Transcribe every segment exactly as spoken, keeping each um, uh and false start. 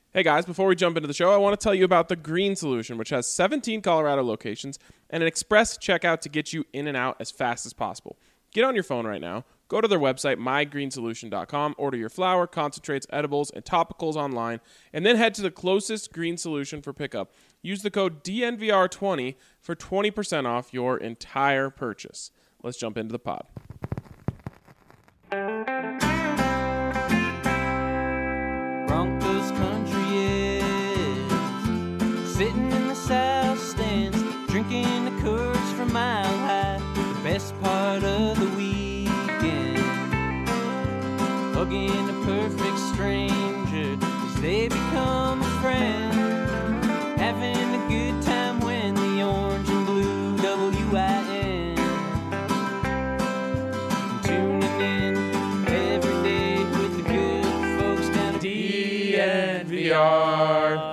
Hey guys, before we jump into the show, I want to tell you about the Green Solution, which has seventeen Colorado locations and an express checkout to get you in and out as fast as possible. Get on your phone right now, go to their website, my green solution dot com, order your flour, concentrates, edibles, and topicals online, and then head to the closest Green Solution for pickup. Use the code D N V R twenty for twenty percent off your entire purchase. Let's jump into the pod. Broncos country is sitting in the south stands, drinking the Coors from Mile High, the best part of the weekend, hugging a perfect stranger as they become a friend, having a good time when the orange and blue W I N, tuning in every day with the good folks down at D N V R.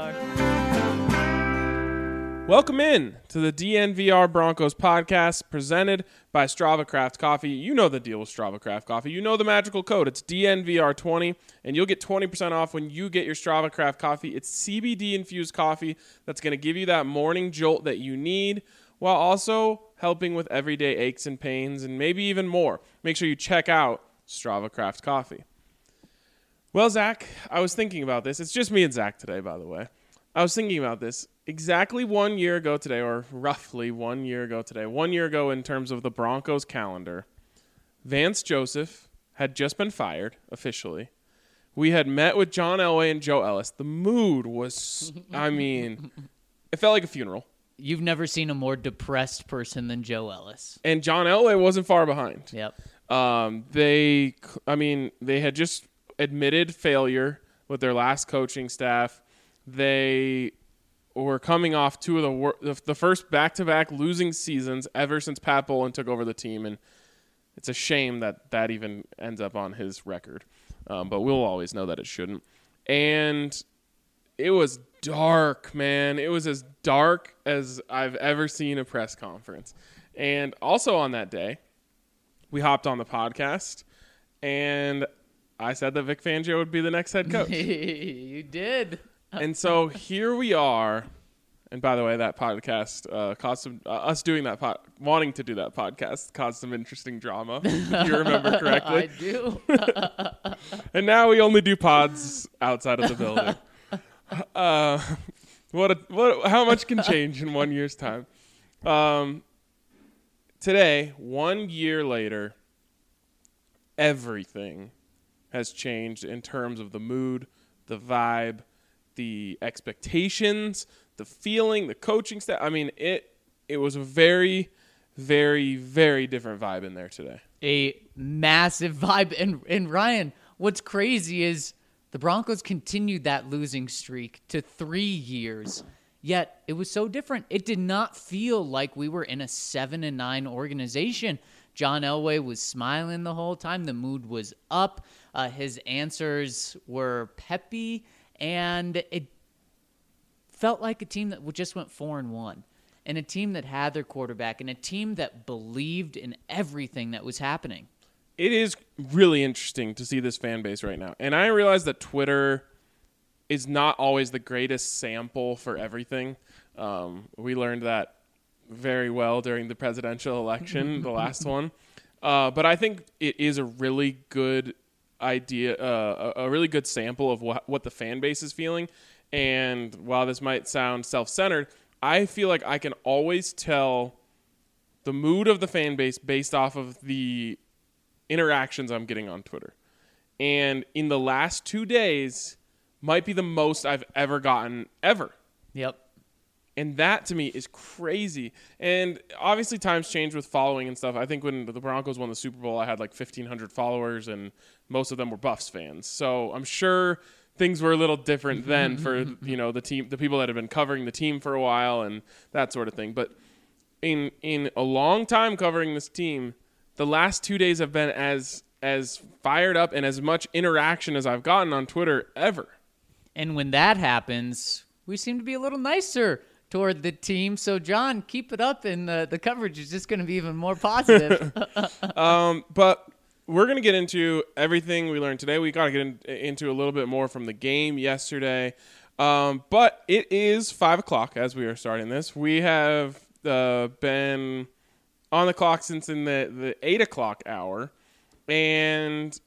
Welcome in to the D N V R Broncos podcast presented by Strava Craft Coffee. You know the deal with Strava Craft Coffee. You know the magical code. It's D N V R twenty, and you'll get twenty percent off when you get your Strava Craft Coffee. It's C B D-infused coffee that's going to give you that morning jolt that you need while also helping with everyday aches and pains and maybe even more. Make sure you check out Strava Craft Coffee. Well, Zach, I was thinking about this. It's just me and Zach today, by the way. I was thinking about this. Exactly one year ago today, or roughly one year ago today, one year ago in terms of the Broncos calendar, Vance Joseph had just been fired officially. We had met with John Elway and Joe Ellis. The mood was, I mean, it felt like a funeral. You've never seen a more depressed person than Joe Ellis. And John Elway wasn't far behind. Yep. Um, they, I mean, they had just admitted failure with their last coaching staff. They were coming off two of the wor- the first back-to-back losing seasons ever since Pat Bowlen took over the team, and it's a shame that that even ends up on his record. Um, but we'll always know that it shouldn't. And it was dark, man. It was as dark as I've ever seen a press conference. And also on that day, we hopped on the podcast, and I said that Vic Fangio would be the next head coach. You did. And so here we are. And by the way, that podcast uh, caused some, uh, us doing that, pod, wanting to do that podcast caused some interesting drama, if you remember correctly. I do. And now we only do pods outside of the building. Uh, what, a, what? How much can change in one year's time? Um, today, one year later, everything has changed in terms of the mood, the vibe, the expectations, the feeling, the coaching staff. I mean, it it was a very, very, very different vibe in there today. A massive vibe. And, and Ryan, what's crazy is the Broncos continued that losing streak to three years. Yet it was so different. It did not feel like we were in a seven and nine organization. John Elway was smiling the whole time. The mood was up. Uh, his answers were peppy. And it felt like a team that just went four and one, and a team that had their quarterback, and a team that believed in everything that was happening. It is really interesting to see this fan base right now. And I realize that Twitter is not always the greatest sample for everything. Um, we learned that very well during the presidential election, the last one. Uh, but I think it is a really good idea, uh, a, a really good sample of what, what the fan base is feeling. And while this might sound self-centered, I feel like I can always tell the mood of the fan base based off of the interactions I'm getting on Twitter. And in the last two days might be the most I've ever gotten ever. Yep. And that, to me, is crazy. And obviously times change with following and stuff. I think when the Broncos won the Super Bowl, I had like fifteen hundred followers, and most of them were Buffs fans. So I'm sure things were a little different then for, you know, the team, the people that had been covering the team for a while and that sort of thing. But in in a long time covering this team, the last two days have been as as fired up and as much interaction as I've gotten on Twitter ever. And when that happens, we seem to be a little nicer toward the team. So, John, keep it up, and the, the coverage is just going to be even more positive. um, but we're going to get into everything we learned today. We got to get in, into a little bit more from the game yesterday. Um, but it is five o'clock as we are starting this. We have uh, been on the clock since in the, the eight o'clock hour. And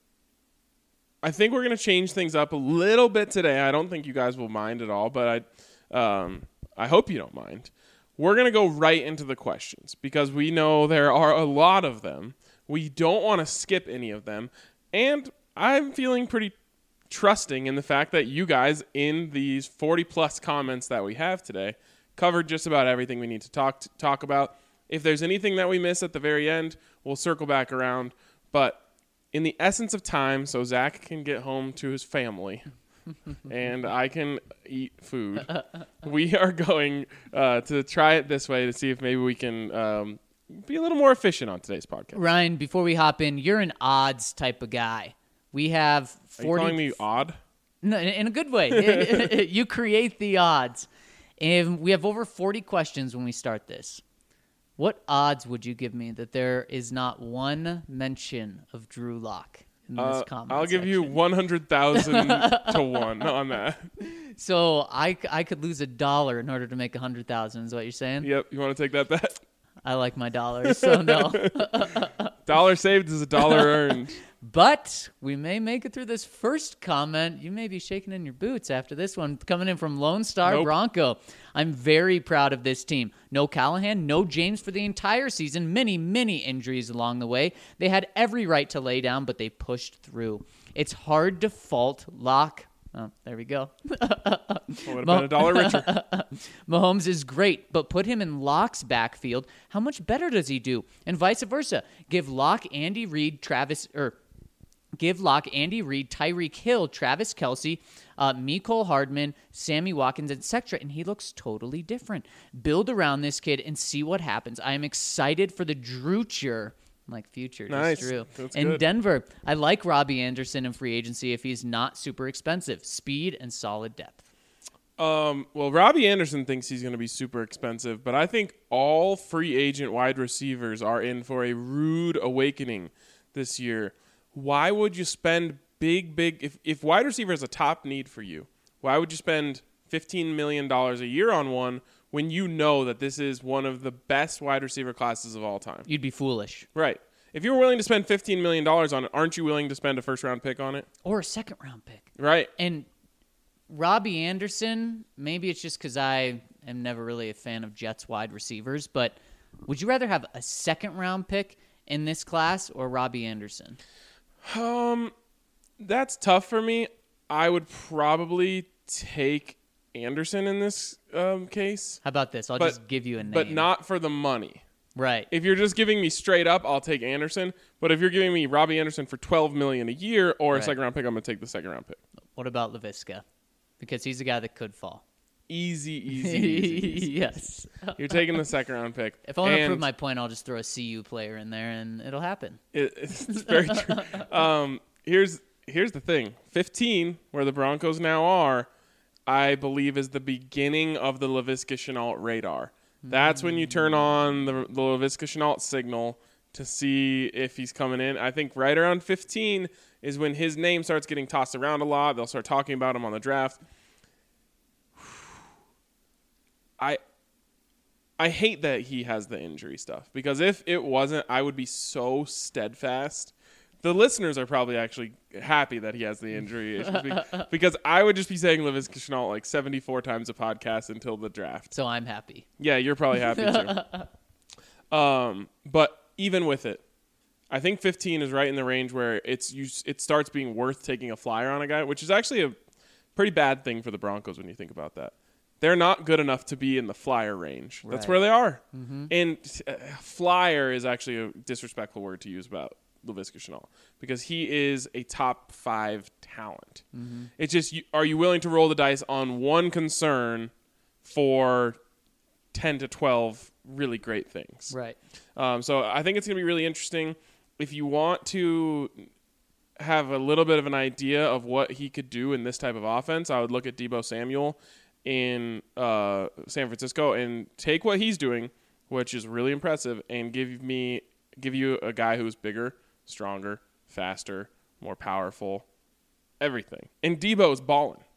I think we're going to change things up a little bit today. I don't think you guys will mind at all, but I, um, I hope you don't mind. We're going to go right into the questions because we know there are a lot of them. We don't want to skip any of them. And I'm feeling pretty trusting in the fact that you guys in these forty plus comments that we have today covered just about everything we need to talk to, talk about. If there's anything that we miss at the very end, we'll circle back around. But in the essence of time, so Zach can get home to his family and I can eat food, we are going uh, to try it this way to see if maybe we can um, be a little more efficient on today's podcast. Ryan, before we hop in, you're an odds type of guy. We have forty. Are you calling me odd? No, in a good way. You create the odds. And we have over forty questions when we start this. What odds would you give me that there is not one mention of Drew Lock in this Uh, comment I'll give you section? one hundred thousand to one on that. So I, I could lose a dollar in order to make a hundred thousand. Is what you're saying? Yep. You want to take that bet? I like my dollars, so no. Dollar saved is a dollar earned. But we may make it through this first comment. You may be shaking in your boots after this one. Coming in from Lone Star Nope. Bronco. I'm very proud of this team. No Callahan, no James for the entire season. Many, many injuries along the way. They had every right to lay down, but they pushed through. It's hard to fault Locke. Oh, there we go. Would have been a dollar richer. Mahomes is great, but put him in Locke's backfield. How much better does he do? And vice versa. Give Locke, Andy Reid, Travis, or give Locke, Andy Reid, Tyreek Hill, Travis Kelce, uh, Mecole Hardman, Sammy Watkins, et cetera, and he looks totally different. Build around this kid and see what happens. I am excited for the Druture. Like future, Nice. just Drew. That's In good. Denver, I like Robbie Anderson in free agency if he's not super expensive. Speed and solid depth. Um, well, Robbie Anderson thinks he's going to be super expensive, but I think all free agent wide receivers are in for a rude awakening this year. Why would you spend big, big if, – if wide receiver is a top need for you, why would you spend fifteen million dollars a year on one when you know that this is one of the best wide receiver classes of all time? You'd be foolish. Right. If you were willing to spend fifteen million dollars on it, aren't you willing to spend a first-round pick on it? Or a second-round pick. Right. And Robbie Anderson, maybe it's just because I am never really a fan of Jets wide receivers, but would you rather have a second-round pick in this class or Robbie Anderson? Um, that's tough for me. I would probably take Anderson in this um, case, How about this? I'll But- just give you a name. but not for the money. Right. If you're just giving me straight up, I'll take Anderson. But if you're giving me Robbie Anderson for twelve million dollars a year or Right. a second round pick, I'm gonna take the second round pick. What about LaVisca? Because he's a guy that could fall. Easy, easy, easy. easy. Yes. You're taking the second round pick. If I want to And prove my point, I'll just throw a C U player in there, and it'll happen. It, it's very true. Um, here's here's the thing: fifteen, where the Broncos now are, I believe is the beginning of the Laviska Shenault radar. That's when you turn on the, the Laviska Shenault signal to see if he's coming in. I think right around fifteen is when his name starts getting tossed around a lot. They'll start talking about him on the draft. I I hate that he has the injury stuff because if it wasn't, I would be so steadfast. The listeners are probably actually happy that he has the injury issues be- because I would just be saying Laviska Shenault like seventy-four times a podcast until the draft. So I'm happy. Yeah, you're probably happy too. Um, but even with it, I think fifteen is right in the range where it's you, it starts being worth taking a flyer on a guy, which is actually a pretty bad thing for the Broncos when you think about that. They're not good enough to be in the flyer range. That's Right. where they are. Mm-hmm. And uh, flyer is actually a disrespectful word to use about Laviska Shenault because he is a top five talent. Mm-hmm. It's just, you, are you willing to roll the dice on one concern for ten to twelve really great things? Right. Um, so I think it's going to be really interesting. If you want to have a little bit of an idea of what he could do in this type of offense, I would look at Deebo Samuel in uh, San Francisco and take what he's doing, which is really impressive, and give me give you a guy who's bigger, stronger, faster, more powerful, everything. And Deebo is balling.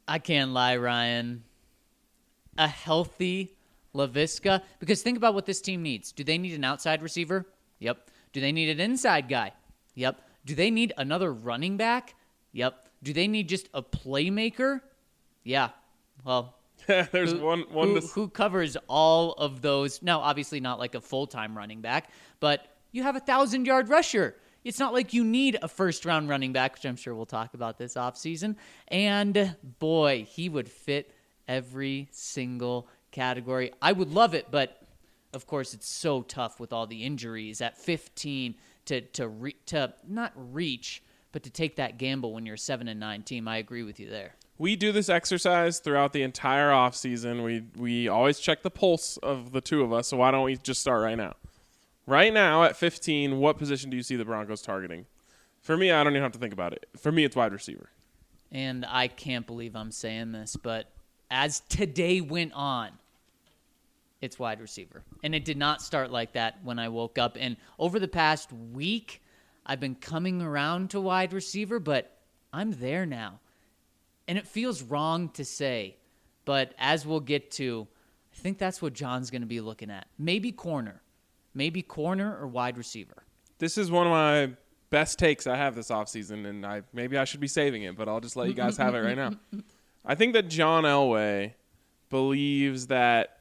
I can't lie, Ryan. A healthy Laviska, because think about what this team needs. Do they need an outside receiver? Yep. Do they need an inside guy? Yep. Do they need another running back? Yep. Do they need just a playmaker? Yeah. Well, There's who, one one who, to... who covers all of those. Now, obviously not like a full-time running back, but you have a thousand-yard rusher. It's not like you need a first-round running back, which I'm sure we'll talk about this offseason. And, boy, he would fit every single category. I would love it, but, of course, it's so tough with all the injuries at fifteen to to re- to not reach, but to take that gamble when you're a seven and nine team. I agree with you there. We do this exercise throughout the entire offseason. We we always check the pulse of the two of us, so why don't we just start right now? Right now at fifteen, what position do you see the Broncos targeting? For me, I don't even have to think about it. For me, it's wide receiver. And I can't believe I'm saying this, but as today went on, it's wide receiver. And it did not start like that when I woke up. And over the past week, I've been coming around to wide receiver, but I'm there now. And it feels wrong to say, but as we'll get to, I think that's what John's going to be looking at. Maybe corner. Maybe corner or wide receiver. This is one of my best takes I have this offseason, and I maybe I should be saving it, but I'll just let you guys have it right now. I think that John Elway believes that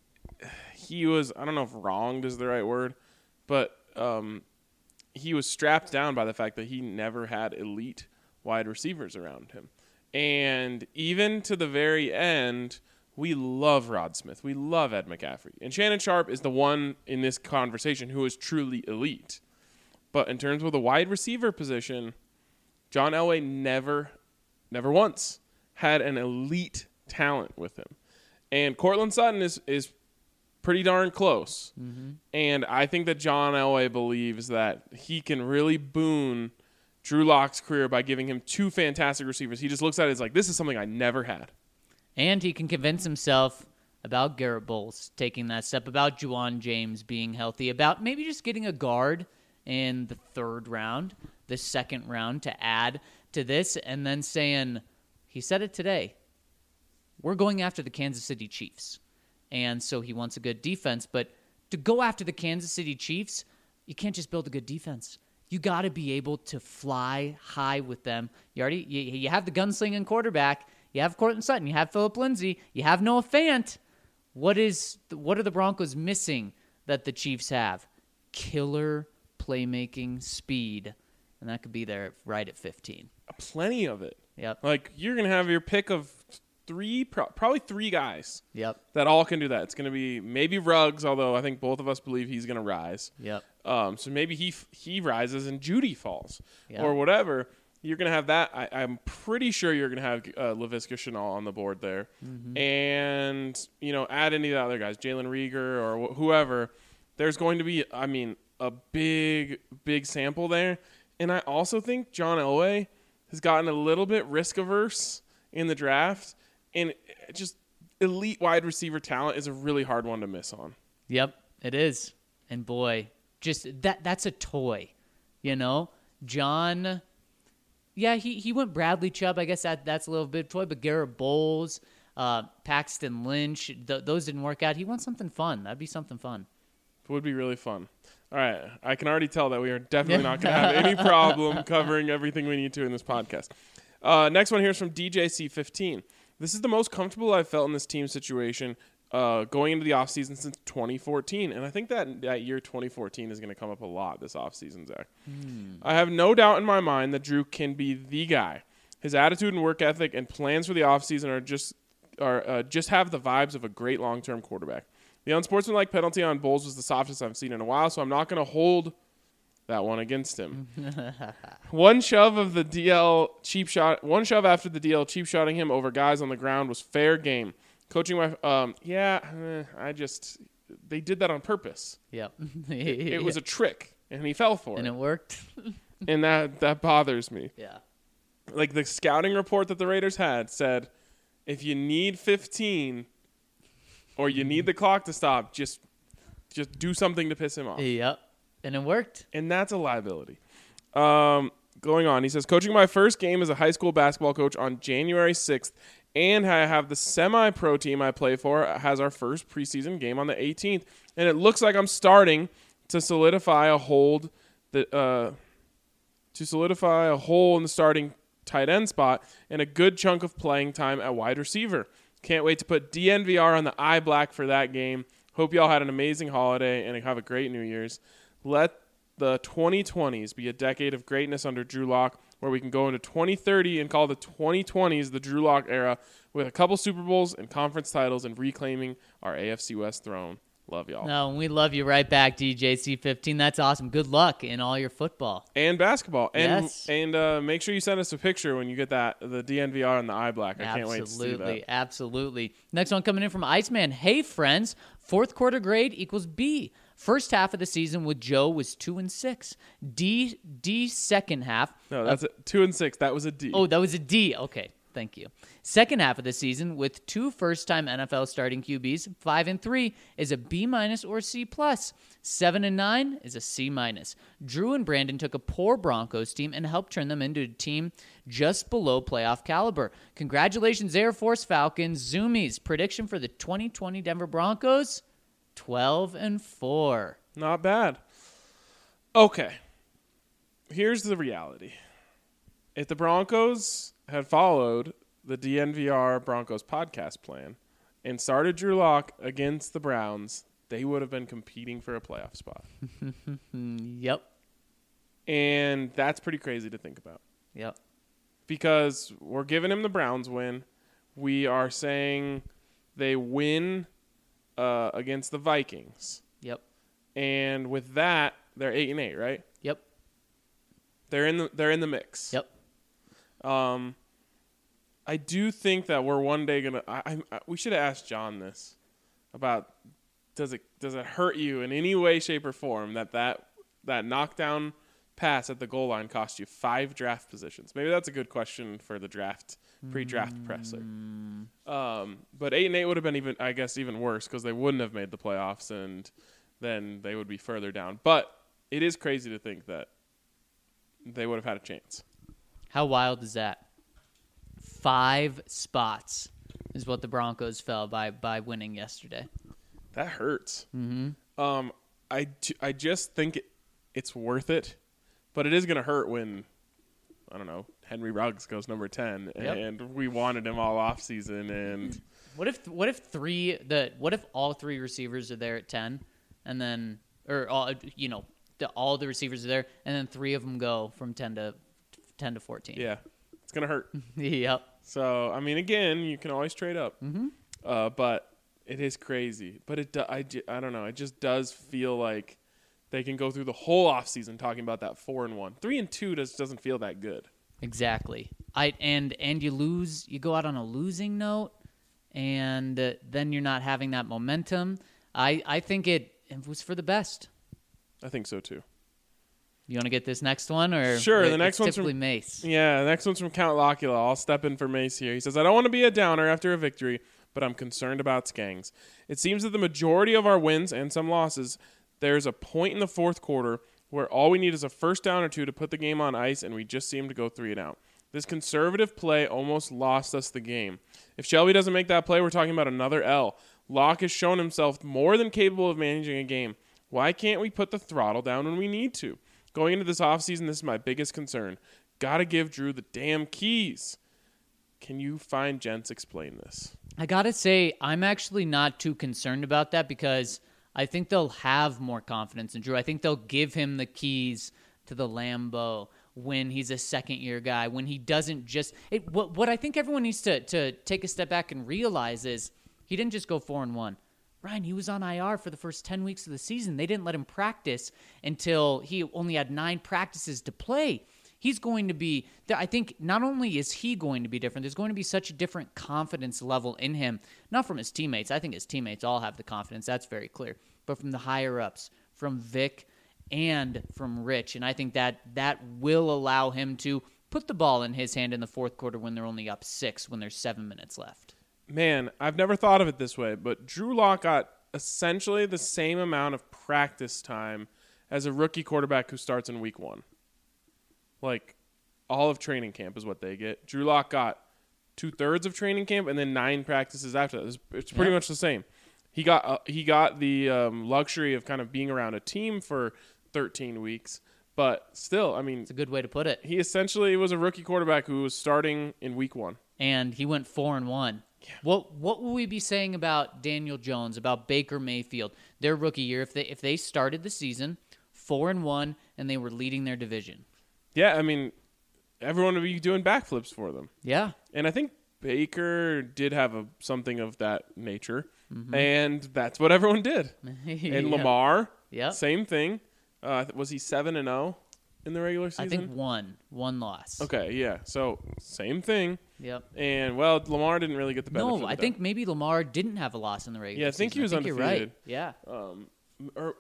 he was, I don't know if wronged is the right word, but um, he was strapped down by the fact that he never had elite wide receivers around him. And even to the very end, we love Rod Smith. We love Ed McCaffrey. And Shannon Sharp is the one in this conversation who is truly elite. But in terms of the wide receiver position, John Elway never, never once had an elite talent with him. And Cortland Sutton is, is pretty darn close. Mm-hmm. And I think that John Elway believes that he can really boon Drew Lock's career by giving him two fantastic receivers. He just looks at it as like, this is something I never had. And he can convince himself about Garrett Bowles taking that step, about Juwan James being healthy, about maybe just getting a guard in the third round, the second round to add to this, and then saying, he said it today, we're going after the Kansas City Chiefs. And so he wants a good defense, but to go after the Kansas City Chiefs, you can't just build a good defense. You got to be able to fly high with them. You already you, you have the gunslinging quarterback. You have Cortland Sutton. You have Phillip Lindsay. You have Noah Fant. What is what are the Broncos missing that the Chiefs have? Killer playmaking speed, and that could be there right at fifteen. Plenty of it. Yep. Like you're gonna have your pick of three, pro- probably three guys. Yep. That all can do that. It's gonna be maybe Ruggs, although I think both of us believe he's gonna rise. Yep. Um, so maybe he he rises and Judy falls, Yep. or whatever. You're going to have that. I, I'm pretty sure you're going to have uh, Laviska Shenault on the board there. Mm-hmm. And, you know, add any of the other guys, Jalen Rieger or wh- whoever. There's going to be, I mean, a big, big sample there. And I also think John Elway has gotten a little bit risk-averse in the draft. And just elite wide receiver talent is a really hard one to miss on. Yep, it is. And, boy, just that that's a toy, you know? John... Yeah, he, he went Bradley Chubb. I guess that that's a little bit toy, but Garrett Bowles, uh, Paxton Lynch, th- those didn't work out. He wants something fun. That'd be something fun. It would be really fun. All right, I can already tell that we are definitely not going to have any problem covering everything we need to in this podcast. Uh, next one here is from D J C fifteen. This is the most comfortable I've felt in this team situation uh, going into the offseason since twenty fourteen. And I think that that year twenty fourteen is going to come up a lot this offseason, Zach. Hmm. I have no doubt in my mind that Drew can be the guy. His attitude and work ethic and plans for the offseason are just are uh, just have the vibes of a great long-term quarterback. The unsportsmanlike penalty on Bowles was the softest I've seen in a while, so I'm not going to hold that one against him. One shove of the D L cheap shot, one shove after the D L cheap shotting him over guys on the ground was fair game. Coaching my, um, yeah, eh, I just, they did that on purpose. Yep. it, it was a trick, and he fell for and it. And it worked. And that, that bothers me. Yeah. Like the scouting report that the Raiders had said, if you need fifteen or you need the clock to stop, just just do something to piss him off. Yep. And it worked. And that's a liability. Um, going on, he says, coaching my first game as a high school basketball coach on January sixth And I have the semi-pro team I play for has our first preseason game on the eighteenth. And it looks like I'm starting to solidify a hold that uh, to solidify a hole in the starting tight end spot and a good chunk of playing time at wide receiver. Can't wait to put D N V R on the eye black for that game. Hope y'all had an amazing holiday and have a great New Year's. Let the twenty twenties be a decade of greatness under Drew Lock, where we can go into twenty thirty and call the twenty twenties the Drew Lock era with a couple Super Bowls and conference titles and reclaiming our A F C West throne. Love y'all. No, we love you right back, D J C fifteen. That's awesome. Good luck in all your football. And basketball. And Yes. and uh, make sure you send us a picture when you get that, the D N V R and the eye black. I can't wait to see Absolutely, that. absolutely. Next one coming in from Iceman. Hey, friends. Fourth quarter grade equals B. First half of the season with Joe was two and six. D D second half. No, that's a, two and six. That was a D. Oh, that was a D. Okay, thank you. Second half of the season with two first-time N F L starting Q Bs, five and three is a B minus or C plus. Seven and nine is a C minus. Drew and Brandon took a poor Broncos team and helped turn them into a team just below playoff caliber. Congratulations, Air Force Falcons. Zoomies prediction for the twenty twenty Denver Broncos: twelve and four. Not bad. Okay. Here's the reality. If the Broncos had followed the D N V R Broncos podcast plan and started Drew Lock against the Browns, they would have been competing for a playoff spot. Yep. And that's pretty crazy to think about. Yep. Because we're giving him the Browns win. We are saying they win uh, against the Vikings. Yep. And with that, they're eight and eight, right? Yep. They're in the they're in the mix. Yep. Um, I do think that we're one day gonna. I, I we should have asked John this about does it does it hurt you in any way, shape, or form that that that knockdown pass at the goal line cost you five draft positions? Maybe that's a good question for the draft pre-draft mm. presser. Um, but eight and eight would have been even, I guess, even worse because they wouldn't have made the playoffs, and then they would be further down. But it is crazy to think that they would have had a chance. How wild is that? Five spots is what the Broncos fell by by winning yesterday. That hurts. Mm-hmm. Um, I, I just think it, it's worth it, but it is going to hurt when, I don't know, Henry Ruggs goes number ten, Yep. and we wanted him all off season. And What if what if three the what if all three receivers are there at ten, and then or all you know the, all the receivers are there, and then three of them go from ten to ten to fourteen. yeah, it's going to hurt. Yep. So, I mean, again, you can always trade up, Mm-hmm. uh, but it is crazy. But it, do, I, ju- I don't know. It just does feel like they can go through the whole offseason talking about that four and one, three and two. Just doesn't feel that good. Exactly. I and and you lose. You go out on a losing note, and uh, then you're not having that momentum. I I think it, it was for the best. I think so too. You want to get this next one, or Sure, the it's next one's typically from- Mace. Yeah, the next one's from Count Locula. I'll step in for Mace here. He says, I don't want to be a downer after a victory, but I'm concerned about Skangs. It seems that the majority of our wins and some losses, there's a point in the fourth quarter where all we need is a first down or two to put the game on ice, and we just seem to go three and out. This conservative play almost lost us the game. If Shelby doesn't make that play, we're talking about another L. Locke has shown himself more than capable of managing a game. Why can't we put the throttle down when we need to? Going into this offseason, this is my biggest concern. Gotta give Drew the damn keys. Can you find gents explain this? I gotta say, I'm actually not too concerned about that because I think they'll have more confidence in Drew. I think they'll give him the keys to the Lambeau when he's a second-year guy, when he doesn't just it, what, what I think everyone needs to, to take a step back and realize is he didn't just go four and one. Ryan, he was on I R for the first ten weeks of the season. They didn't let him practice until he only had nine practices to play. He's going to be, I think not only is he going to be different, there's going to be such a different confidence level in him, not from his teammates. I think his teammates all have the confidence. That's very clear. But from the higher-ups, from Vic and from Rich. And I think that that will allow him to put the ball in his hand in the fourth quarter when they're only up six, when there's seven minutes left. Man, I've never thought of it this way, but Drew Lock got essentially the same amount of practice time as a rookie quarterback who starts in week one. Like, all of training camp is what they get. Drew Lock got two thirds of training camp and then nine practices after that. It's, it's pretty Yeah. much the same. He got uh, he got the um, luxury of kind of being around a team for thirteen weeks, but still, I mean, It's a good way to put it. he essentially was a rookie quarterback who was starting in week one. And he went four and one. What what will we be saying about Daniel Jones, about Baker Mayfield, their rookie year if they if they started the season four and one and they were leading their division? Yeah, I mean, everyone would be doing backflips for them. Yeah. And I think Baker did have a, something of that nature, Mm-hmm. and that's what everyone did. And Lamar, Yep. same thing. Uh, was he seven and zero in the regular season? I think one one loss. Okay, yeah. So same thing. Yep. And well, Lamar didn't really get the benefit. No, of I the think maybe Lamar didn't have a loss in the regular Yeah, I think he season. was You're right. undefeated. Yeah. Um, or,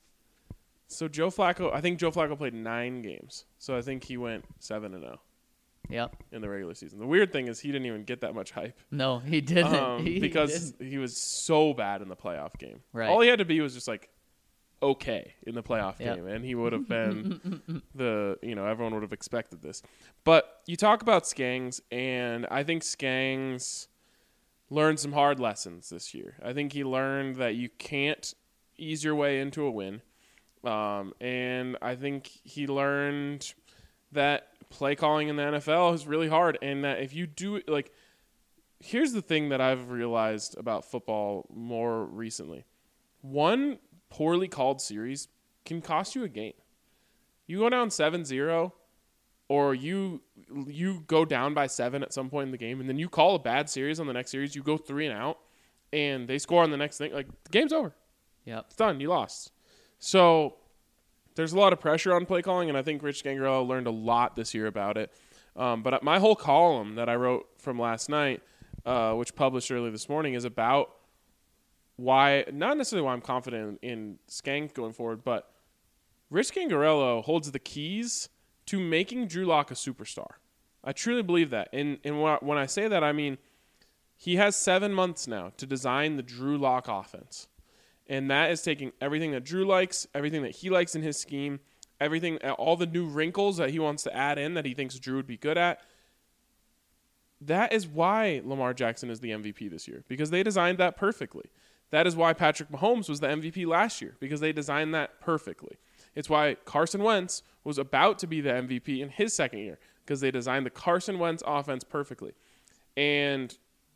so Joe Flacco, I think Joe Flacco played nine games. So I think he went seven and zero Yep. in the regular season. The weird thing is he didn't even get that much hype. No, he didn't. um, He because didn't. he was so bad in the playoff game. Right. All he had to be was just like okay in the playoff Yep. game, and he would have been the you know everyone would have expected this. But you talk about Skangs, and I think Skangs learned some hard lessons this year. I think he learned that you can't ease your way into a win, um, and I think he learned that play calling in the N F L is really hard, and that if you do it like. Here's the thing that I've realized about football more recently. One poorly called series can cost you a game. You go down seven zero, or you you go down by seven at some point in the game, and then you call a bad series on the next series, you go three and out, and they score on the next thing. Like, the game's over. Yep. It's done. You lost. So there's a lot of pressure on play calling, and I think Rich Gangarello learned a lot this year about it. Um, but my whole column that I wrote from last night, Uh, which published early this morning, is about why, not necessarily why I'm confident in, in Skank going forward, but Rich Gangarello holds the keys to making Drew Lock a superstar. I truly believe that. And, and when, I, when I say that, I mean he has seven months now to design the Drew Lock offense. And that is taking everything that Drew likes, everything that he likes in his scheme, everything, all the new wrinkles that he wants to add in that he thinks Drew would be good at. That is why Lamar Jackson is the M V P this year, because they designed that perfectly. That is why Patrick Mahomes was the M V P last year, because they designed that perfectly. It's why Carson Wentz was about to be the M V P in his second year, because they designed the Carson Wentz offense perfectly. And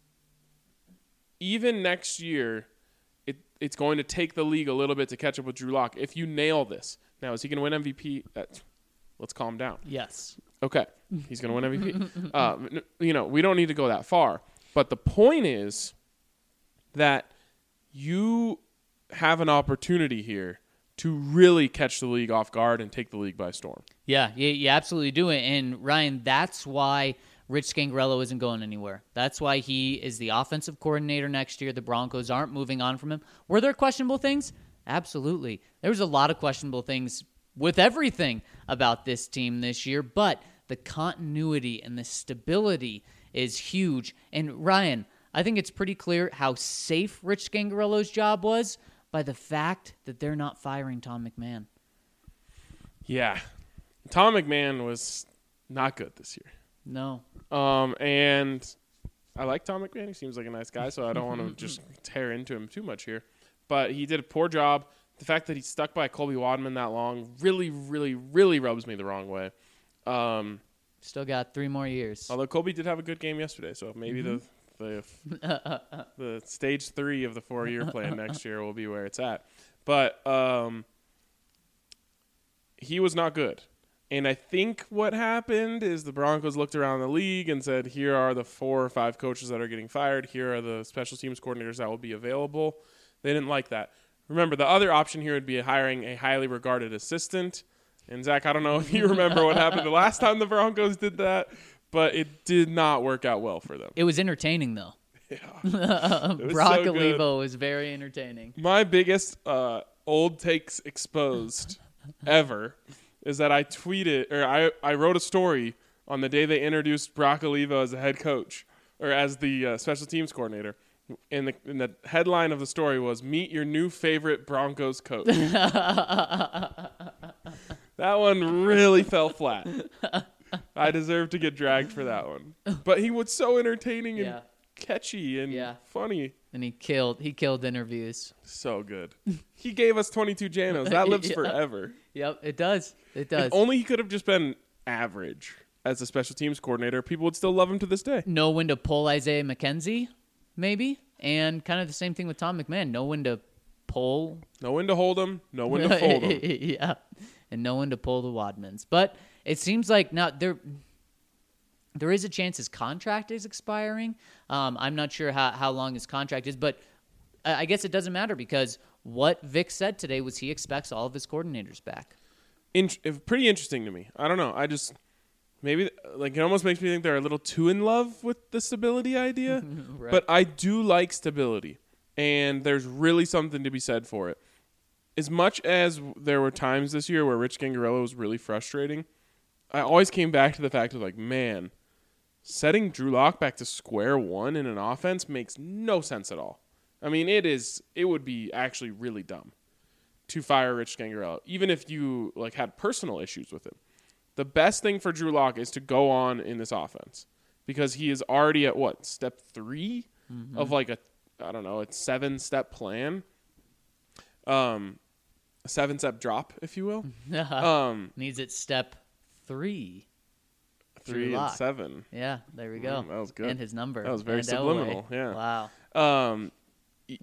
even next year, it, it's going to take the league a little bit to catch up with Drew Lock if you nail this. Now, is he going to win M V P? Uh, let's calm down. Yes. Okay, he's going to win M V P. um, you know, we don't need to go that far. But the point is that you have an opportunity here to really catch the league off guard and take the league by storm. Yeah, you, you absolutely do it. And, Ryan, that's why Rich Scangarello isn't going anywhere. That's why he is the offensive coordinator next year. The Broncos aren't moving on from him. Were there questionable things? Absolutely. There was a lot of questionable things with everything about this team this year, but the continuity and the stability is huge. And Ryan, I think it's pretty clear how safe Rich Scangarello's job was by the fact that they're not firing Tom McMahon. Yeah. Tom McMahon was not good this year. No. Um, and I like Tom McMahon. He seems like a nice guy, so I don't want to just tear into him too much here. But he did a poor job. The fact that he stuck by Colby Wadman that long really, really, really rubs me the wrong way. Um, Still got three more years. although Colby did have a good game yesterday, so maybe Mm-hmm. the the the stage three of the four-year plan next year will be where it's at. But um, he was not good. And I think what happened is the Broncos looked around the league and said, here are the four or five coaches that are getting fired. Here are the special teams coordinators that will be available. They didn't like that. Remember, the other option here would be hiring a highly regarded assistant. And, Zach, I don't know if you remember what happened the last time the Broncos did that, but it did not work out well for them. It was entertaining, though. Yeah. It was Brock so good. Olivo was very entertaining. My biggest uh, old takes exposed ever is that I tweeted, or I, I wrote a story on the day they introduced Brock Olivo as the head coach, or as the uh, special teams coordinator. And the, and the headline of the story was, meet your new favorite Broncos coach. That one really fell flat. I deserve to get dragged for that one. But he was so entertaining and Yeah. catchy and Yeah. funny. And he killed. He killed interviews. So good. He gave us twenty-two Janos. That lives Yeah. forever. Yep, it does. It does. If only he could have just been average as a special teams coordinator, people would still love him to this day. Know when to pull Isaiah McKenzie, maybe, and kind of the same thing with Tom McMahon. Know when to pull. Know when to hold him, know when to fold him. Yeah, and know when to pull the Wadmans. But it seems like now there. There is a chance his contract is expiring. Um, I'm not sure how, how long his contract is, but I I guess it doesn't matter because what Vic said today was he expects all of his coordinators back. In, pretty interesting to me. I don't know. I just maybe like it almost makes me think they're a little too in love with the stability idea. Right. But I do like stability, and there's really something to be said for it. As much as there were times this year where Rich Gangarello was really frustrating, I always came back to the fact of like, man, setting Drew Lock back to square one in an offense makes no sense at all. I mean, it is. It would be actually really dumb to fire Rich Gangarello, even if you like had personal issues with him. The best thing for Drew Lock is to go on in this offense because he is already at what step three mm-hmm. of like a I don't know, a seven step plan, um, a seven step drop, if you will. um, Needs it step three. Three and Lock. seven. Yeah, there we go. Mm, that was good. And his number. That was very and subliminal. Elway. Yeah. Wow. Um, y-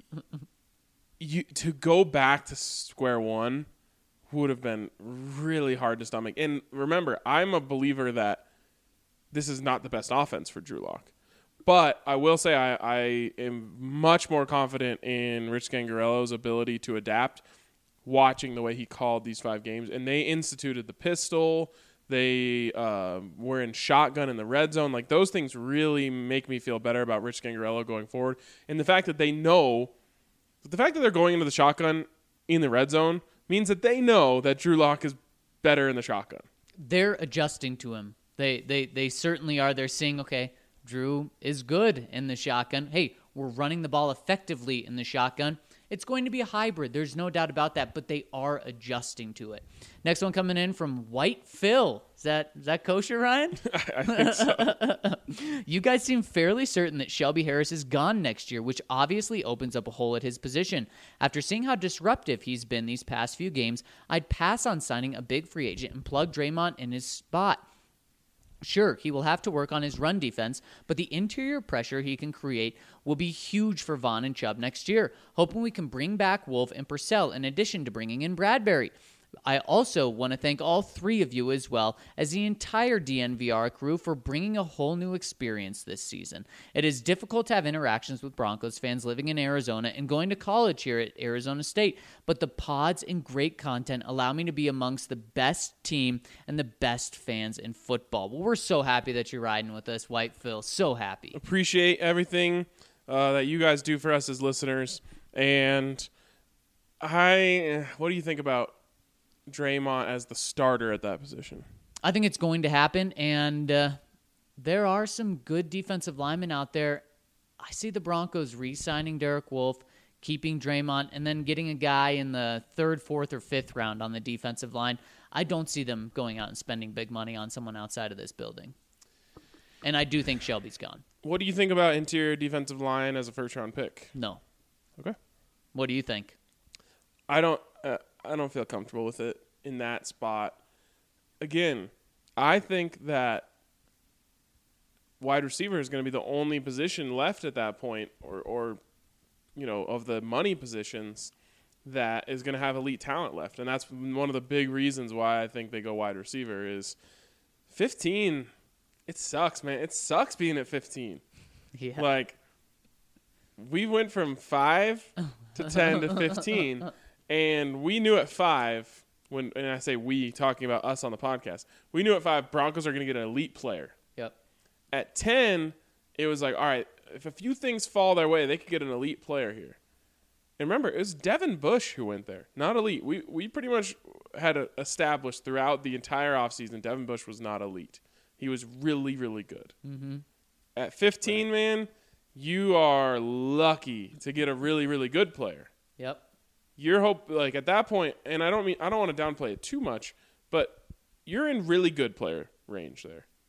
you to go back to square one would have been really hard to stomach. And remember, I'm a believer that this is not the best offense for Drew Lock. But I will say I, I am much more confident in Rich Gangarello's ability to adapt watching the way he called these five games. And they instituted the pistol. They uh, were in shotgun in the red zone. Like, those things really make me feel better about Rich Gangarello going forward. And the fact that they know, the fact that they're going into the shotgun in the red zone means that they know that Drew Lock is better in the shotgun. They're adjusting to him. They, they, they certainly are. They're seeing, okay, Drew is good in the shotgun. Hey, we're running the ball effectively in the shotgun. It's going to be a hybrid. There's no doubt about that, but they are adjusting to it. Next one coming in from White Phil. Is that is that kosher, Ryan? I think so. You guys seem fairly certain that Shelby Harris is gone next year, which obviously opens up a hole at his position. After seeing how disruptive he's been these past few games, I'd pass on signing a big free agent and plug Draymond in his spot. Sure, he will have to work on his run defense, but the interior pressure he can create will be huge for Vaughn and Chubb next year, hoping we can bring back Wolf and Purcell in addition to bringing in Bradbury. I also want to thank all three of you as well as the entire D N V R crew for bringing a whole new experience this season. It is difficult to have interactions with Broncos fans living in Arizona and going to college here at Arizona State, but the pods and great content allow me to be amongst the best team and the best fans in football. Well, we're so happy that you're riding with us, White Phil. So happy. Appreciate everything uh, that you guys do for us as listeners. And I, what do you think about Draymond as the starter at that position? I think it's going to happen, and uh, there are some good defensive linemen out there. I see the Broncos re-signing Derek Wolfe, keeping Draymond, and then getting a guy in the third, fourth, or fifth round on the defensive line. I don't see them going out and spending big money on someone outside of this building. And I do think Shelby's gone. What do you think about interior defensive line as a first-round pick? No. Okay. What do you think? I don't. Uh, I don't feel comfortable with it in that spot. Again, I think that wide receiver is going to be the only position left at that point, or, or you know, of the money positions that is going to have elite talent left, and that's one of the big reasons why I think they go wide receiver is fifteen. It sucks, man. It sucks being at fifteen. Yeah. Like, we went from five to ten to fifteen. And we knew at five, when and I say we, talking about us on the podcast, we knew at five Broncos are going to get an elite player. Yep. At ten, it was like, all right, if a few things fall their way, they could get an elite player here. And remember, it was Devin Bush who went there, not elite. We we pretty much had a, established throughout the entire offseason Devin Bush was not elite. He was really, really good. Mm-hmm. At fifteen, right. Man, you are lucky to get a really, really good player. Yep. Your hope, like at that point, and I don't mean I don't want to downplay it too much, but you're in really good player range there.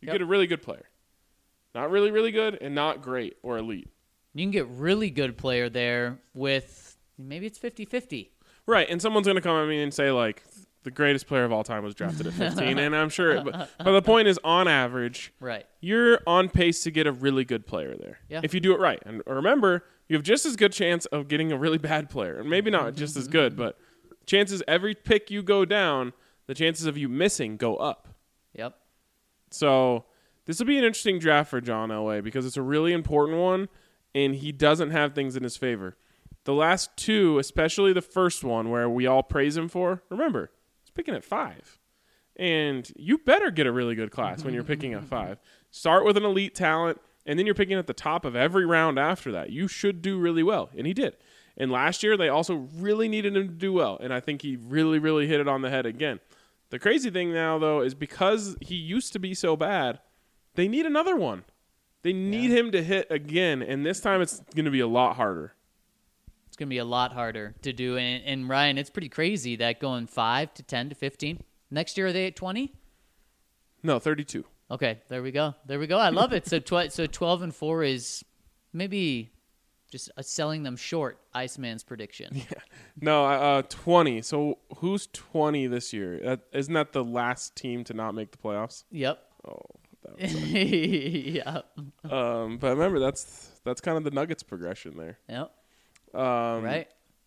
You Yep. get a really good player. Not really, really good, and not great or elite. You can get really good player there with maybe it's fifty-fifty. Right, and someone's going to come at me and say, like, the greatest player of all time was drafted at fifteen, and I'm sure. But, but the point is, on average, Right. you're on pace to get a really good player there. Yeah. If you do it right. And remember, you have just as good chance of getting a really bad player. And maybe not just as good, but chances every pick you go down, the chances of you missing go up. Yep. So this will be an interesting draft for John Elway because it's a really important one, and he doesn't have things in his favor. The last two, especially the first one where we all praise him for, remember, he's picking at five. And you better get a really good class when you're picking at five. Start with an elite talent, and then you're picking at the top of every round after that. You should do really well, and he did. And last year, they also really needed him to do well, and I think he really, really hit it on the head again. The crazy thing now, though, is because he used to be so bad, they need another one. They need Yeah. him to hit again, and this time it's going to be a lot harder. It's going to be a lot harder to do. And, and Ryan, it's pretty crazy that going five to ten to fifteen. Next year, are they at twenty? No, thirty-two. Okay, there we go. There we go. I love it. So tw- so twelve and four is maybe just uh, selling them short, Iceman's prediction. Yeah. No, uh, twenty. So who's twenty this year? That, isn't that the last team to not make the playoffs? Yep. Oh, that was yeah. um, but remember, that's that's kind of the Nuggets progression there. Yep. Um, Right.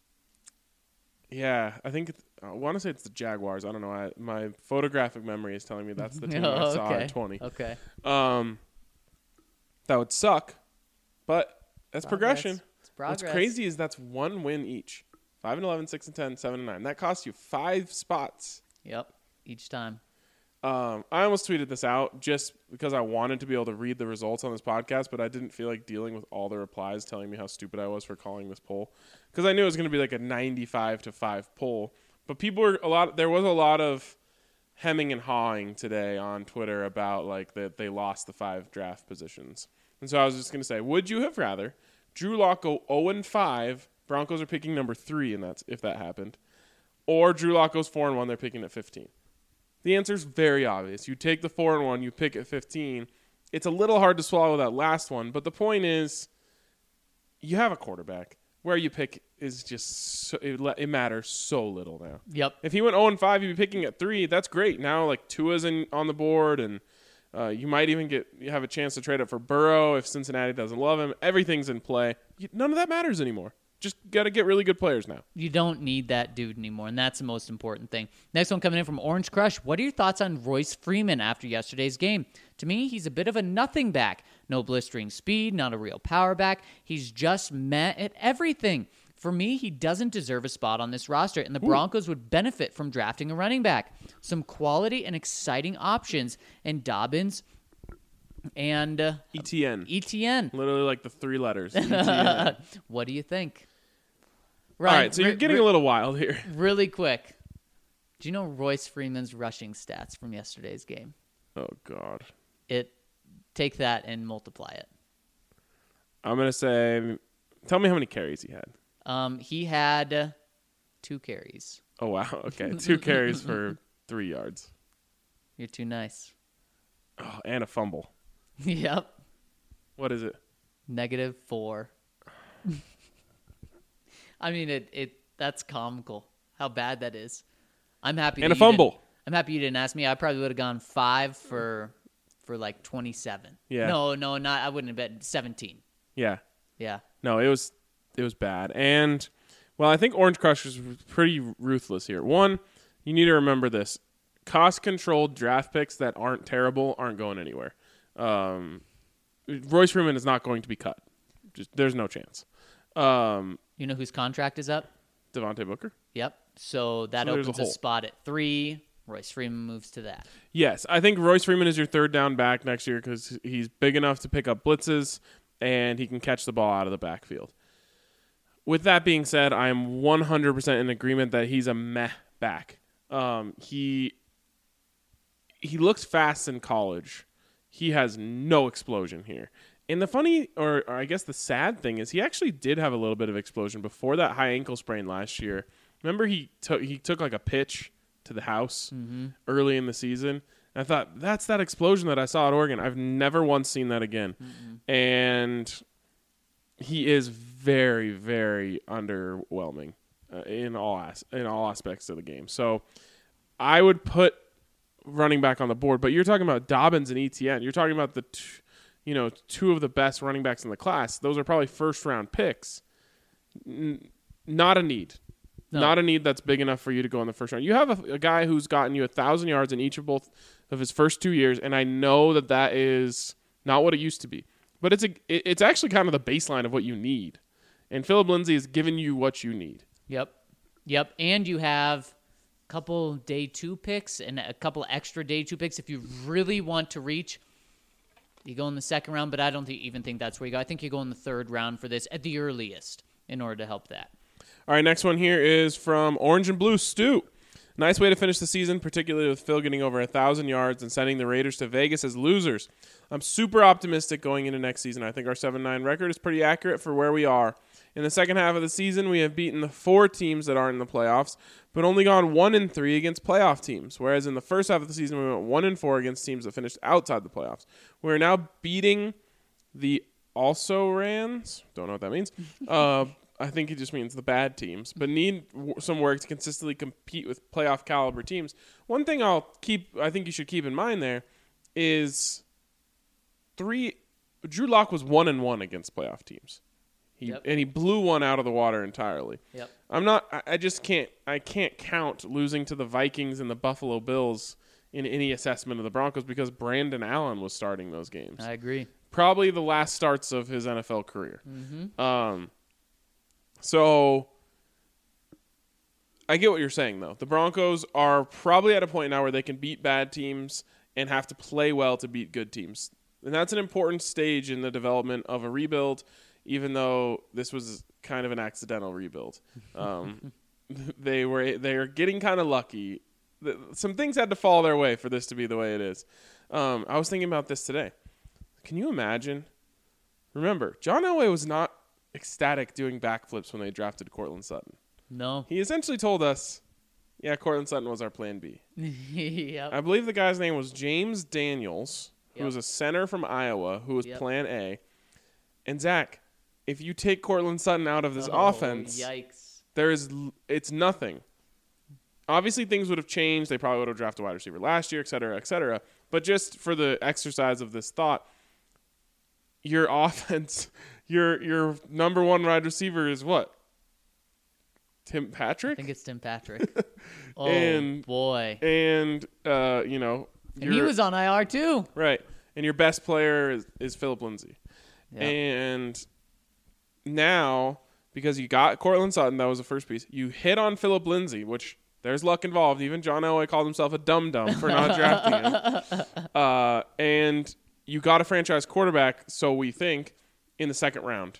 Yeah, I think it's, I want to say it's the Jaguars. I don't know. I, my photographic memory is telling me that's the team Oh, I saw okay. at twenty. Okay. Um, that would suck, but that's Progress. progression. It's progress. What's crazy is that's one win each. Five and eleven, six and ten, seven and nine. That costs you five spots. Yep. Each time. Um, I almost tweeted this out just because I wanted to be able to read the results on this podcast, but I didn't feel like dealing with all the replies telling me how stupid I was for calling this poll because I knew it was going to be like a ninety-five to five poll. But people were a lot. There was a lot of hemming and hawing today on Twitter about like that they lost the five draft positions, and so I was just going to say, would you have rather Drew Lock go zero and five? Broncos are picking number three, and that's if that happened, or Drew Lock goes four and one. They're picking at fifteen. The answer is very obvious. You take the four and one, you pick at fifteen. It's a little hard to swallow that last one, but the point is, you have a quarterback. Where you pick is just so, it, it matters so little now. Yep. If he went zero and five, you'd be picking at three. That's great. Now like Tua's in on the board, and uh, you might even get you have a chance to trade up for Burrow if Cincinnati doesn't love him. Everything's in play. You, none of that matters anymore. Just got to get really good players now. You don't need that dude anymore, and that's the most important thing. Next one coming in from Orange Crush. What are your thoughts on Royce Freeman after yesterday's game? To me, he's a bit of a nothing back. No blistering speed, not a real power back. He's just met at everything. For me, he doesn't deserve a spot on this roster, and the Broncos would benefit from drafting a running back. Some quality and exciting options, and Dobbins and uh, E T N. E T N. Literally like the three letters. E T N. What do you think? All Ryan, right, so you're re- getting re- a little wild here. Really quick. Do you know Royce Freeman's rushing stats from yesterday's game? Oh, God. It take that and multiply it. I'm going to say, tell me how many carries he had. Um, he had uh, two carries. Oh, wow. Okay. Two carries for three yards. You're too nice. Oh, and a fumble. Yep. What is it? Negative four. I mean, it, it that's comical how bad that is. I'm happy. And that a you didn't- fumble. I'm happy you didn't ask me. I probably would have gone five for for like twenty-seven. Yeah. No, no, not. I wouldn't have bet seventeen. Yeah. Yeah. No, it was it was bad. And, well, I think Orange Crush is pretty ruthless here. One, you need to remember this. Cost-controlled draft picks that aren't terrible aren't going anywhere. Um, Royce Freeman is not going to be cut. Just there's no chance. Um, You know whose contract is up? Devontae Booker? Yep. So that So there's a opens a, hole. spot at three. Royce Freeman moves to that. Yes, I think Royce Freeman is your third down back next year because he's big enough to pick up blitzes and he can catch the ball out of the backfield. With that being said, I am one hundred percent in agreement that he's a meh back. Um, he he looks fast in college. He has no explosion here. And the funny, or, or I guess the sad thing is he actually did have a little bit of explosion before that high ankle sprain last year. Remember he took he took like a pitch to the house Mm-hmm. early in the season. I thought, that's that explosion that I saw at Oregon. I've never once seen that again. Mm-mm. And he is very, very underwhelming uh, in all as- in all aspects of the game. So I would put running back on the board. But you're talking about Dobbins and Etienne. You're talking about the, t- you know, two of the best running backs in the class. Those are probably first round picks. N- not a need. No. Not a need that's big enough for you to go in the first round. You have a, a guy who's gotten you a thousand yards in each of both of his first two years, and I know that that is not what it used to be, but it's a it, it's actually kind of the baseline of what you need. And Philip Lindsay has given you what you need. Yep, yep, and you have a couple day two picks and a couple extra day two picks if you really want to reach. You go in the second round, but I don't think, even think that's where you go. I think you go in the third round for this at the earliest in order to help that. All right, next one here is from Orange and Blue Stu. Nice way to finish the season, particularly with Phil getting over one thousand yards and sending the Raiders to Vegas as losers. I'm super optimistic going into next season. I think our seven nine record is pretty accurate for where we are. In the second half of the season, we have beaten the four teams that aren't in the playoffs, but only gone one and three against playoff teams, whereas in the first half of the season, we went one and four against teams that finished outside the playoffs. We're now beating the also-rans, don't know what that means, uh, I think it just means the bad teams, but need w- some work to consistently compete with playoff caliber teams. One thing I'll keep, I think you should keep in mind there is three. Drew Lock was one and one against playoff teams, he yep. and he blew one out of the water entirely. Yep. I'm not. I, I just can't. I can't count losing to the Vikings and the Buffalo Bills in any assessment of the Broncos because Brandon Allen was starting those games. I agree. Probably the last starts of his N F L career. Mm-hmm. Um. So, I get what you're saying, though. The Broncos are probably at a point now where they can beat bad teams and have to play well to beat good teams. And that's an important stage in the development of a rebuild, even though this was kind of an accidental rebuild. Um, they were they are getting kind of lucky. Some things had to fall their way for this to be the way it is. Um, I was thinking about this today. Can you imagine? Remember, John Elway was not ecstatic doing backflips when they drafted Courtland Sutton. No. He essentially told us, yeah, Courtland Sutton was our plan B. Yep. I believe the guy's name was James Daniels, who yep. was a center from Iowa, who was yep. plan A. And Zach, if you take Courtland Sutton out of this oh, offense, yikes. there is it's nothing. Obviously, things would have changed. They probably would have drafted a wide receiver last year, et cetera, et cetera. But just for the exercise of this thought, your offense, your your number one wide receiver is what? Tim Patrick? I think it's Tim Patrick. Oh, and, boy. And, uh, you know. And he was on I R too. Right. And your best player is, is Philip Lindsay. Yep. And now, because you got Courtland Sutton, that was the first piece, you hit on Philip Lindsay, which there's luck involved. Even John Elway called himself a dum-dum for not drafting him. Uh, and you got a franchise quarterback, so we think, in the second round.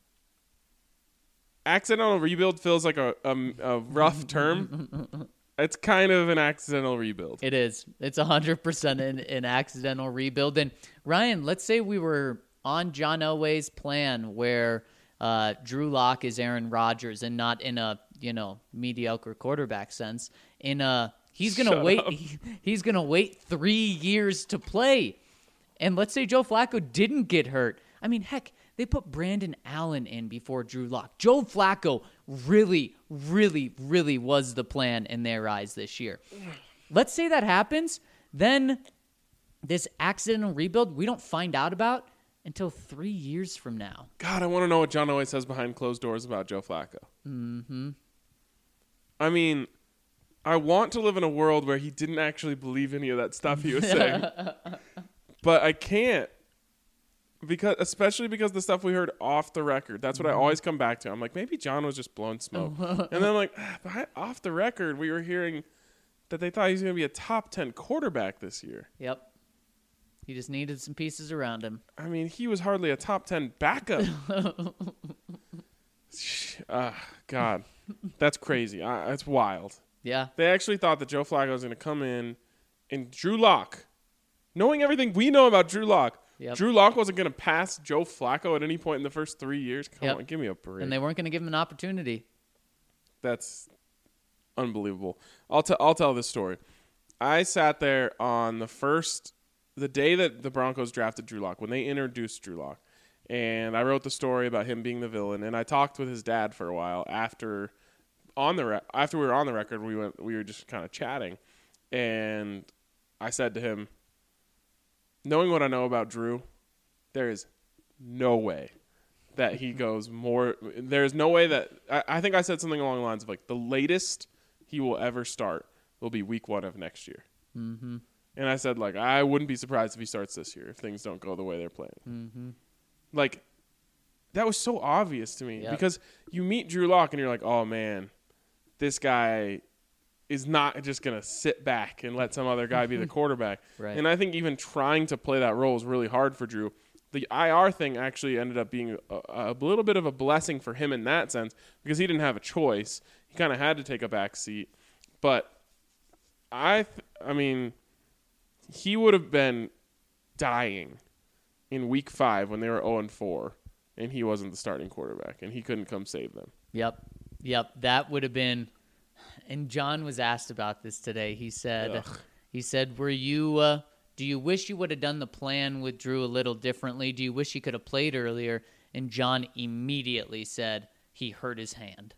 Accidental rebuild feels like a, a, a rough term. It's kind of an accidental rebuild. It is. It's one hundred percent an, an accidental rebuild. And, Ryan, let's say we were on John Elway's plan where uh, Drew Lock is Aaron Rodgers and not in a, you know, mediocre quarterback sense. In a, he's going to wait. He, he's going to wait three years to play. And let's say Joe Flacco didn't get hurt. I mean, heck, they put Brandon Allen in before Drew Lock. Joe Flacco really, really, really was the plan in their eyes this year. Let's say that happens, then this accidental rebuild we don't find out about until three years from now. God, I want to know what John Elway says behind closed doors about Joe Flacco. Mm-hmm. I mean, I want to live in a world where he didn't actually believe any of that stuff he was saying. But I can't. Because, especially because the stuff we heard off the record. That's what I always come back to. I'm like, maybe John was just blowing smoke. And then I'm like, ah, behind, off the record, we were hearing that they thought he was going to be a top ten quarterback this year. Yep. He just needed some pieces around him. I mean, he was hardly a top ten backup. uh, God, that's crazy. Uh, that's wild. Yeah. They actually thought that Joe Flacco was going to come in and Drew Lock, knowing everything we know about Drew Lock, Yep. Drew Lock wasn't going to pass Joe Flacco at any point in the first three years. Come yep. on, give me a break. And they weren't going to give him an opportunity. That's unbelievable. I'll tell. I'll tell this story. I sat there on the first, the day that the Broncos drafted Drew Lock, when they introduced Drew Lock, and I wrote the story about him being the villain, and I talked with his dad for a while after on the re- after we were on the record. We went, we were just kind of chatting, and I said to him, knowing what I know about Drew, there is no way that he goes more. There's no way that I, I think I said something along the lines of like the latest he will ever start will be week one of next year. Mm-hmm. And I said, like, I wouldn't be surprised if he starts this year if things don't go the way they're playing. Mm-hmm. Like, that was so obvious to me Yep. because you meet Drew Lock and you're like, oh, man, this guy is not just going to sit back and let some other guy be the quarterback. Right. And I think even trying to play that role is really hard for Drew. The I R thing actually ended up being a, a little bit of a blessing for him in that sense because he didn't have a choice. He kind of had to take a back seat. But I, th- I mean, he would have been dying in week five when they were oh and four and he wasn't the starting quarterback and he couldn't come save them. Yep. Yep. That would have been. And John was asked about this today. He said, Ugh. he said, were you, uh, do you wish you would have done the plan with Drew a little differently? Do you wish he could have played earlier? And John immediately said he hurt his hand.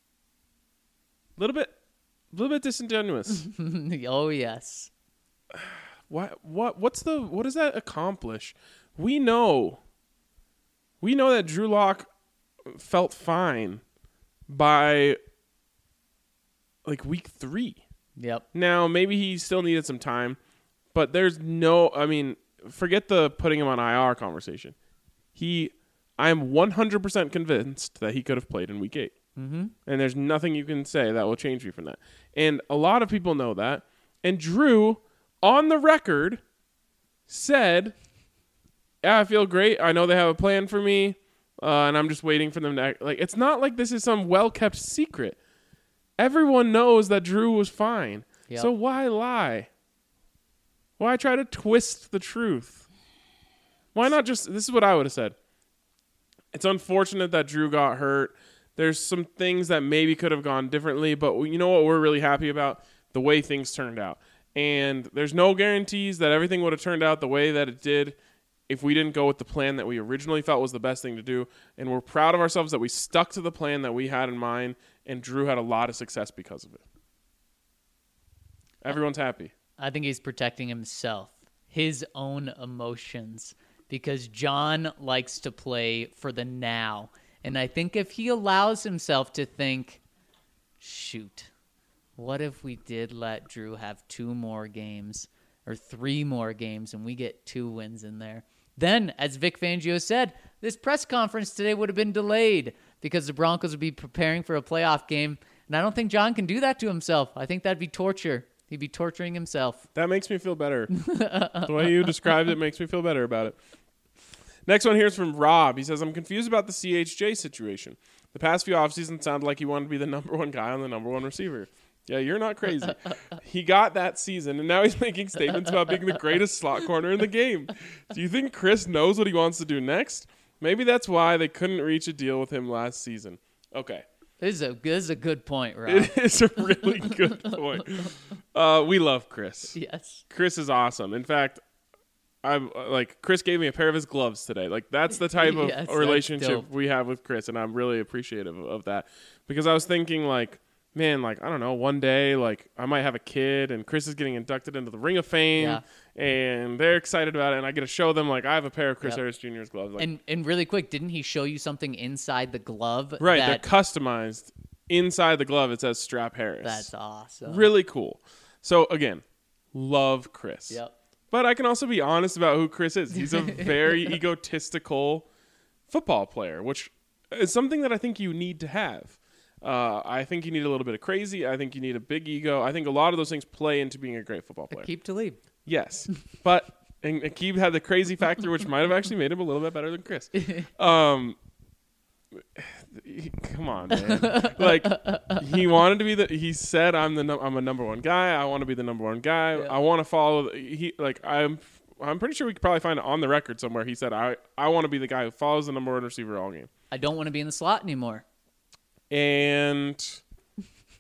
A little bit, a little bit disingenuous. Oh, yes. What, what, what's the, what does that accomplish? We know, we know that Drew Lock felt fine by like week three. Yep. Now, maybe he still needed some time, but there's no, I mean, forget the putting him on I R conversation. He, I'm one hundred percent convinced that he could have played in week eight. Mm-hmm. And there's nothing you can say that will change me from that. And a lot of people know that. And Drew, on the record, said, yeah, I feel great. I know they have a plan for me, uh, and I'm just waiting for them to act. Like, it's not like this is some well-kept secret. Everyone knows that Drew was fine. Yep. So why lie? Why try to twist the truth? Why not just, this is what I would have said. It's unfortunate that Drew got hurt. There's some things that maybe could have gone differently, but you know what we're really happy about? The way things turned out. And there's no guarantees that everything would have turned out the way that it did if we didn't go with the plan that we originally felt was the best thing to do. And we're proud of ourselves that we stuck to the plan that we had in mind, and Drew had a lot of success because of it. Everyone's happy. I think he's protecting himself, his own emotions, because John likes to play for the now. And I think if he allows himself to think, shoot, what if we did let Drew have two more games or three more games and we get two wins in there? Then, as Vic Fangio said, this press conference today would have been delayed because the Broncos would be preparing for a playoff game. And I don't think John can do that to himself. I think that'd be torture. He'd be torturing himself. That makes me feel better. The way you described it makes me feel better about it. Next one here is from Rob. He says, I'm confused about the C H J situation. The past few offseasons sounded like he wanted to be the number one guy on the number one receiver. Yeah, you're not crazy. He got that season, and now he's making statements about being the greatest slot corner in the game. Do you think Chris knows what he wants to do next? Maybe that's why they couldn't reach a deal with him last season. Okay. This is a, this is a good point, Rob. It is a really good point. Uh, we love Chris. Yes. Chris is awesome. In fact, I'm like Chris gave me a pair of his gloves today. Like that's the type of Yes, that's relationship dope. we have with Chris, and I'm really appreciative of, of that because I was thinking like, man, like I don't know, one day like I might have a kid, and Chris is getting inducted into the Ring of Fame, Yeah. and they're excited about it, and I get to show them like I have a pair of Chris Yep. Harris Junior's gloves. Like, And and really quick, didn't he show you something inside the glove? right, that, they're customized inside the glove. It says Strap Harris. That's awesome. Really cool. So again, love Chris. Yep. But I can also be honest about who Chris is. He's a very egotistical football player, which is something that I think you need to have. Uh, I think you need a little bit of crazy. I think you need a big ego. I think a lot of those things play into being a great football player. Keep to lead. Yes. But and Aqib had the crazy factor, which might have actually made him a little bit better than Chris. Um, come on, man. Like he wanted to be the. He said, "I'm the. Num- I'm a number one guy. I want to be the number one guy. Yeah. I want to follow." He like I'm. I'm pretty sure we could probably find it on the record somewhere. He said, "I. I want to be the guy who follows the number one receiver all game." I don't want to be in the slot anymore. And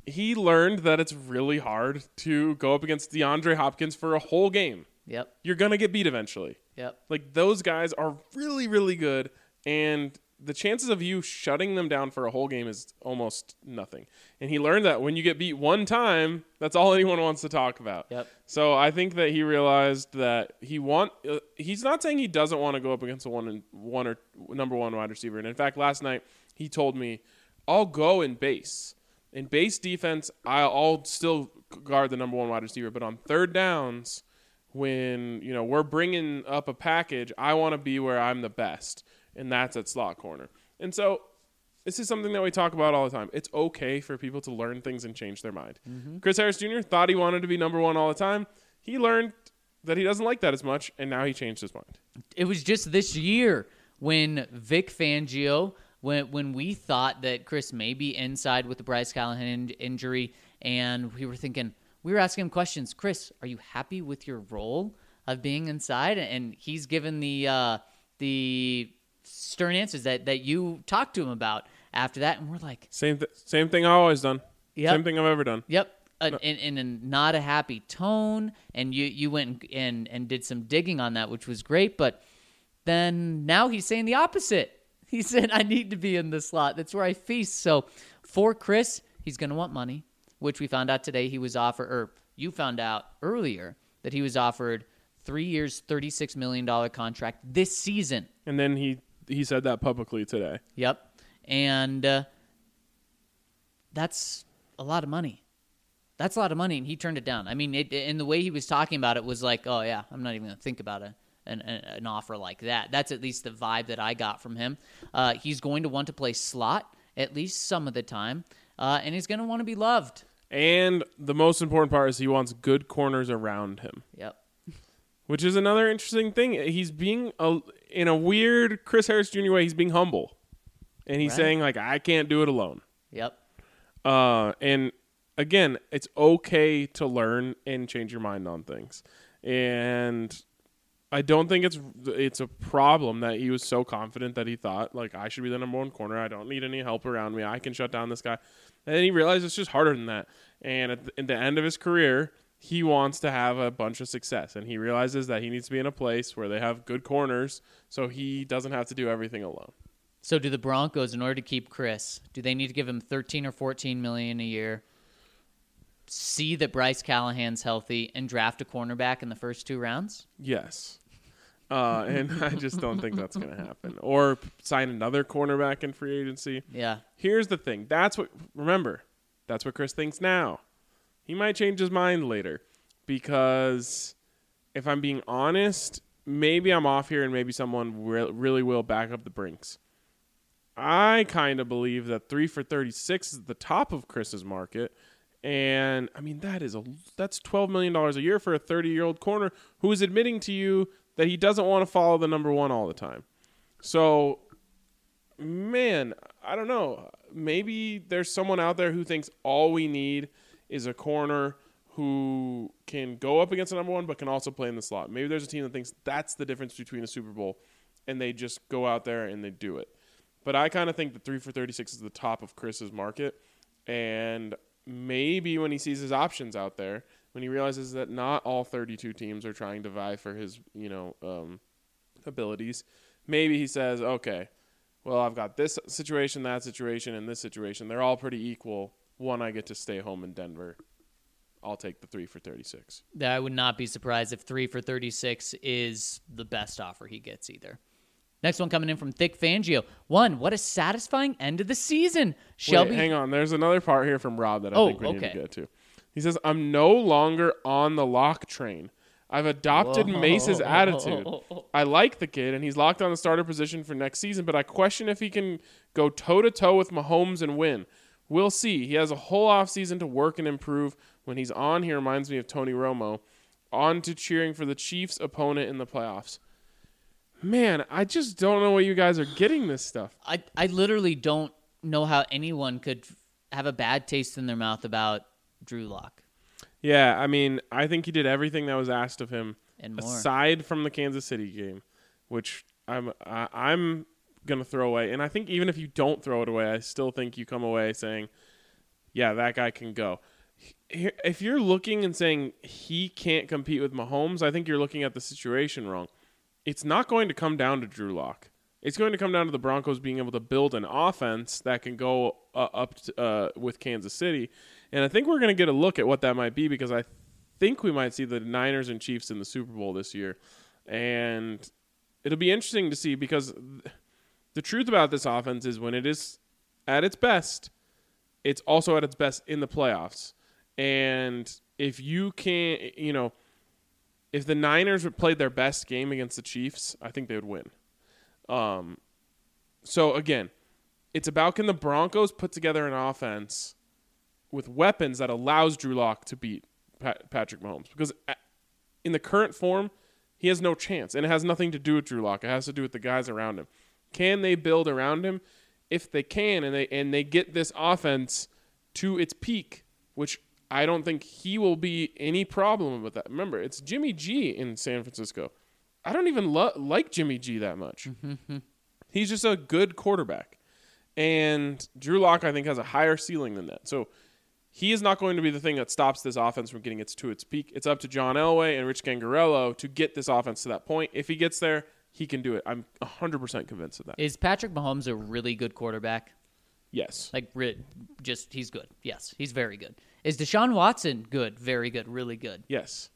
he learned that it's really hard to go up against DeAndre Hopkins for a whole game. Yep. You're going to get beat eventually. Yep. Like, those guys are really, really good, and the chances of you shutting them down for a whole game is almost nothing. And he learned that when you get beat one time, that's all anyone wants to talk about. Yep. So I think that he realized that he want. Uh, he's not saying he doesn't want to go up against a one and one or number one wide receiver. And in fact, last night he told me, "I'll go in base. In base defense, I'll, I'll still guard the number one wide receiver. But on third downs, when you know we're bringing up a package, I want to be where I'm the best." And that's at slot corner. And so this is something that we talk about all the time. It's okay for people to learn things and change their mind. Mm-hmm. Chris Harris Junior thought he wanted to be number one all the time. He learned that he doesn't like that as much, and now he changed his mind. It was just this year when Vic Fangio, when when we thought that Chris may be inside with the Bryce Callahan in- injury, and we were thinking, we were asking him questions. Chris, are you happy with your role of being inside? And he's given the uh, the stern answers that, that you talked to him about after that, and we're like, same th- same thing I've always done. Yep. Same thing I've ever done. Yep. Uh, in, in a not a happy tone, and you you went and and did some digging on that, which was great. But then now he's saying the opposite. He said, "I need to be in the slot. That's where I feast." So for Chris, he's going to want money, which we found out today. He was offered, or you found out earlier that he was offered three years, thirty-six million dollars contract this season. And then he. He said that publicly today. Yep. And uh, that's a lot of money. That's a lot of money, and he turned it down. I mean, it, and the way he was talking about it was like, oh, yeah, I'm not even going to think about a, an, an offer like that. That's at least the vibe that I got from him. Uh, he's going to want to play slot at least some of the time, uh, and he's going to want to be loved. And the most important part is he wants good corners around him. Yep. Which is another interesting thing. He's being, a, in a weird Chris Harris Junior way, he's being humble. And he's Right. saying, like, I can't do it alone. Yep. Uh, and, again, it's okay to learn and change your mind on things. And I don't think it's it's a problem that he was so confident that he thought, like, I should be the number one corner. I don't need any help around me. I can shut down this guy. And then he realized it's just harder than that. And at the, at the end of his career, he wants to have a bunch of success, and he realizes that he needs to be in a place where they have good corners so he doesn't have to do everything alone. So do the Broncos, in order to keep Chris, do they need to give him thirteen or fourteen million dollars a year, see that Bryce Callahan's healthy, and draft a cornerback in the first two rounds? Yes. Uh, and I just don't think that's going to happen. Or sign another cornerback in free agency. Yeah. Here's the thing. That's what, remember, that's what Chris thinks now. He might change his mind later because if I'm being honest, maybe I'm off here and maybe someone re- really will back up the Brinks. I kind of believe that three for thirty-six is the top of Chris's market. And, I mean, that is a that's twelve million dollars a year for a thirty-year-old corner who is admitting to you that he doesn't want to follow the number one all the time. So, man, I don't know. Maybe there's someone out there who thinks all we need is a corner who can go up against the number one but can also play in the slot. Maybe there's a team that thinks that's the difference between a Super Bowl, and they just go out there and they do it. But I kind of think that three for thirty-six is the top of Chris's market, and maybe when he sees his options out there, when he realizes that not all thirty-two teams are trying to vie for his, you know, um, abilities, maybe he says, okay, well, I've got this situation, that situation, and this situation. They're all pretty equal. One, I get to stay home in Denver. I'll take the three for thirty-six. I would not be surprised if three for thirty-six is the best offer he gets either. Next one coming in from Thick Fangio. One, what a satisfying end of the season. Shelby, Wait, hang on. There's another part here from Rob that I Oh, think we okay. need to get to. He says, I'm no longer on the lock train. I've adopted Whoa. Mace's attitude. I like the kid, and he's locked on the starter position for next season, but I question if he can go toe-to-toe with Mahomes and win. We'll see. He has a whole offseason to work and improve. When he's on, he reminds me of Tony Romo. On to cheering for the Chiefs' opponent in the playoffs. Man, I just don't know where you guys are getting this stuff. I, I literally don't know how anyone could have a bad taste in their mouth about Drew Lock. Yeah, I mean, I think he did everything that was asked of him, And more. aside from the Kansas City game, which I'm I, I'm gonna throw away. And I think even if you don't throw it away, I still think you come away saying, yeah, that guy can go. If you're looking and saying he can't compete with Mahomes, I think you're looking at the situation wrong. It's not going to come down to Drew Lock. It's going to come down to the Broncos being able to build an offense that can go uh, up to, uh, with Kansas City. And I think we're going to get a look at what that might be because I think we might see the Niners and Chiefs in the Super Bowl this year. And it'll be interesting to see because the truth about this offense is when it is at its best, it's also at its best in the playoffs. And if you can't, you know, if the Niners played their best game against the Chiefs, I think they would win. Um, so again, it's about can the Broncos put together an offense with weapons that allows Drew Lock to beat Pat- Patrick Mahomes because in the current form, he has no chance, and it has nothing to do with Drew Lock. It has to do with the guys around him. Can they build around him? If they can, and they and they get this offense to its peak, which I don't think he will be any problem with that. Remember, it's Jimmy G in San Francisco. I don't even lo- like Jimmy G that much. Mm-hmm. He's just a good quarterback. And Drew Lock, I think, has a higher ceiling than that. So he is not going to be the thing that stops this offense from getting it to its peak. It's up to John Elway and Rich Gangarello to get this offense to that point. If he gets there, he can do it. I'm one hundred percent convinced of that. Is Patrick Mahomes a really good quarterback? Yes. Like, just, he's good. Yes, he's very good. Is Deshaun Watson good? Very good. Really good. Yes.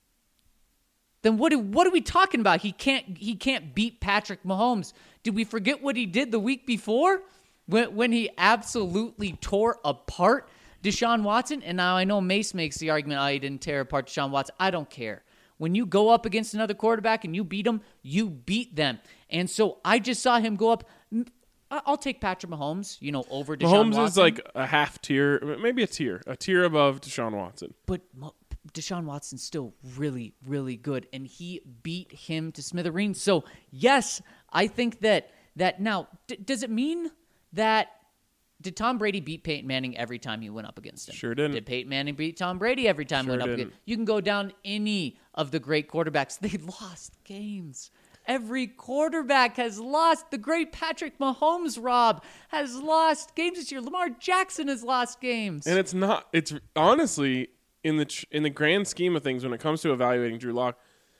Then what, do, what are we talking about? He can't he can't beat Patrick Mahomes. Did we forget what he did the week before when, when he absolutely tore apart Deshaun Watson? And now I know Mace makes the argument, oh, he didn't tear apart Deshaun Watson. I don't care. When you go up against another quarterback and you beat them, you beat them. And so I just saw him go up. I'll take Patrick Mahomes, you know, over Deshaun Mahomes Watson. is like a half tier, maybe a tier, a tier above Deshaun Watson. But Deshaun Watson's still really, really good, and he beat him to smithereens. So, yes, I think that, that now, d- does it mean that, did Tom Brady beat Peyton Manning every time he went up against him? Sure didn't. Did Peyton Manning beat Tom Brady every time he Sure went up didn't. against him? You can go down any of the great quarterbacks. They lost games. Every quarterback has lost. The great Patrick Mahomes, Rob, has lost games this year. Lamar Jackson has lost games. And it's not, it's honestly, in the in the grand scheme of things, when it comes to evaluating Drew Lock,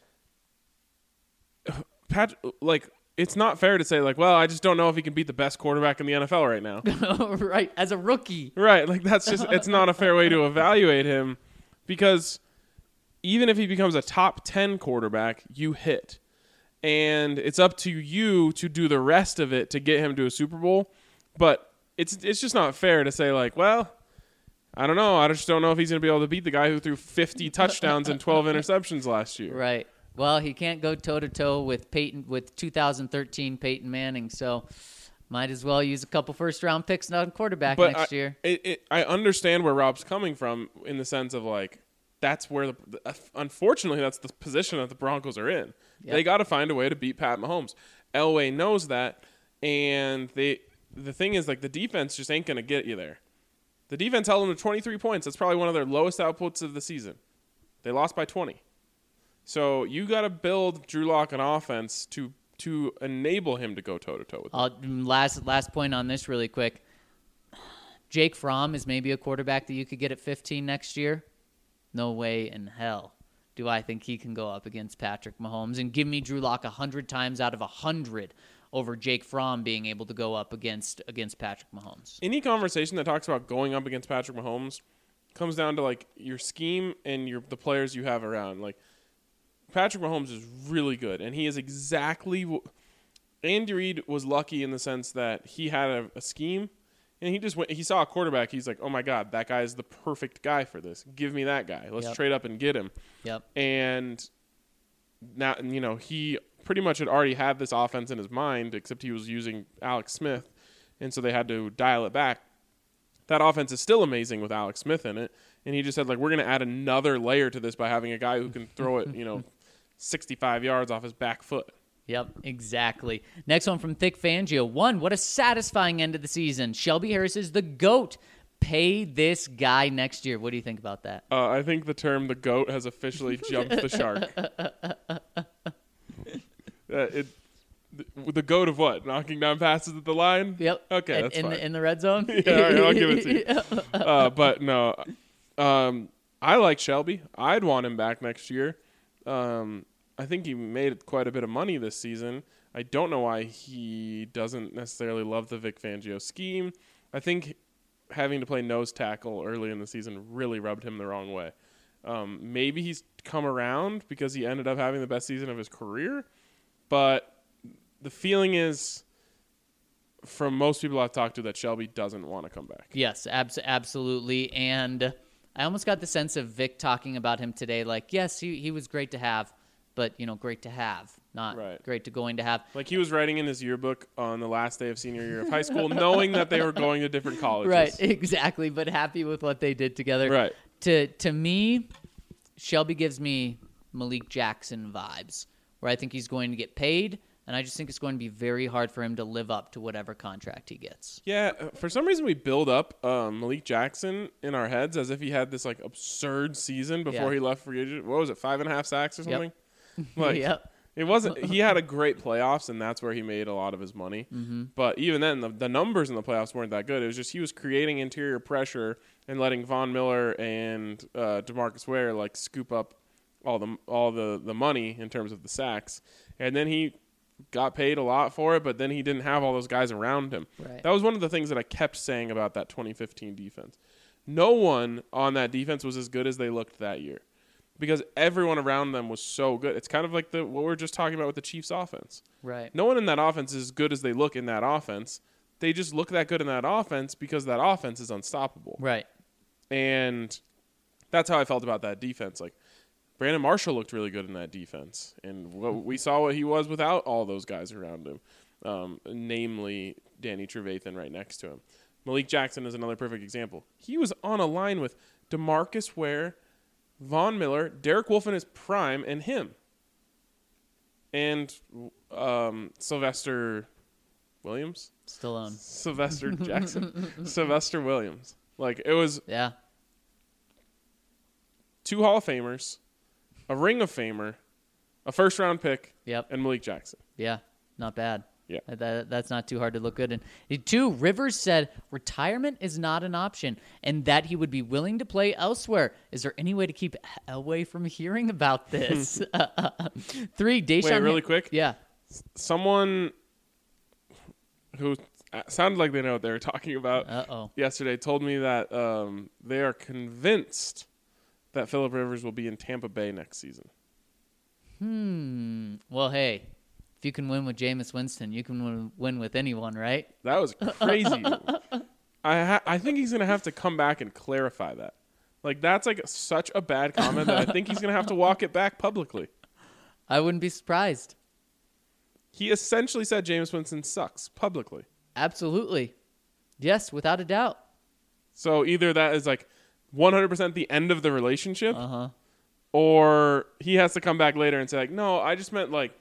Pat, like, it's not fair to say, like, well, I just don't know if he can beat the best quarterback in the N F L right now. Right, as a rookie. Right, like, that's just, it's not a fair way to evaluate him because even if he becomes a top ten quarterback, you hit. And it's up to you to do the rest of it to get him to a Super Bowl. But it's it's just not fair to say, like, well, I don't know. I just don't know if he's going to be able to beat the guy who threw fifty touchdowns and twelve interceptions last year. Right. Well, he can't go toe-to-toe with Peyton with two thousand thirteen Peyton Manning, so might as well use a couple first-round picks on quarterback But next I, year. It, it, I understand where Rob's coming from in the sense of, like, that's where, the, the unfortunately, that's the position that the Broncos are in. Yep. They got to find a way to beat Pat Mahomes. Elway knows that, and they the thing is, like, the defense just ain't going to get you there. The defense held them to twenty-three points. That's probably one of their lowest outputs of the season. They lost by twenty. So you got to build Drew Lock an offense to to enable him to go toe-to-toe with them. Uh, last last point on this really quick. Jake Fromm is maybe a quarterback that you could get at fifteen next year. No way in hell do I think he can go up against Patrick Mahomes and give me Drew Lock one hundred times out of one hundred over Jake Fromm being able to go up against against Patrick Mahomes. Any conversation that talks about going up against Patrick Mahomes comes down to, like, your scheme and your the players you have around. Like, Patrick Mahomes is really good, and he is exactly w- – Andy Reid was lucky in the sense that he had a, a scheme, and he just went – he saw a quarterback. He's like, oh, my God, that guy is the perfect guy for this. Give me that guy. Let's Yep. trade up and get him. Yep. And now, you know, he pretty much had already had this offense in his mind, except he was using Alex Smith, and so they had to dial it back. That offense is still amazing with Alex Smith in it, and he just said, like, we're going to add another layer to this by having a guy who can throw it, you know, sixty-five yards off his back foot. Yep, exactly. Next one from Thick Fangio. One, what a satisfying end of the season. Shelby Harris is the GOAT. Pay this guy next year. What do you think about that? Uh, I think the term the GOAT has officially jumped the shark. uh, it, The, the goat of what? Knocking down passes at the line? Yep. Okay, in, that's in fine. The, in the red zone? Yeah, all right, I'll give it to you. Uh, but no, um, I like Shelby. I'd want him back next year. Um, I think he made quite a bit of money this season. I don't know why he doesn't necessarily love the Vic Fangio scheme. I think having to play nose tackle early in the season really rubbed him the wrong way. Um, maybe he's come around because he ended up having the best season of his career, but the feeling is, from most people I've talked to, that Shelby doesn't want to come back. Yes, abs- absolutely. And I almost got the sense of Vic talking about him today, like, yes, he, he was great to have, but, you know, great to have, not Right. great to going to have. Like he was writing in his yearbook on the last day of senior year of high school, knowing that they were going to different colleges. Right, exactly, but happy with what they did together. Right. To to me, Shelby gives me Malik Jackson vibes, where I think he's going to get paid, and I just think it's going to be very hard for him to live up to whatever contract he gets. Yeah, uh, for some reason we build up um, Malik Jackson in our heads as if he had this like absurd season before Yeah. he left free agent. What was it, five and a half sacks or Yep. something? Like, Yep. It wasn't. He had a great playoffs, and that's where he made a lot of his money. Mm-hmm. But even then, the, the numbers in the playoffs weren't that good. It was just he was creating interior pressure and letting Von Miller and uh, DeMarcus Ware like scoop up all the all the, the money in terms of the sacks. And then he got paid a lot for it, but then he didn't have all those guys around him. Right. That was one of the things that I kept saying about that twenty fifteen defense. No one on that defense was as good as they looked that year, because everyone around them was so good. It's kind of like the what we were just talking about with the Chiefs' offense. Right. No one in that offense is as good as they look in that offense. They just look that good in that offense because that offense is unstoppable. Right. And that's how I felt about that defense. Like, Brandon Marshall looked really good in that defense. And what we saw what he was without all those guys around him, um, namely Danny Trevathan right next to him. Malik Jackson is another perfect example. He was on a line with DeMarcus Ware, Von Miller, Derek Wolfe in his prime, and him. And um, Sylvester Williams? Stallone. Sylvester Jackson. Sylvester Williams. Like, it was Yeah. two Hall of Famers, a Ring of Famer, a first-round pick, Yep. and Malik Jackson. Yeah. Not bad. Yeah. That, that- that's not too hard to look good. And two, Rivers said retirement is not an option and that he would be willing to play elsewhere. Is there any way to keep Elway from hearing about this? Three, Deshaun. Wait, really quick? Yeah. Someone who sounded like they know what they were talking about Uh-oh. yesterday told me that um, they are convinced that Phillip Rivers will be in Tampa Bay next season. Hmm. Well, hey, if you can win with Jameis Winston, you can win, win with anyone, right? That was crazy. I ha- I think he's going to have to come back and clarify that. Like, that's like such a bad comment that I think he's going to have to walk it back publicly. I wouldn't be surprised. He essentially said Jameis Winston sucks publicly. Absolutely. Yes, without a doubt. So either that is like one hundred percent the end of the relationship, Uh-huh. or he has to come back later and say, like, no, I just meant like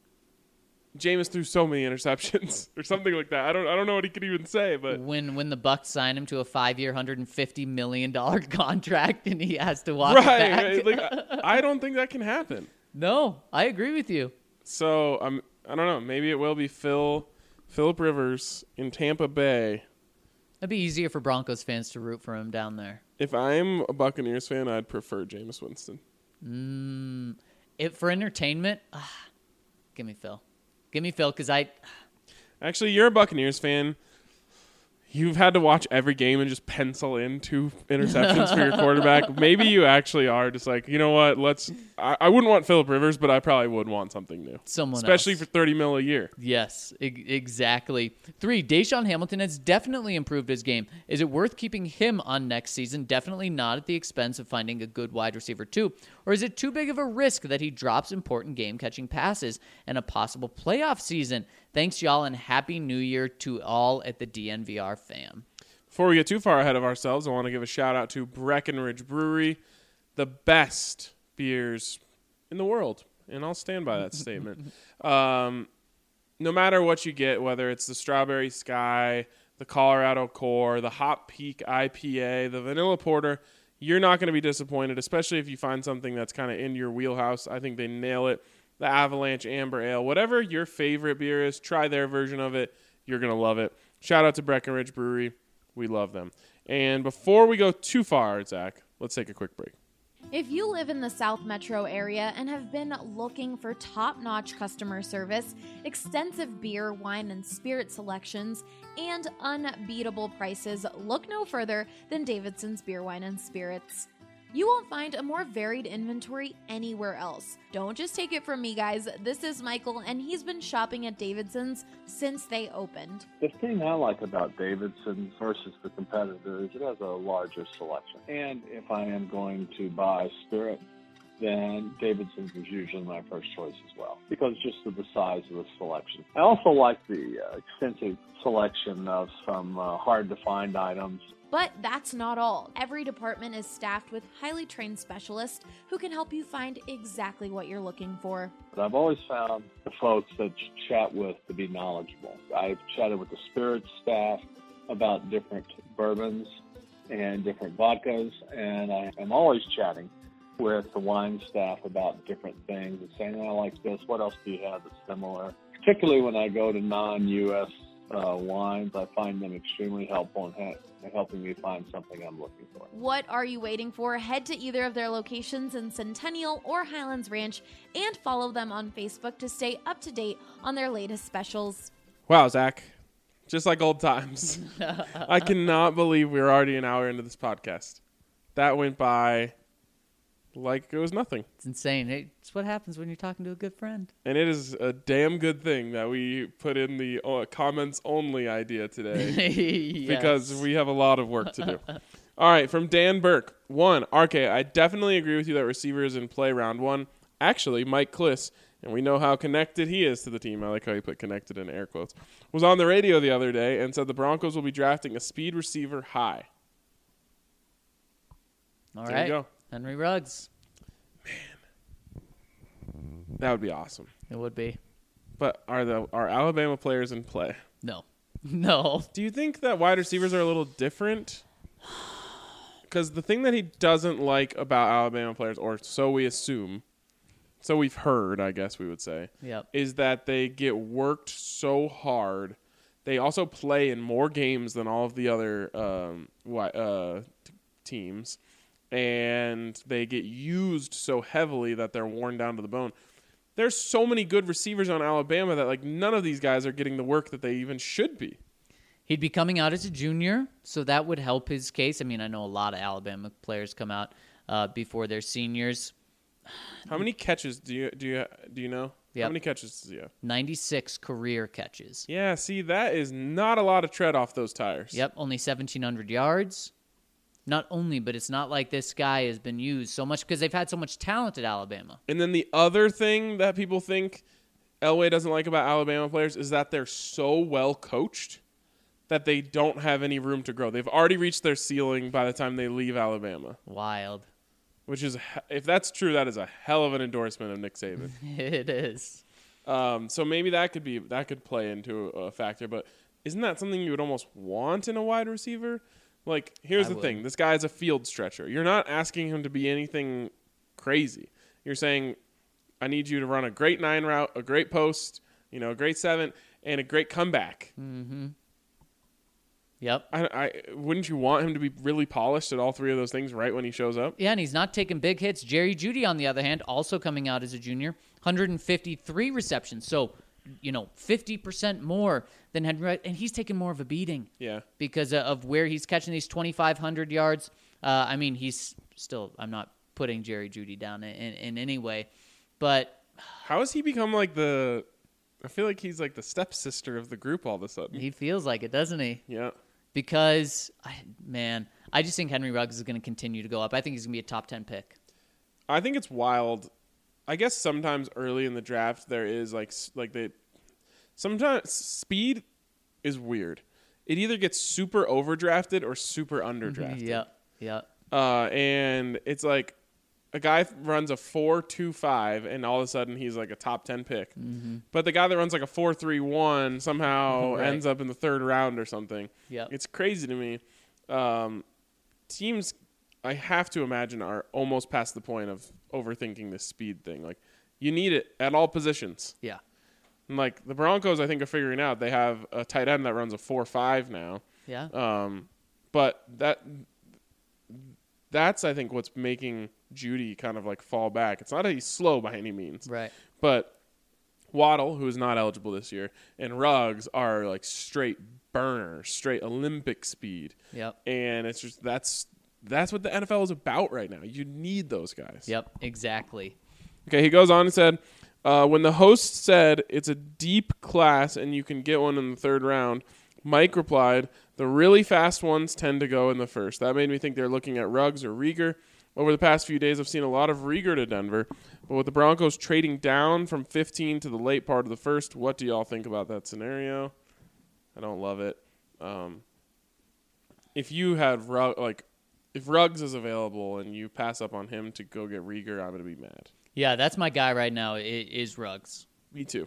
Jameis threw so many interceptions or something like that. I don't I don't know what he could even say, but When when the Bucks sign him to a five-year, one hundred fifty million dollars contract and he has to walk it right, back. right, like I, I don't think that can happen. No, I agree with you. So I'm I don't know. Maybe it will be Phil Phillip Rivers in Tampa Bay. It'd be easier for Broncos fans to root for him down there. If I'm a Buccaneers fan, I'd prefer Jameis Winston. Mm, it for entertainment. Ah, give me Phil. Give me Phil because I. Actually, you're a Buccaneers fan. You've had to watch every game and just pencil in two interceptions for your quarterback. Maybe you actually are just like, you know what? Let's. I, I wouldn't want Phillip Rivers, but I probably would want something new. Someone especially else. for thirty mil a year. Yes, e- exactly. Three, Deshaun Hamilton has definitely improved his game. Is it worth keeping him on next season? Definitely not at the expense of finding a good wide receiver too. Or is it too big of a risk that he drops important game-catching passes and a possible playoff season? Thanks, y'all, and Happy New Year to all at the D N V R fam. Before we get too far ahead of ourselves, I want to give a shout out to Breckenridge Brewery, the best beers in the world, and I'll stand by that statement. Um, no matter what you get, whether it's the Strawberry Sky, the Colorado Core, the Hop Peak I P A, the Vanilla Porter, you're not going to be disappointed, especially if you find something that's kind of in your wheelhouse. I think they nail it. the Avalanche Amber Ale. Whatever your favorite beer is, try their version of it. You're going to love it. Shout out to Breckenridge Brewery. We love them. And before we go too far, Zach, let's take a quick break. If you live in the South Metro area and have been looking for top-notch customer service, extensive beer, wine, and spirit selections, and unbeatable prices, look no further than Davidson's Beer, Wine, and Spirits. You won't find a more varied inventory anywhere else. Don't just take it from me, guys. This is Michael, and he's been shopping at Davidson's since they opened. The thing I like about Davidson's versus the competitor is it has a larger selection. And if I am going to buy spirit, then Davidson's is usually my first choice as well, because just of the size of the selection. I also like the uh, extensive selection of some uh, hard-to-find items. But that's not all. Every department is staffed with highly trained specialists who can help you find exactly what you're looking for. But I've always found the folks that you chat with to be knowledgeable. I've chatted with the spirits staff about different bourbons and different vodkas, and I am always chatting with the wine staff about different things and saying, I like this, what else do you have that's similar? Particularly when I go to non-U S uh, wines, I find them extremely helpful in ha- helping me find something I'm looking for. What are you waiting for? Head to either of their locations in Centennial or Highlands Ranch and follow them on Facebook to stay up to date on their latest specials. Wow, Zach. Just like old times. I cannot believe we're already an hour into this podcast. That went by like it was nothing. It's insane. Hey, it's what happens when you're talking to a good friend. And it is a damn good thing that we put in the uh, comments only idea today Yes. because we have a lot of work to do. All right, from Dan Burke. One, R K, I definitely agree with you that receivers in play round one. Actually, Mike Kliss, and we know how connected he is to the team. I like how he put connected in air quotes. Was on the radio the other day and said the Broncos will be drafting a speed receiver high. All There right. you go. Henry Ruggs. That would be awesome. It would be. But are the are Alabama players in play? No. No. Do you think that wide receivers are a little different? Because the thing that he doesn't like about Alabama players, or so we assume, so we've heard, I guess we would say, Yep. is that they get worked so hard. They also play in more games than all of the other um, wi- uh, t- teams. And they get used so heavily that they're worn down to the bone. There's so many good receivers on Alabama that like none of these guys are getting the work that they even should be. He'd be coming out as a junior, so that would help his case. I mean, I know a lot of Alabama players come out uh, before they're seniors. How many catches do you do you do you know? Yep. How many catches does he have? ninety-six career catches. Yeah, see, that is not a lot of tread off those tires. Yep, only seventeen hundred yards. Not only, but it's not like this guy has been used so much because they've had so much talent at Alabama. And then the other thing that people think Elway doesn't like about Alabama players is that they're so well coached that they don't have any room to grow. They've already reached their ceiling by the time they leave Alabama. Wild. Which is, if that's true, that is a hell of an endorsement of Nick Saban. It is. Um, so maybe that could be that could play into a factor. But isn't that something you would almost want in a wide receiver? Like, here's I the would. thing. This guy's a field stretcher. You're not asking him to be anything crazy. You're saying, I need you to run a great nine route, a great post, you know, a great seven, and a great comeback. Mm-hmm. Yep. I, I wouldn't you want him to be really polished at all three of those things right when he shows up? Yeah, and he's not taking big hits. Jerry Jeudy, on the other hand, also coming out as a junior, one hundred fifty-three receptions. So, you know, fifty percent more than Henry Ruggs, and he's taking more of a beating. Yeah. Because of where he's catching these twenty-five hundred yards. Uh, I mean, he's still, I'm not putting Jerry Jeudy down in, in, in any way, but How has he become like the, I feel like he's like the stepsister of the group all of a sudden. he feels like it, doesn't he? Yeah. Because, I, man, I just think Henry Ruggs is going to continue to go up. I think he's going to be a top ten pick. I think it's wild. I guess sometimes early in the draft there is like s- like they sometimes speed is weird. It either gets super overdrafted or super underdrafted. Yeah, yeah. Uh, and it's like a guy th- runs a four two five and all of a sudden he's like a top ten pick. Mm-hmm. But the guy that runs like a four three one somehow Right. ends up in the third round or something. Yep. It's crazy to me. Um, teams, I have to imagine, are almost past the point of overthinking this speed thing. Like, You need it at all positions. Yeah. And like the Broncos, I think are figuring out they have a tight end that runs a four five now. Yeah. Um, but that that's I think what's making Jeudy kind of like fall back. It's not that he's slow by any means, Right. but Waddle, who is not eligible this year, and Ruggs are like straight burners, straight Olympic speed. Yep. And it's just that's that's what the N F L is about right now. You need those guys. Yep. Exactly. Okay, he goes on and said, uh, when the host said it's a deep class and you can get one in the third round, Mike replied, the really fast ones tend to go in the first. That made me think they're looking at Ruggs or Rieger. Over the past few days, I've seen a lot of Rieger to Denver. But with the Broncos trading down from fifteen to the late part of the first, what do y'all think about that scenario? I don't love it. Um, if you had Rugg, like, if Ruggs is available and you pass up on him to go get Rieger, I'm going to be mad. Yeah, that's my guy right now. It is Ruggs. Me too.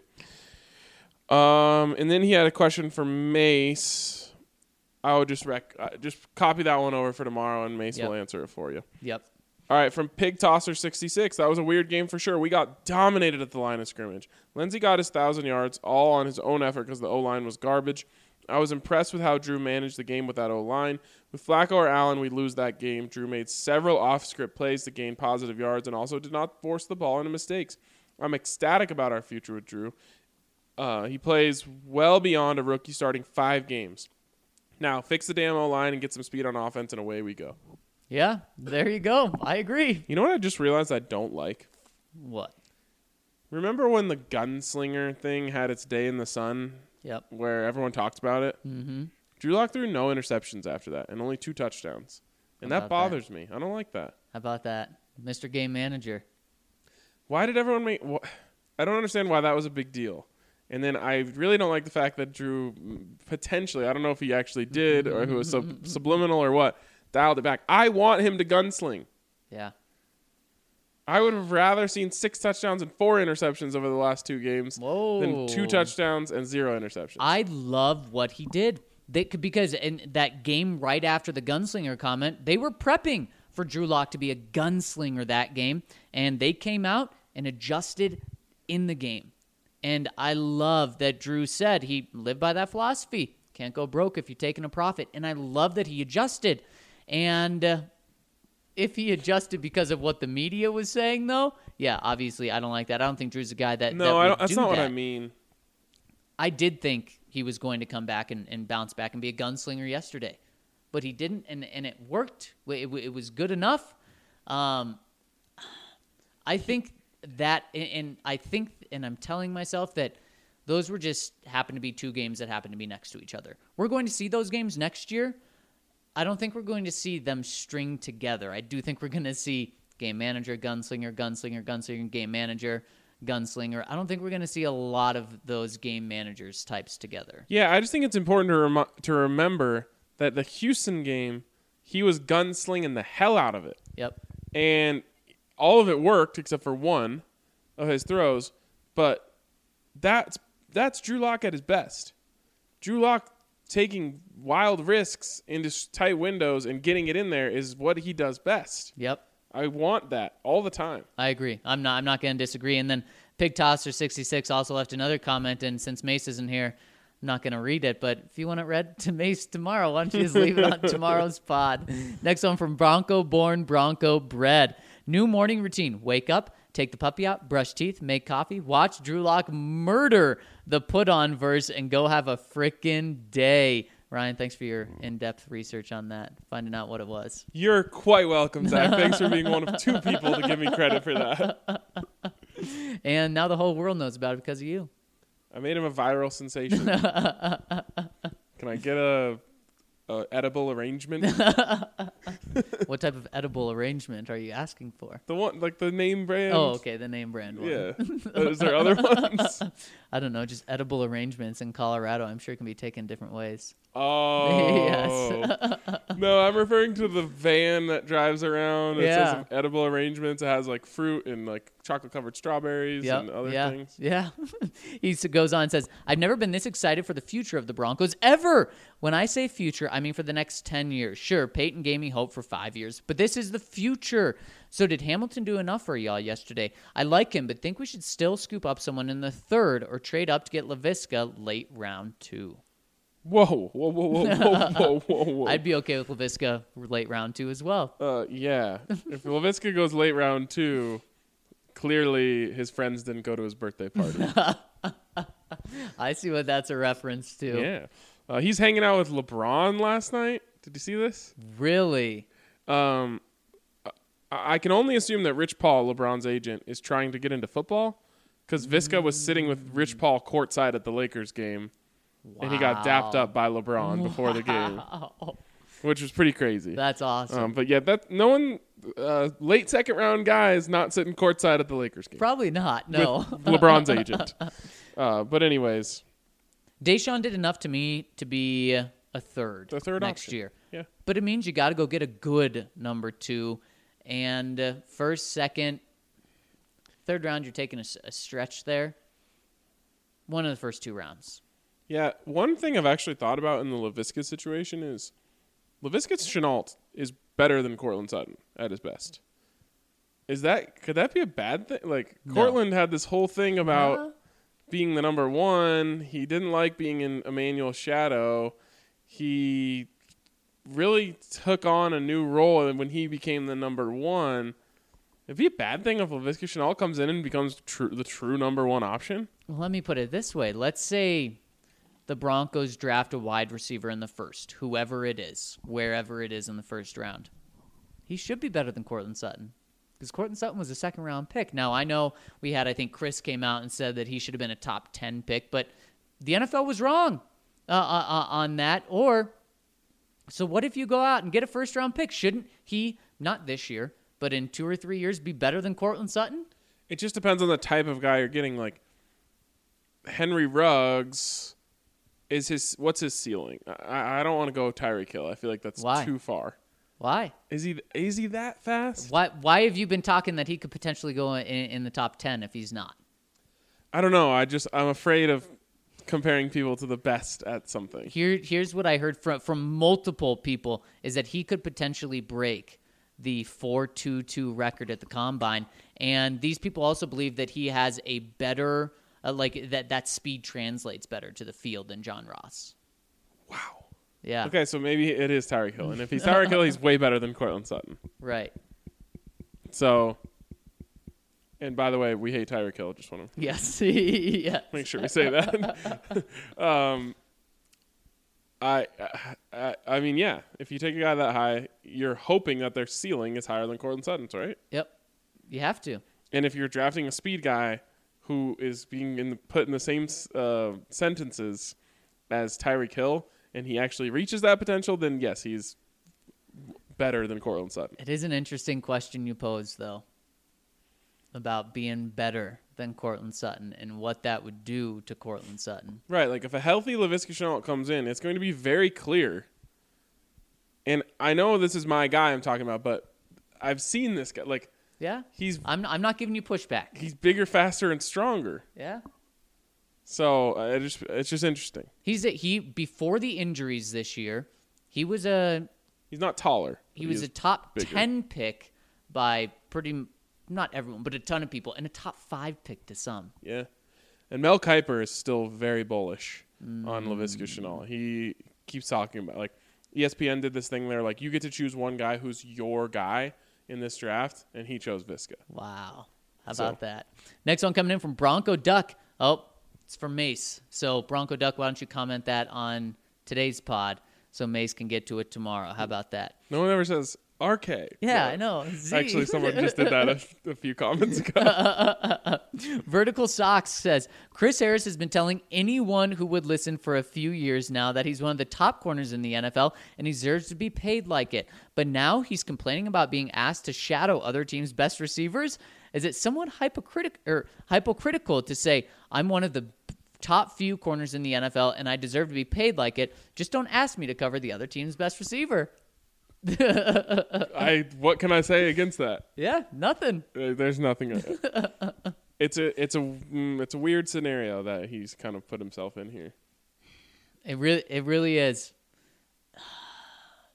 Um, and then he had a question for Mace. I would just rec- uh, just copy that one over for tomorrow, and Mace Yep. will answer it for you. Yep. All right, from Pig Tosser sixty-six. That was a weird game for sure. We got dominated at the line of scrimmage. Lindsey got his one thousand yards all on his own effort because the O-line was garbage. I was impressed with how Drew managed the game with that O-line. With Flacco or Allen, we lose that game. Drew made several off-script plays to gain positive yards and also did not force the ball into mistakes. I'm ecstatic about our future with Drew. Uh, he plays well beyond a rookie starting five games. Now, fix the damn O-line and get some speed on offense, and away we go. Yeah, there you go. I agree. You know what I just realized I don't like? What? Remember when the gunslinger thing had its day in the sun Yep. where everyone talked about it? Mm-hmm. Drew Lock threw no interceptions after that and only two touchdowns. And How that about bothers me. I don't like that. How about that? Mister Game Manager. Why did everyone make wh- I don't understand why that was a big deal. And then I really don't like the fact that Drew mm, potentially, I don't know if he actually did or if it was sub- subliminal or what, dialed it back. I want him to gunsling. Yeah. I would have rather seen six touchdowns and four interceptions over the last two games Whoa. than two touchdowns and zero interceptions. I love what he did. They could, because in that game right after the gunslinger comment, they were prepping for Drew Lock to be a gunslinger that game, and they came out and adjusted in the game. And I love that Drew said he lived by that philosophy. Can't go broke if you're taking a profit. And I love that he adjusted. And uh, if he adjusted because of what the media was saying, though, yeah, obviously I don't like that. I don't think Drew's a guy that no, that I would don't, that's do not what I that. mean. I did think he was going to come back and, and bounce back and be a gunslinger yesterday. But he didn't, and, and it worked. It, it was good enough. Um, I think that, and I think, and I'm telling myself that those were just happened to be two games that happened to be next to each other. We're going to see those games next year. I don't think we're going to see them string together. I do think we're going to see game manager, gunslinger, gunslinger, gunslinger, game manager, gunslinger. I don't think we're going to see a lot of those game managers types together. Yeah, I just think it's important to rem- to remember that the Houston game, he was gunslinging the hell out of it. Yep. And all of it worked except for one of his throws. But that's that's Drew Lock at his best. Drew Lock taking wild risks into tight windows and getting it in there is what he does best. Yep. I want that all the time. I agree. I'm not I'm not going to disagree. And then Pig Tosser sixty-six also left another comment, and since Mace isn't here, I'm not going to read it, but if you want it read to Mace tomorrow, why don't you just leave it on tomorrow's pod? Next one from Bronco Born Bronco Bred. New morning routine. Wake up, take the puppy out, brush teeth, make coffee, watch Drew Lock murder the put-on verse, and go have a frickin' day. Ryan, thanks for your in-depth research on that, finding out what it was. You're quite welcome, Zach. Thanks for being one of two people to give me credit for that. And now the whole world knows about it because of you. I made him a viral sensation. Can I get a, a edible arrangement? What type of edible arrangement are you asking for? The one, like the name brand. Oh, okay, the name brand one. Yeah. Uh, is there other ones? I don't know, just edible arrangements in Colorado. I'm sure it can be taken different ways. Oh. Yes. No, I'm referring to the van that drives around. It Yeah. says some edible arrangements. It has like fruit and like chocolate covered strawberries Yep, and other yeah, things. Yeah. He s- goes on and says, I've never been this excited for the future of the Broncos ever. When I say future, I mean for the next ten years. Sure, Peyton gave me hope for five years, but this is the future. So did Hamilton do enough for y'all yesterday? I like him, but think we should still scoop up someone in the third or trade up to get LaVisca late round two. Whoa, whoa, whoa, whoa, whoa, whoa, whoa, whoa. I'd be okay with LaVisca late round two as well. Uh, yeah. If LaVisca goes late round two, clearly his friends didn't go to his birthday party. I see what that's a reference to. Yeah. Uh, he's hanging out with LeBron last night. Did you see this? Really? Um, I, I can only assume that Rich Paul, LeBron's agent, is trying to get into football because Visca was sitting with Rich Paul courtside at the Lakers game. Wow. And he got dapped up by LeBron before the game, which was pretty crazy. That's awesome. Um, but yeah, that no one, uh, late second round guy is not sitting courtside at the Lakers game. Probably not, no. With LeBron's agent. Uh, but anyways. Deshaun did enough to me to be a third, The third next option. year. Yeah. But it means you got to go get a good number two. And uh, first, second, third round, you're taking a, a stretch there. One of the first two rounds. Yeah, one thing I've actually thought about in the LaVisca situation is LaVisca Chenault is better than Cortland Sutton at his best. Is that could that be a bad thing? Like No. Cortland had this whole thing about Uh, being the number one. He didn't like being in Emmanuel's shadow. He really took on a new role, and when he became the number one, it'd be a bad thing if LaVisca Chenault comes in and becomes true, the true number one option. well, let me put it this way. Let's say the Broncos draft a wide receiver in the first, whoever it is, wherever it is in the first round. He should be better than Cortland Sutton because Cortland Sutton was a second round pick. Now, I know we had, I think Chris came out and said that he should have been a top ten pick, but the N F L was wrong uh, uh, on that. Or, so what if you go out and get a first round pick? Shouldn't he, not this year, but in two or three years, be better than Cortland Sutton? It just depends on the type of guy you're getting. Like Henry Ruggs. Is his what's his ceiling? I, I don't want to go Tyreek Hill. I feel like that's Why? too far. Why? Is he is he that fast? Why Why have you been talking that he could potentially go in, in the top ten if he's not? I don't know. I just I'm afraid of comparing people to the best at something. Here, here's what I heard from from multiple people is that he could potentially break the four two two record at the combine, and these people also believe that he has a better uh, like that that speed translates better to the field than John Ross. Wow. Yeah. Okay, so maybe it is Tyreek Hill, and if he's Tyreek Hill, he's way better than Cortland Sutton. Right. So, and by the way, we hate Tyreek Hill. Just want to Yes. yes. make sure we say that. um, I, I, I mean, yeah. If you take a guy that high, you're hoping that their ceiling is higher than Cortland Sutton's, right? Yep. You have to. And if you're drafting a speed guy who is being in the, put in the same uh, sentences as Tyreek Hill, and he actually reaches that potential, then yes, he's better than Cortland Sutton. It is an interesting question you pose, though, about being better than Cortland Sutton and what that would do to Cortland Sutton. Right, like if a healthy LaVisca Chenault comes in, it's going to be very clear. And I know this is my guy I'm talking about, but I've seen this guy. Like, Yeah. he's I'm I'm not giving you pushback. he's bigger, faster, and stronger. Yeah. So uh, it just it's just interesting. He's a, he before the injuries this year, he was a He's not taller. he but was is a top bigger. ten pick by pretty m- not everyone, but a ton of people, and a top five pick to some. Yeah. And Mel Kiper is still very bullish Mm. on LaVisca Chenault. He keeps talking about, like, E S P N did this thing there, like, you get to choose one guy who's your guy in this draft, and he chose Visca. Wow. How So- about that? Next one coming in from Bronco Duck. Oh, it's from Mace. So Bronco Duck, why don't you comment that on today's pod so Mace can get to it tomorrow? How about that? No one ever says R K. Yeah, but I know. Z. Actually, someone just did that a, a few comments ago. Vertical Socks says, Chris Harris has been telling anyone who would listen for a few years now that he's one of the top corners in the N F L and he deserves to be paid like it. But now he's complaining about being asked to shadow other teams' best receivers? Is it somewhat hypocritic or hypocritical to say, I'm one of the top few corners in the N F L and I deserve to be paid like it? Just don't ask me to cover the other team's best receiver. I what can I say against that? Yeah, nothing. Uh, There's nothing. It's a it's a mm, it's a weird scenario that he's kind of put himself in here. It really, it really is.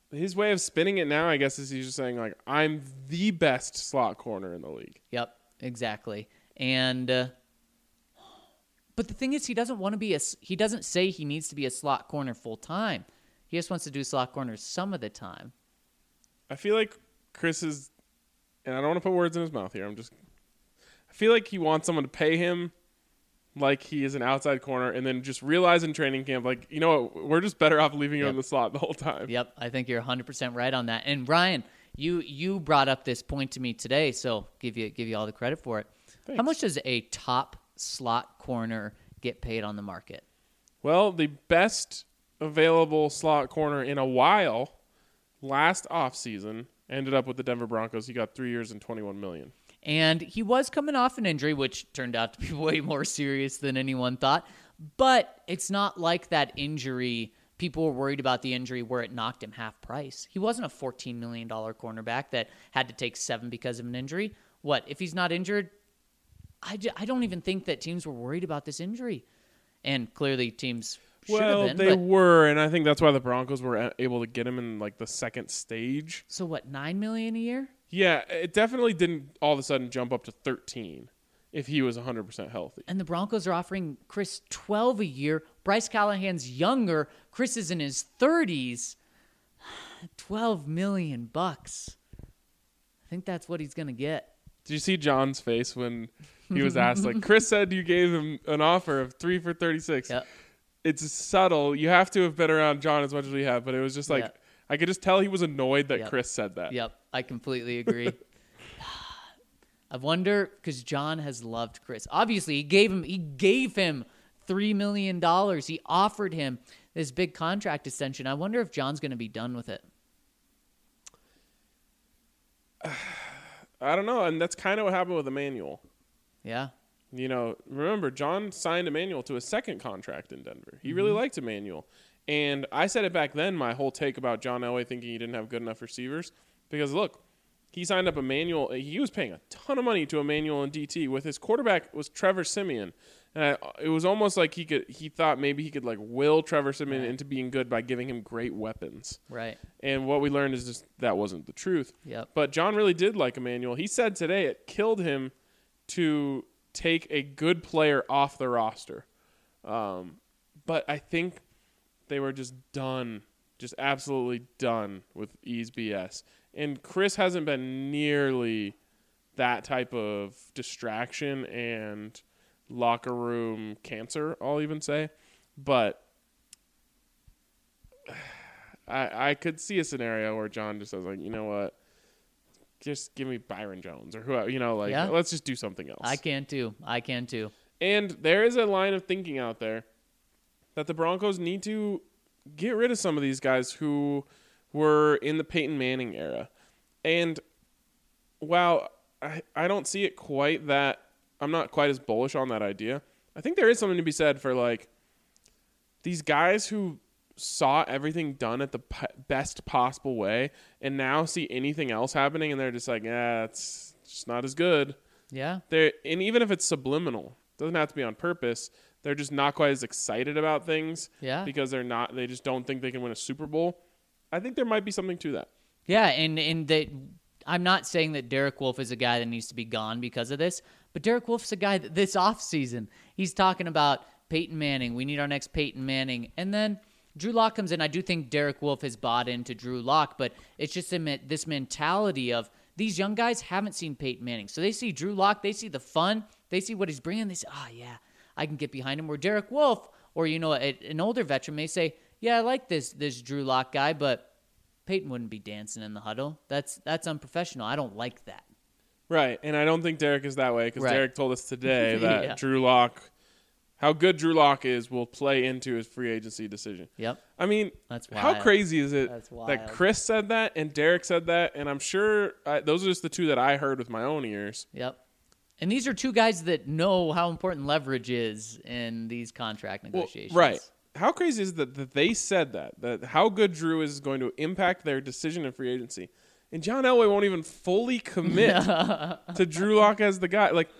his way of spinning it now, I guess, is he's just saying, like, I'm the best slot corner in the league. Yep, exactly. And uh, but the thing is, he doesn't want to be a. He doesn't say he needs to be a slot corner full time. He just wants to do slot corners some of the time. I feel like Chris is, and I don't want to put words in his mouth here. I'm just, I feel like he wants someone to pay him like he is an outside corner, and then just realize in training camp, like, you know what, we're just better off leaving him Yep. in the slot the whole time. Yep, I think you're one hundred percent right on that. And Ryan, you you brought up this point to me today, so give you give you all the credit for it. Thanks. How much does a top slot corner get paid on the market? Well, the best available slot corner in a while last offseason ended up with the Denver Broncos. He got three years and twenty-one million dollars. And he was coming off an injury, which turned out to be way more serious than anyone thought. But it's not like that injury. People were worried about the injury where it knocked him half price. He wasn't a fourteen million dollars cornerback that had to take seven because of an injury. What, if he's not injured? I, j- I don't even think that teams were worried about this injury. And clearly teams should Well, have been. they but, were, and I think that's why the Broncos were a- able to get him in like the second stage. so what, nine million dollars a year? Yeah, it definitely didn't all of a sudden jump up to thirteen if he was one hundred percent healthy. And the Broncos are offering Chris twelve a year. Bryce Callahan's younger. Chris is in his thirties. twelve million bucks. I think that's what he's going to get. Did you see John's face when he was asked, like, Chris said you gave him an offer of three for thirty-six. Yep. It's subtle. You have to have been around John as much as we have, but it was just like, Yep. I could just tell he was annoyed that Yep. Chris said that. Yep, I completely agree. I wonder, because John has loved Chris. Obviously, he gave him he gave him three million dollars. He offered him this big contract extension. I wonder if John's going to be done with it. I don't know, and that's kind of what happened with Emmanuel. Yeah. You know, remember, John signed Emmanuel to a second contract in Denver. He really liked Emmanuel. And I said it back then, my whole take about John Elway thinking he didn't have good enough receivers. Because, look, he signed up Emmanuel. He was paying a ton of money to Emmanuel and D T. With his quarterback was Trevor Siemian. And I, it was almost like he could. He thought maybe he could, like, will Trevor Siemian Right. into being good by giving him great weapons. Right. And what we learned is just that wasn't the truth. Yep. But John really did like Emmanuel. He said today it killed him to take a good player off the roster. Um, but I think they were just done, just absolutely done with E's B S. And Chris hasn't been nearly that type of distraction and locker room cancer, I'll even say. But I I could see a scenario where John just says, like, you know what? Just give me Byron Jones or whoever, you know, like, Yeah. let's just do something else. I can too. I can too. And there is a line of thinking out there that the Broncos need to get rid of some of these guys who were in the Peyton Manning era. And while I, I don't see it quite that, I'm not quite as bullish on that idea. I think there is something to be said for, like, these guys who saw everything done at the p- best possible way and now see anything else happening and they're just like, yeah, it's just not as good. Yeah. They're, and even if it's subliminal, doesn't have to be on purpose. They're just not quite as excited about things Yeah. because they're not. They just don't think they can win a Super Bowl. I think there might be something to that. Yeah, and and that I'm not saying that Derek Wolfe is a guy that needs to be gone because of this, but Derek Wolfe's a guy that this offseason, he's talking about Peyton Manning. We need our next Peyton Manning, and then Drew Lock comes in. I do think Derek Wolfe has bought into Drew Lock, but it's just a, this mentality of these young guys haven't seen Peyton Manning. So they see Drew Lock, they see the fun, they see what he's bringing. They say, oh, yeah, I can get behind him. Where Derek Wolfe, or, you know, a, an older veteran may say, yeah, I like this this Drew Lock guy, but Peyton wouldn't be dancing in the huddle. That's that's unprofessional. I don't like that. Right, and I don't think Derek is that way because Right. Derek told us today that Yeah. Drew Lock, how good Drew Lock is, will play into his free agency decision. Yep. I mean, That's how wild. crazy is it That's that wild. Chris said that and Derek said that, and I'm sure I, those are just the two that I heard with my own ears. Yep. And these are two guys that know how important leverage is in these contract Well, negotiations. right. How crazy is it that, that they said that, that how good Drew is going to impact their decision in free agency. And John Elway won't even fully commit to Drew Lock as the guy. Like,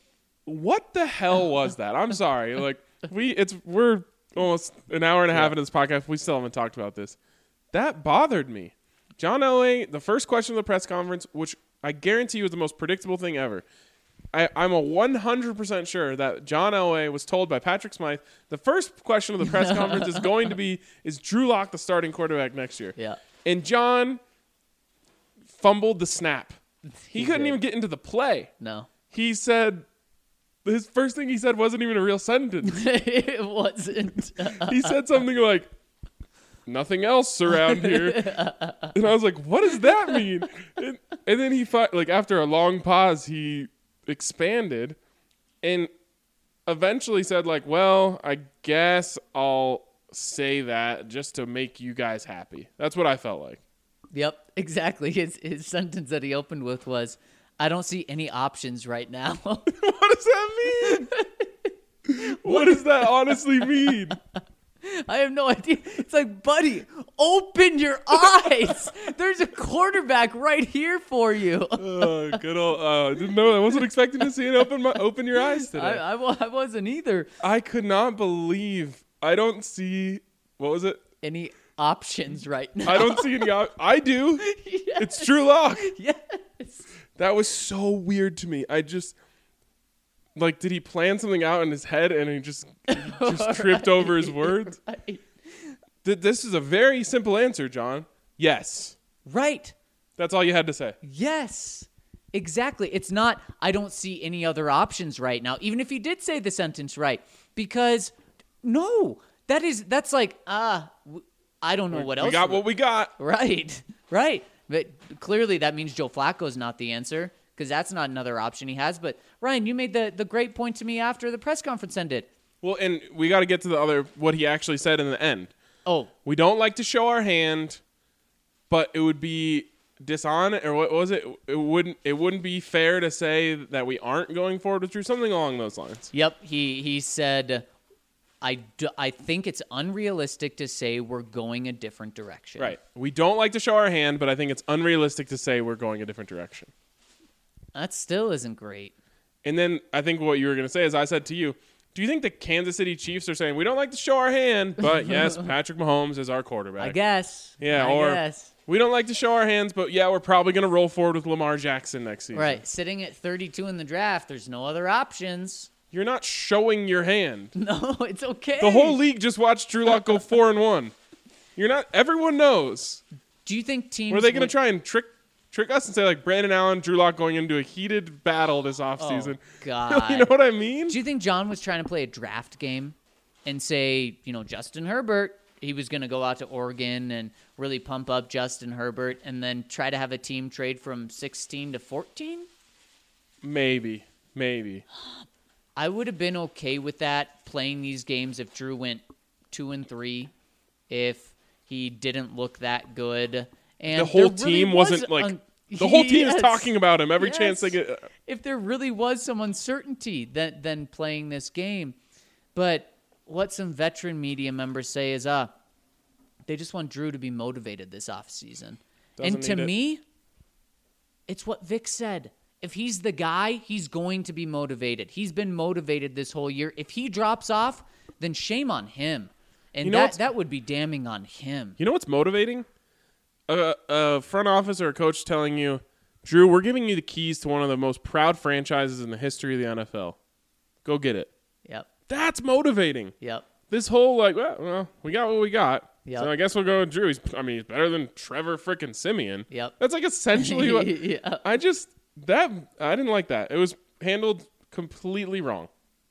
what the hell was that? I'm sorry. Like, we it's we're almost an hour and a half Yeah. into this podcast. We still haven't talked about this. that bothered me. John Elway, the first question of the press conference, which I guarantee you is the most predictable thing ever. I, I'm a one hundred percent sure that John Elway was told by Patrick Smythe, the first question of the press conference is going to be, is Drew Lock the starting quarterback next year? Yeah. And John fumbled the snap. He, He couldn't did. even get into the play. No. He said, his first thing he said wasn't even a real sentence. It wasn't. He said something like, nothing else around here. And I was like, what does that mean? And, and then he, fi- like, after a long pause, he expanded and eventually said, like, well, I guess I'll say that just to make you guys happy. That's what I felt like. Yep, exactly. His his sentence that he opened with was, I don't see any options right now. What does that mean? What does that honestly mean? I have no idea. It's like, buddy, open your eyes. There's a quarterback right here for you. Oh, good old. Uh, I didn't know. I wasn't expecting to see it open. My, open your eyes today. I, I, wa- I wasn't either. I could not believe. I don't see. What was it? Any options right now. I don't see any. Op- I do. Yes. It's Drew Lock. Yes. That was so weird to me. I just like. Did he plan something out in his head and he just he just tripped over his words? Right. Th- this is a very simple answer, John. Yes. Right. That's all you had to say. Yes. Exactly. It's not, I don't see any other options right now, even if he did say the sentence right. Because, no, that is, that's like, ah, uh, I don't know what else. We got what we got. Right. Right. But clearly that means Joe Flacco's not the answer, because that's not another option he has. But, Ryan, you made the, the great point to me after the press conference ended. Well, and we got to get to the other, what he actually said in the end. Oh. We don't like to show our hand, but it would be dishonest, or what was it? It wouldn't. It wouldn't be fair to say that we aren't going forward with Drew. Something along those lines. Yep. He he said, I, do, I think it's unrealistic to say we're going a different direction. Right. We don't like to show our hand, but I think it's unrealistic to say we're going a different direction. That still isn't great. And then I think what you were going to say is I said to you, do you think the Kansas City Chiefs are saying we don't like to show our hand, but yes, Patrick Mahomes is our quarterback? I guess. Yeah, I or guess. we don't like to show our hands, but yeah, we're probably going to roll forward with Lamar Jackson next season. Right. Sitting at thirty-two in the draft, there's no other options. You're not showing your hand. No, it's okay. The whole league just watched Drew Lock go four and one. You're not. Everyone knows. Do you think teams Were they going to would- try and trick trick us and say like Brandon Allen, Drew Lock going into a heated battle this offseason? Oh, God. You know what I mean? Do you think John was trying to play a draft game and say, you know, Justin Herbert, he was going to go out to Oregon and really pump up Justin Herbert and then try to have a team trade from sixteen to fourteen? Maybe, maybe. I would have been okay with that, playing these games if Drew went two and three, if he didn't look that good. And The whole there really team was wasn't like un- the whole team Yes. is talking about him every chance they Yes. get. If there really was some uncertainty then then playing this game. But what some veteran media members say is, uh, they just want Drew to be motivated this offseason. Doesn't And to need it. me, it's what Vic said. If he's the guy, he's going to be motivated. He's been motivated this whole year. If he drops off, then shame on him. And You know that, what's- that would be damning on him. You know what's motivating? A, a front office or a coach telling you, Drew, we're giving you the keys to one of the most proud franchises in the history of the N F L. Go get it. Yep. That's motivating. Yep. This whole like, well, well we got what we got. Yep. So I guess we'll go with Drew. He's, I mean, he's better than Trevor frickin' Simeon. Yep. That's like essentially what Yeah. I just that I didn't like that. It was handled completely wrong.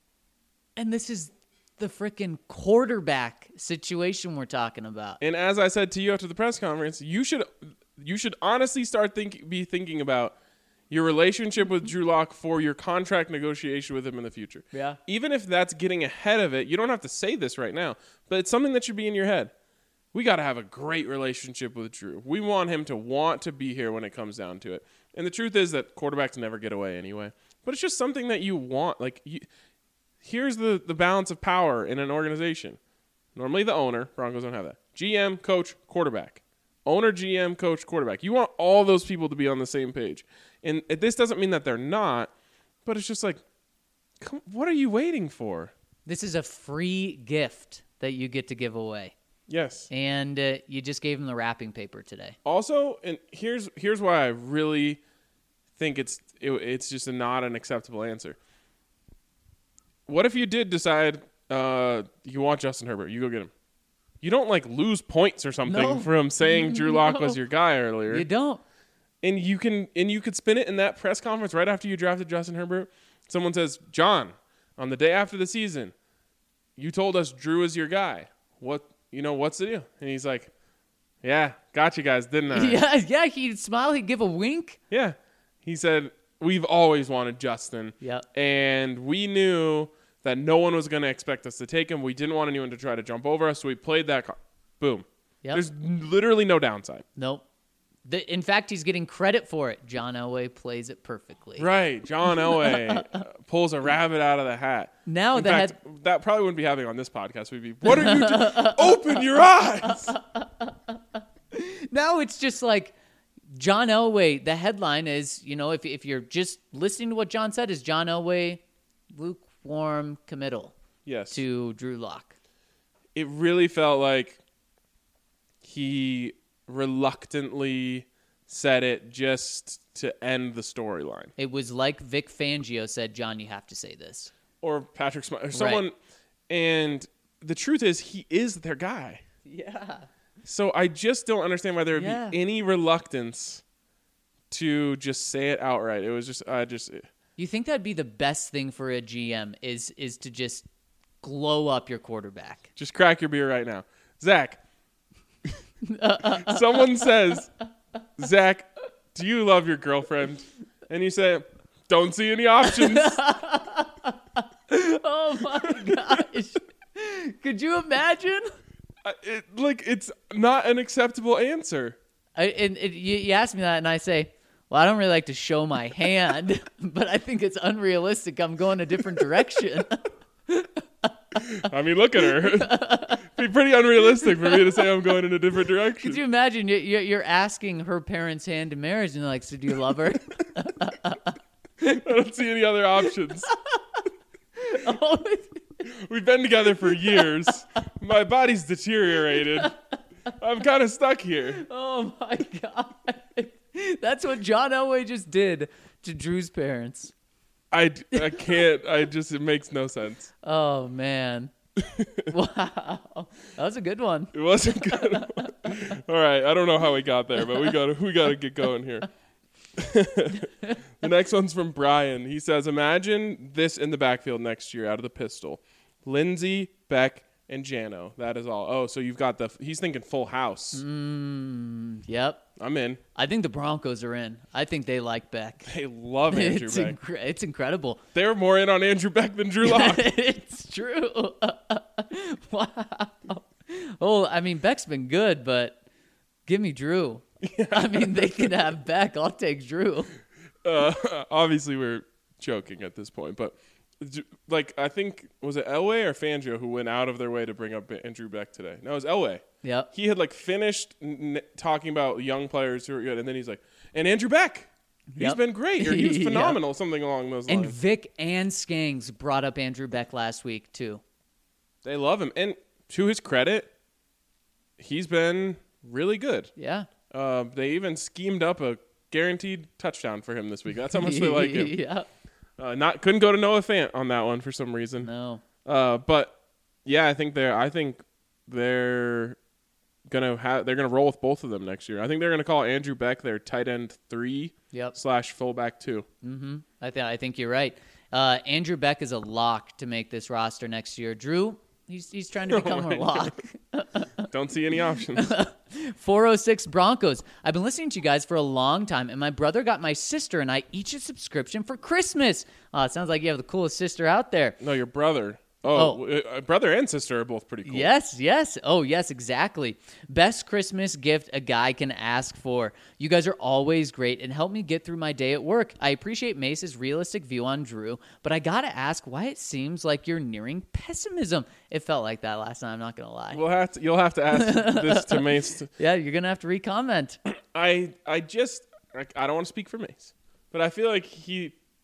And this is the freaking quarterback situation we're talking about. And as I said to you after the press conference, you should you should honestly start think be thinking about your relationship with Drew Lock for your contract negotiation with him in the future. Yeah. Even if that's getting ahead of it, you don't have to say this right now, but it's something that should be in your head. We got to have a great relationship with Drew. We want him to want to be here when it comes down to it. And the truth is that quarterbacks never get away anyway. But it's just something that you want. Like, you, here's the, the balance of power in an organization. Normally the owner, Broncos don't have that. G M, coach, quarterback. Owner, G M, coach, quarterback. You want all those people to be on the same page. And this doesn't mean that they're not, but it's just like, come, what are you waiting for? This is a free gift that you get to give away. Yes. And uh, you just gave him the wrapping paper today. Also, and here's here's why I really think it's it, it's just a not an acceptable answer. What if you did decide uh, you want Justin Herbert? You go get him. You don't like lose points or something No. from saying Drew Lock was No. your guy earlier. You don't. And you can and you could spin it in that press conference right after you drafted Justin Herbert. Someone says, "John, on the day after the season, you told us Drew is your guy. What you know? What's the deal?" And he's like, "Yeah, got you guys, didn't I?" Yeah, yeah. He'd smile. He'd give a wink. Yeah. He said, "We've always wanted Justin, Yep. and we knew that no one was going to expect us to take him. We didn't want anyone to try to jump over us, so we played that card. Boom. Yep. There's literally no downside." Nope. The, in fact, he's getting credit for it. John Elway plays it perfectly. Right. John Elway uh, pulls a rabbit out of the hat. Now In the fact, head. that probably wouldn't be happening on this podcast. We'd be, what are you doing? Open your eyes. Now it's just like John Elway. The headline is, you know, if if you're just listening to what John said, is John Elway lukewarm committal Yes. to Drew Lock. It really felt like he reluctantly said it just to end the storyline. It was like Vic Fangio said, John, you have to say this. Or Patrick Smith, or someone. And the truth is, he is their guy. Yeah. So I just don't understand why there would Yeah. be any reluctance to just say it outright. It was just, I just, You think that'd be the best thing for a G M is is to just glow up your quarterback? just crack your beer right now. Zach, someone says, "Zach, do you love your girlfriend?" And you say, "Don't see any options." Oh my gosh. Could you imagine? I- it, like, it's not an acceptable answer. I, and, and you, you ask me that, and I say, well, I don't really like to show my hand, but I think it's unrealistic. I'm going a different direction. I mean, look at her. It'd be pretty unrealistic for me to say I'm going in a different direction. Could you imagine you- you- you're asking her parents' hand in marriage, and they're like, so do you love her? I don't see any other options. Oh, We've been together for years. My body's deteriorated. I'm kind of stuck here. oh my God. That's what John Elway just did to Drew's parents. I, I can't. I just, it makes no sense. Oh, man. Wow. That was a good one. It wasn't good. All right. I don't know how we got there, but we got we got to get going here. The next one's from Brian. He says, "Imagine this in the backfield next year out of the pistol. Lindsey, Beck, and Jano. That is all." Oh, so you've got the, he's thinking full house. Mm, yep. I'm in. I think the Broncos are in. I think they like Beck. They love Andrew It's, Beck. incre- it's incredible. They're more in on Andrew Beck than Drew Lock. It's true. Wow. Oh, I mean, Beck's been good, but give me Drew. I mean, they can have Beck. I'll take Drew. Uh, obviously, we're joking at this point, but like, I think, was it Elway or Fangio who went out of their way to bring up Andrew Beck today? No, it was Elway. Yep. He had like finished n- talking about young players who are good, and then he's like, "And Andrew Beck, he's Yep. been great, or he was Yep. phenomenal," something along those And lines. Vic and Skangs brought up Andrew Beck last week, too. They love him, and to his credit, he's been really good. Yeah. Uh, they even schemed up a guaranteed touchdown for him this week. That's how much they like him. Yeah. Uh, not couldn't go to Noah Fant on that one for some reason. No. Uh, but yeah, I think they're. I think they're gonna have. They're gonna roll with both of them next year. I think they're gonna call Andrew Beck their tight end three Yep. slash fullback two. Mm-hmm. I, th- I think you're right. Uh, Andrew Beck is a lock to make this roster next year. Drew, he's, he's trying to become my a lock. Don't see any options. four oh six Broncos. I've been listening to you guys for a long time, and my brother got my sister and I each a subscription for Christmas. Uh, it sounds like you have the coolest sister out there. No, your brother. Oh, uh, brother and sister are both pretty cool. Yes, yes. Oh, yes, exactly. Best Christmas gift a guy can ask for. You guys are always great and help me get through my day at work. I appreciate Mace's realistic view on Drew, but I got to ask why it seems like you're nearing pessimism. It felt like that last time, I'm not going to lie. We'll have to. You'll have to ask this to Mace. Yeah, you're going to have to re-comment. I I just I, I don't want to speak for Mace, but I feel like he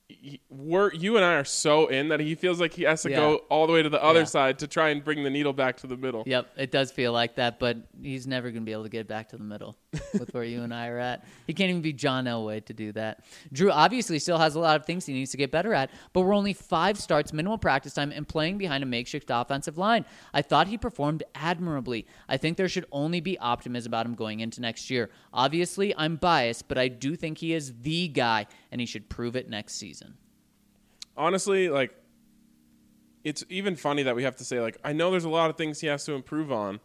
he, we're you and I are so in that he feels like he has to Yeah. go all the way to the other Yeah. side to try and bring the needle back to the middle. Yep, it does feel like that, but he's never going to be able to get back to the middle with where you and I are at. He can't even be John Elway to do that. Drew obviously still has a lot of things he needs to get better at, but we're only five starts, minimal practice time, and playing behind a makeshift offensive line. I thought he performed admirably. I think there should only be optimism about him going into next year. Obviously, I'm biased, but I do think he is the guy, and he should prove it next season. Honestly, like, it's even funny that we have to say, like, I know there's a lot of things he has to improve on.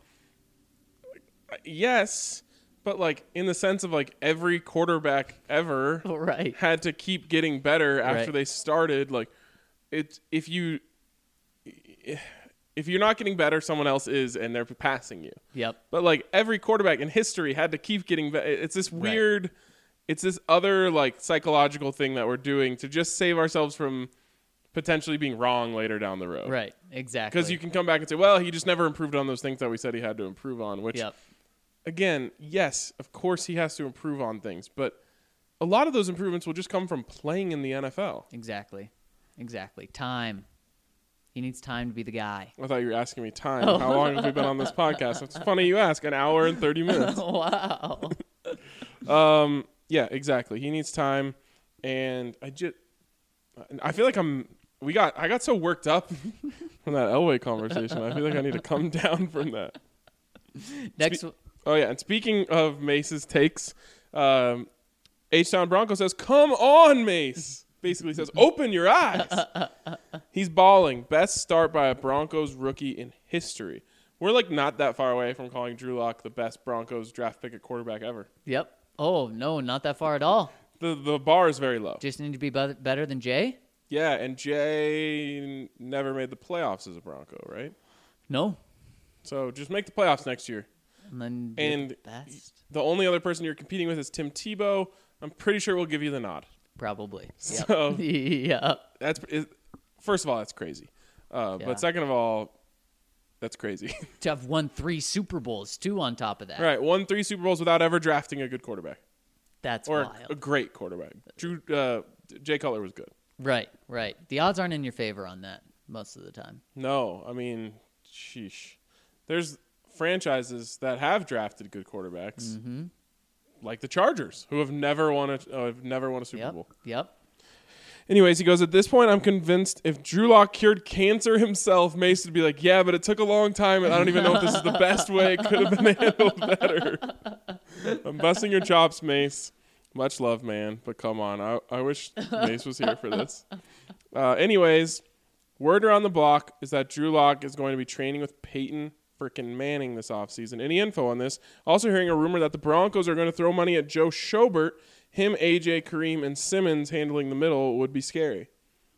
Yes, but, like, in the sense of, like, every quarterback ever Right. had to keep getting better after Right. they started. Like, it's if you if you're not getting better, someone else is, and they're passing you. Yep. But, like, every quarterback in history had to keep getting better. It's this Right. weird, it's this other, like, psychological thing that we're doing to just save ourselves from potentially being wrong later down the road. Right, exactly. Because you can come back and say, well, he just never improved on those things that we said he had to improve on, which, Yep. again, yes, of course he has to improve on things, but a lot of those improvements will just come from playing in the N F L. Exactly. Exactly. Time. He needs time to be the guy. I thought you were asking me time. How long have we been on this podcast? It's funny you ask. An hour and thirty minutes. Wow. Um, yeah, exactly. He needs time, and I just, I feel like I'm. We got. I got so worked up from that Elway conversation. I feel like I need to come down from that. Next. Spe- oh yeah, and speaking of Mace's takes, um, H-Town Bronco says, "Come on, Mace." Basically says, "Open your eyes." He's balling. Best start by a Broncos rookie in history. We're like not that far away from calling Drew Lock the best Broncos draft pick at quarterback ever. Yep. Oh, no, not that far at all. The the bar is very low. Just need to be be- better than Jay? Yeah, and Jay never made the playoffs as a Bronco, right? No. So just make the playoffs next year. And then you're And the best. the only other person you're competing with is Tim Tebow. I'm pretty sure we'll give you the nod. Probably. Yep. So yeah. that's is, first of all, that's crazy. Uh, Yeah. But second of all, that's crazy. To have won three Super Bowls, too, on top of that. Right, won three Super Bowls without ever drafting a good quarterback That's or wild. a great quarterback. Drew uh, Jay Cutler was good. Right, right. The odds aren't in your favor on that most of the time. No, I mean, sheesh. There's franchises that have drafted good quarterbacks, Mm-hmm. like the Chargers, who have never won a uh, have never won a Super Yep, Bowl. yep. Anyways, he goes, at this point, I'm convinced if Drew Lock cured cancer himself, Mace would be like, yeah, but it took a long time, and I don't even know if this is the best way. It could have been handled better. I'm busting your chops, Mace. Much love, man, but come on. I, I wish Mace was here for this. Uh, anyways, word around the block is that Drew Lock is going to be training with Peyton freaking Manning this offseason. Any info on this? Also hearing a rumor that the Broncos are going to throw money at Joe Schobert. Him, A J, Kareem, and Simmons handling the middle would be scary.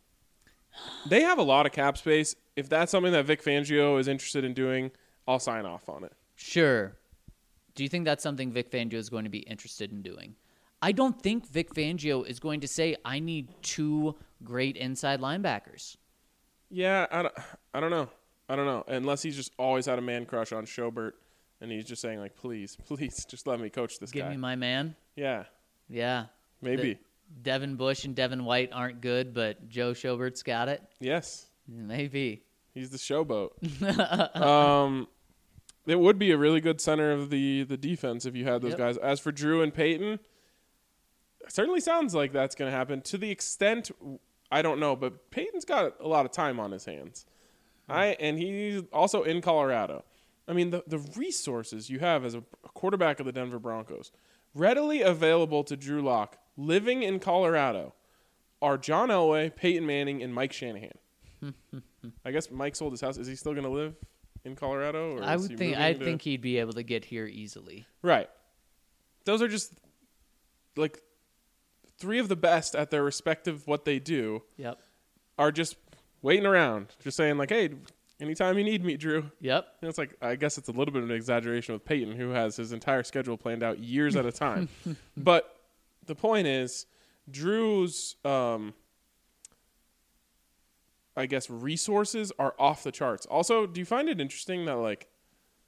They have a lot of cap space. If that's something that Vic Fangio is interested in doing, I'll sign off on it. Sure. Do you think that's something Vic Fangio is going to be interested in doing? I don't think Vic Fangio is going to say, I need two great inside linebackers. Yeah, I don't, I don't know. I don't know. Unless he's just always had a man crush on Schobert, and he's just saying, like, please, please, just let me coach this Give guy. me my man. Yeah, Yeah. maybe. The- Devin Bush and Devin White aren't good, but Joe Schobert's got it. Yes, Maybe. he's the showboat. um, it would be a really good center of the, the defense if you had those Yep. guys. As for Drew and Peyton, it certainly sounds like that's going to happen. To the extent, I don't know, but Peyton's got a lot of time on his hands. I and he's also in Colorado. I mean, the, the resources you have as a quarterback of the Denver Broncos, readily available to Drew Lock, living in Colorado, are John Elway, Peyton Manning, and Mike Shanahan. I guess Mike sold his house. Is he still going to live in Colorado? Or I is would he think moving I to- think he'd be able to get here easily. Right. Those are just like three of the best at their respective what they do Yep. are just waiting around, just saying like, hey, anytime you need me, Drew. Yep. And it's like, I guess it's a little bit of an exaggeration with Peyton, who has his entire schedule planned out years at a time. But the point is, Drew's, um, I guess, resources are off the charts. Also, do you find it interesting that, like,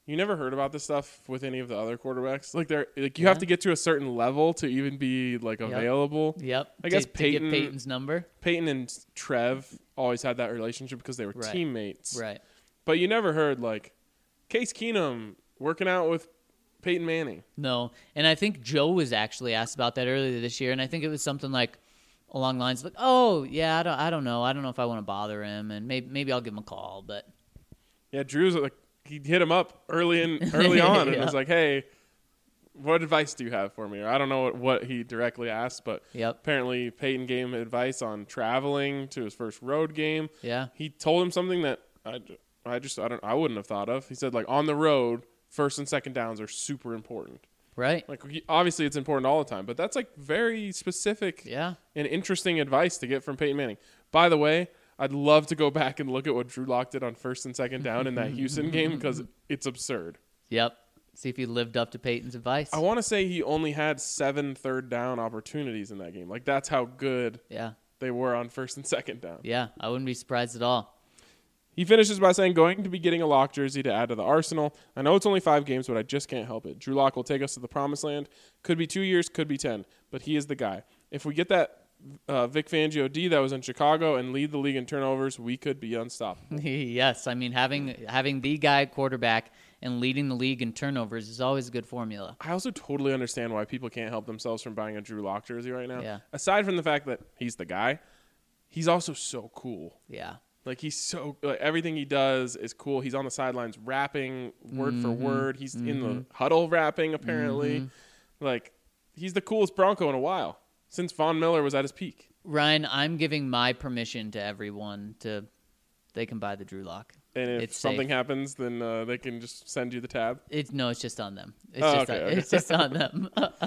You never heard about this stuff with any of the other quarterbacks. Like they're like you Yeah. have to get to a certain level to even be like Yep. available. Yep. I guess to, Peyton- to get Peyton's number. Peyton and Trev always had that relationship because they were Right. teammates. Right. But you never heard like Case Keenum working out with Peyton Manning. No, and I think Joe was actually asked about that earlier this year, and I think it was something like along the lines of like, "Oh, yeah, I don't, I don't know, I don't know if I want to bother him, and maybe, maybe I'll give him a call." But Yeah, Drew's like he hit him up early in early on and Yeah. was like, "Hey, what advice do you have for me?" Or I don't know what, what he directly asked, but Yep. apparently Peyton gave him advice on traveling to his first road game. yeah, He told him something that I, I just I don't I wouldn't have thought of. He said like on the road, first and second downs are super important. right, Like he- obviously it's important all the time, but that's like very specific yeah, and interesting advice to get from Peyton Manning. By the way, I'd love to go back and look at what Drew Lock did on first and second down in that Houston game because it's absurd. yep. See if he lived up to Peyton's advice. I want to say he only had seven third down opportunities in that game. Like that's how good yeah, they were on first and second down. yeah. I wouldn't be surprised at all. He finishes by saying, going to be getting a Lock jersey to add to the arsenal. I know it's only five games, but I just can't help it. Drew Lock will take us to the promised land. Could be two years, could be ten, but he is the guy. If we get that uh, Vic Fangio D that was in Chicago and lead the league in turnovers, we could be unstoppable. Yes, I mean having having the guy at quarterback and leading the league in turnovers is always a good formula. I also totally understand why people can't help themselves from buying a Drew Lock jersey right now. Yeah. Aside from the fact that he's the guy, he's also so cool. Yeah, Like he's so like, everything he does is cool. He's on the sidelines rapping word for Mm-hmm. word. He's in the huddle rapping apparently. Like he's the coolest Bronco in a while since Von Miller was at his peak. Ryan, I'm giving my permission to everyone to they can buy the Drew Lock. And if It's something safe. happens, then uh, they can just send you the tab. It's no, it's just on them. It's Oh, just okay, on, okay. it's just on them.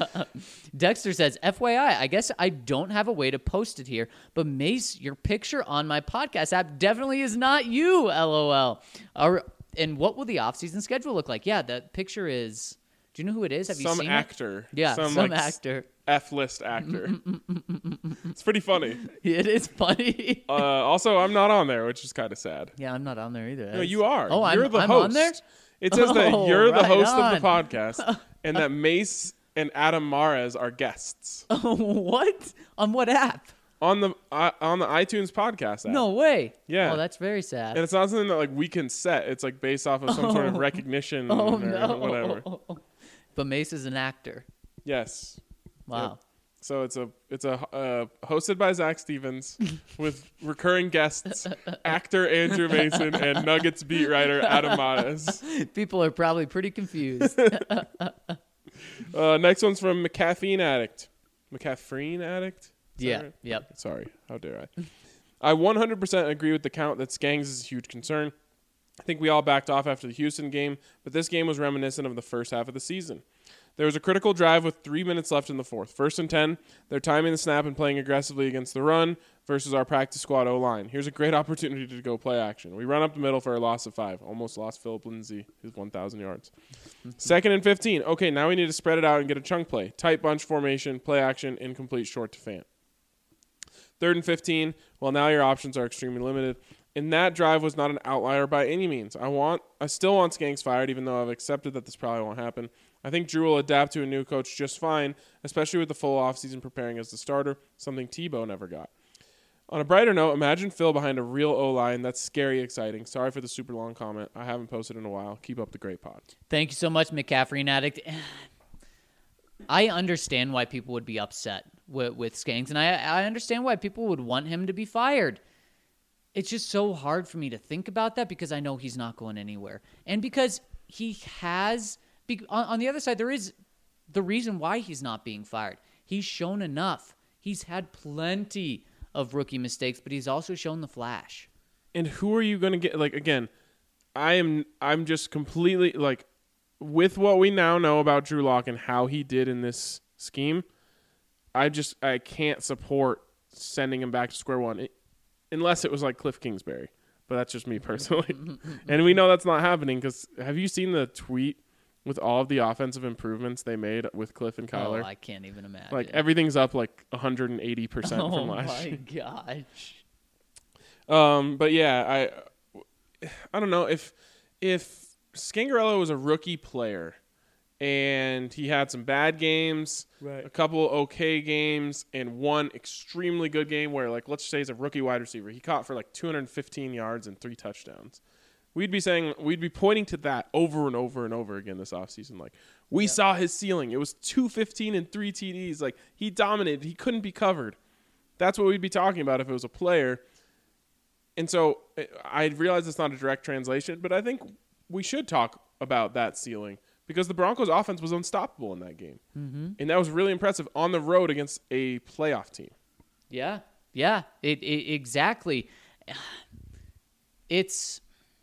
Dexter says, F Y I, I guess I don't have a way to post it here, but Mace, your picture on my podcast app definitely is not you, LOL. Our, and what will the off-season schedule look like? Yeah, that picture is. Do you know who it is? Have you Some seen actor. it? Yeah, some, some, like, actor. F-list actor. It's pretty funny. It is funny. Uh, also, I'm not on there, which is kind of sad. yeah, I'm not on there either. No, That's- you are. Oh, you're I'm, the I'm host. on there? It says that Oh, you're the right host of the on. podcast and that Mace and Adam Mares are guests What? On what app? on the uh, on the iTunes podcast app. No way. Yeah. Oh, that's very sad. And it's not something that like we can set. It's like based off of some sort of recognition Oh, or no. whatever. But Mace is an actor. Yes. Wow. So it's a it's a uh, hosted by Zach Stevens with recurring guests, actor Andrew Mason and Nuggets beat writer Adam Mares. People are probably pretty confused. Uh, next one's from McCaffeine Addict. McCaffrine Addict? Is that yeah. right? Yep. Sorry, how dare I? I one hundred percent agree with the count that Skangs is a huge concern. I think we all backed off after the Houston game, but this game was reminiscent of the first half of the season. There was a critical drive with three minutes left in the fourth. First and ten, they're timing the snap and playing aggressively against the run versus our practice squad O-line. Here's a great opportunity to go play action. We run up the middle for a loss of five. Almost lost Philip Lindsay, his one thousand yards. Second and fifteen. Okay, now we need to spread it out and get a chunk play. Tight bunch formation, play action, incomplete short to Fant. Third and fifteen. Well, now your options are extremely limited. And that drive was not an outlier by any means. I want, I still want Skanks fired, even though I've accepted that this probably won't happen. I think Drew will adapt to a new coach just fine, especially with the full offseason preparing as the starter, something Tebow never got. On a brighter note, imagine Phil behind a real O-line. That's scary exciting. Sorry for the super long comment. I haven't posted in a while. Keep up the great pod. Thank you so much, McCaffrey Addict. I understand why people would be upset with, with Skanks, and I, I understand why people would want him to be fired. It's just so hard for me to think about that because I know he's not going anywhere. And because he has, on, on the other side, there is the reason why he's not being fired. He's shown enough. He's had plenty of rookie mistakes, but he's also shown the flash. And who are you going to get? Like, again, I am, I'm just completely, like, with what we now know about Drew Lock and how he did in this scheme, I just, I can't support sending him back to square one. It, Unless it was like Cliff Kingsbury. But that's just me personally. And we know that's not happening because have you seen the tweet with all of the offensive improvements they made with Cliff and Kyler? Oh, I can't even imagine. Like everything's up like one hundred eighty percent oh from last my year. gosh. Um, but yeah, I I don't know if if Scangarello was a rookie player, and he had some bad games, Right. a couple okay games, and one extremely good game where, like, let's say he's a rookie wide receiver. He caught for like two hundred fifteen yards and three touchdowns. We'd be saying, we'd be pointing to that over and over and over again this offseason. Like, we Yep. saw his ceiling. It was two fifteen and three T Ds. Like, he dominated. He couldn't be covered. That's what we'd be talking about if it was a player. And so I realize it's not a direct translation, but I think we should talk about that ceiling because the Broncos' offense was unstoppable in that game. Mm-hmm. And that was really impressive on the road against a playoff team. Yeah, yeah, it, it exactly. It's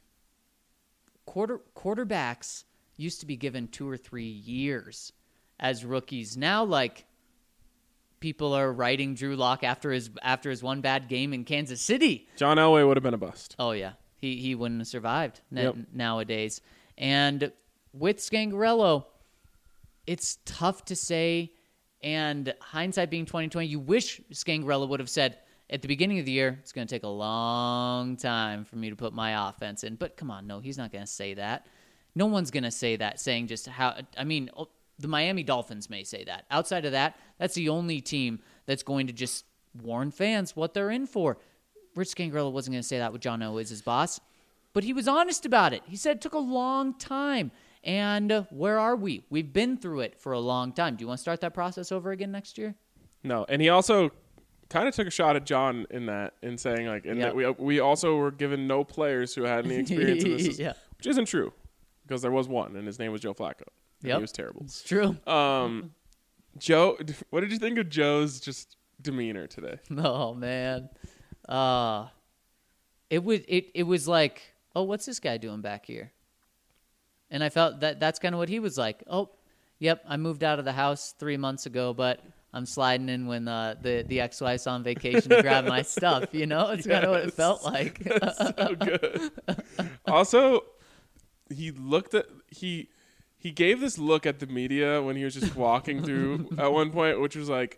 quarter quarterbacks used to be given two or three years as rookies. Now, like, people are writing Drew Lock after his after his one bad game in Kansas City. John Elway would have been a bust. Oh yeah, he he wouldn't have survived na- Yep. nowadays. And with Scangarello, it's tough to say. And hindsight being twenty twenty, you wish Scangarello would have said at the beginning of the year, it's going to take a long time for me to put my offense in. But come on, no, he's not going to say that. No one's going to say that, saying just how, I mean, the Miami Dolphins may say that. Outside of that, that's the only team that's going to just warn fans what they're in for. Rich Scangarello wasn't going to say that with John Elway as his boss, but he was honest about it. He said it took a long time. And uh, where are we? We've been through it for a long time. Do you want to start that process over again next year? No, and he also kind of took a shot at John in that, in saying like, and Yep. that we we also were given no players who had any experience in this, Yeah. which isn't true, because there was one, and his name was Joe Flacco. And Yep. he was terrible. It's true. Um, Joe, what did you think of Joe's just demeanor today? Oh man, uh, it was it it was like, oh, what's this guy doing back here? And I felt that that's kind of what he was like. Oh, yep, I moved out of the house three months ago, but I'm sliding in when uh, the the ex-wife's on vacation to grab my stuff. You know, it's kind of what it Yes. felt like. That's so good. Also, he looked at he he gave this look at the media when he was just walking through at one point, which was like,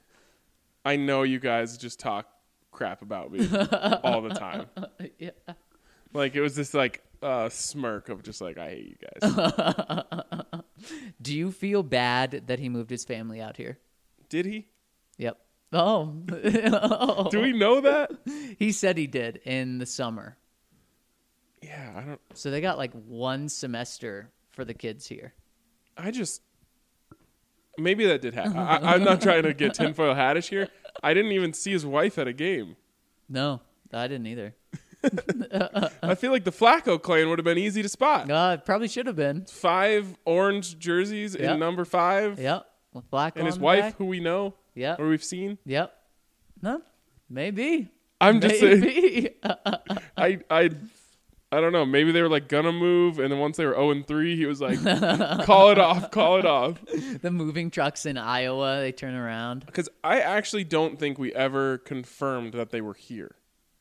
I know you guys just talk crap about me all the time. Yeah. Like, it was this like uh, smirk of just like, I hate you guys. Do you feel bad that he moved his family out here? Did he? Yep. Oh. Do we know that? He said he did in the summer. Yeah, I don't. So they got like one semester for the kids here. I just maybe that did happen. I, I'm not trying to get tinfoil hattish here. I didn't even see his wife at a game. No, I didn't either. I feel like the Flacco clan would have been easy to spot. No, it probably should have been. Five orange jerseys Yep. in number five, Yep. With black and on his the wife, back. who we know Yep. or we've seen. Yep. No, maybe. I'm just saying. maybe. I I I don't know. Maybe they were like gonna move, and then once they were zero and three, he was like, "Call it off, call it off." The moving trucks in Iowa, they turn around. Because I actually don't think we ever confirmed that they were here.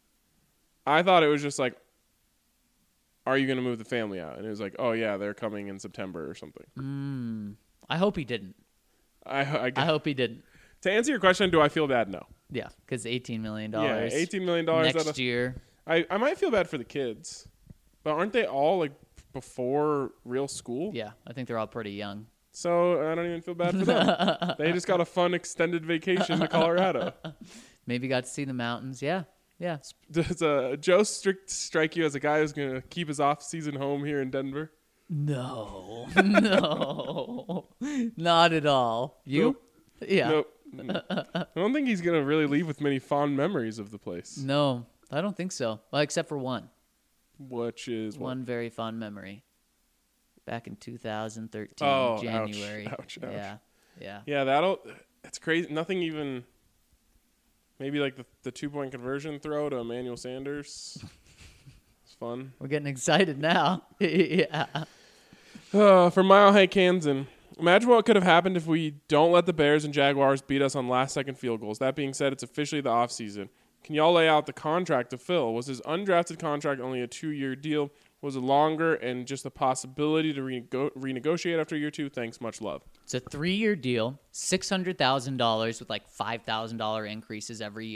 I thought it was just like, "Are you gonna move the family out?" And it was like, "Oh yeah, they're coming in September or something." I hope he didn't. I I, I hope he didn't. to answer your question, do I feel bad? No. Yeah, because eighteen million Yeah, dollars. eighteen million dollars next year. I I might feel bad for the kids, but aren't they all like before real school? Yeah, I think they're all pretty young. So I don't even feel bad for them. They just got a fun extended vacation to Colorado. Maybe got to see the mountains. Yeah, yeah. Does uh, Joe strict strike you as a guy who's going to keep his off-season home here in Denver? No, no, not at all. You? Nope. Yeah. Nope. I don't think he's going to really leave with many fond memories of the place, No, I don't think so. Well, except for one. which is what? One very fond memory. Back in two thousand thirteen, Oh, ouch, January. ouch, ouch. Yeah, yeah. Yeah, that'll. It's crazy. Nothing even. Maybe like the, the two-point conversion throw to Emmanuel Sanders. It's fun. We're getting excited now. Yeah. Uh, for Mile High Kansan, imagine what could have happened if we don't let the Bears and Jaguars beat us on last-second field goals. That being said, it's officially the offseason. Can y'all lay out the contract to Phil? Was his undrafted contract only a two-year deal? Was it longer and just a possibility to renego- renegotiate after year two? Thanks, much love. It's a three-year deal, six hundred thousand dollars with like five thousand dollars increases every year.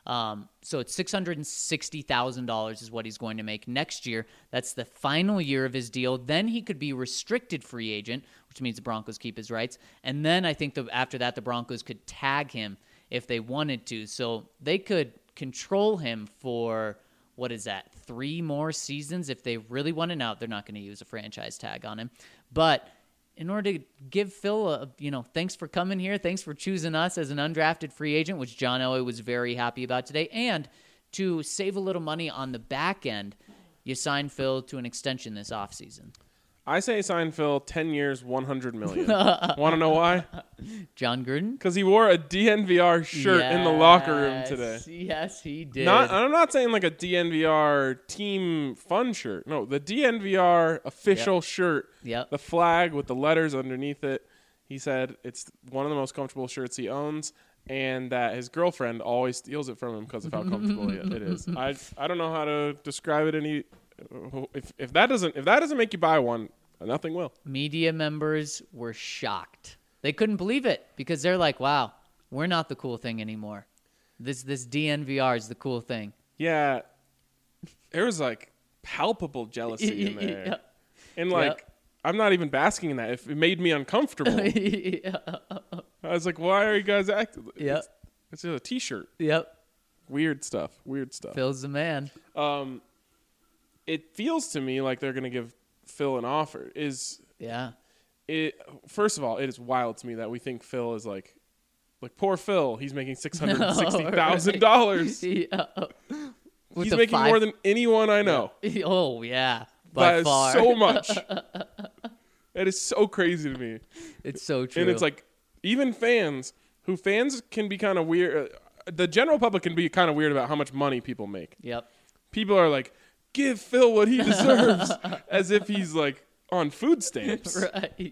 Um, so it's six hundred sixty thousand dollars is what he's going to make next year. That's the final year of his deal. Then he could be restricted free agent, which means the Broncos keep his rights. And then I think the, after that, the Broncos could tag him if they wanted to. So they could control him for, what is that, three more seasons if they really want to. Now, they're not going to use a franchise tag on him. But in order to give Phil a, you know, thanks for coming here, thanks for choosing us as an undrafted free agent, which John Elway was very happy about today, and to save a little money on the back end, you sign Phil to an extension this offseason. I say sign Phil ten years, one hundred million dollars. Want to know why? John Gruden? Because he wore a D N V R shirt yes, in the locker room today. Yes, he did. Not, I'm not saying like a D N V R team fun shirt. No, the D N V R official Yep. shirt. Yep. The flag with the letters underneath it. He said it's one of the most comfortable shirts he owns, and that his girlfriend always steals it from him because of how comfortable it is. I I don't know how to describe it any. If if that doesn't if that doesn't make you buy one, nothing will. Media members were shocked. They couldn't believe it because they're like, "Wow, we're not the cool thing anymore. This this D N V R is the cool thing." Yeah, there was like palpable jealousy in there, Yep. and like Yep. I'm not even basking in that. If it made me uncomfortable, yeah. I was like, "Why are you guys acting?" Yep. It's, it's just a T-shirt. Yep. Weird stuff. Weird stuff. Phil's the man. Um, it feels to me like they're gonna give Phil an offer. Is Yeah. it? First of all, it is wild to me that we think Phil is like, like poor Phil. He's making six hundred and sixty thousand dollars. Yeah. With He's the making five- more than anyone I know. Oh yeah, by That is far. so much. That is so crazy to me. It's so true. And it's like, even fans, who fans can be kind of weird. Uh, the general public can be kind of weird about how much money people make. Yep. People are like, give Phil what he deserves, as if he's like on food stamps. Right.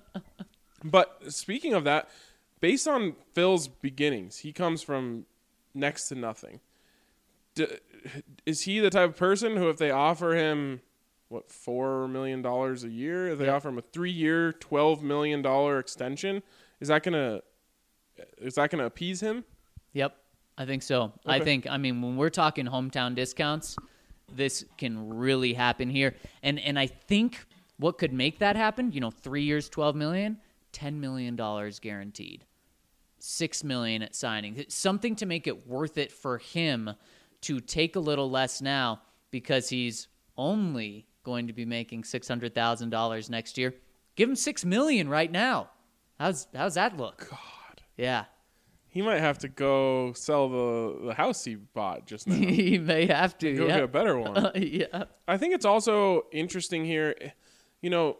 But speaking of that, based on Phil's beginnings, he comes from next to nothing. D- is he the type of person who, if they offer him, what, four million dollars a year, if they Yep. offer him a three-year, twelve million dollars extension, is that gonna is that gonna appease him? Yep. I think so. I Okay. think. I mean, when we're talking hometown discounts, this can really happen here. And and I think what could make that happen, you know, three years, twelve million, ten million dollars guaranteed, six million at signing, something to make it worth it for him to take a little less now because he's only going to be making six hundred thousand dollars next year. Give him six million right now. How's how's that look? God, Yeah. he might have to go sell the, the house he bought just now. He may have to. Go yeah. get a better one. yeah. I think it's also interesting here, you know,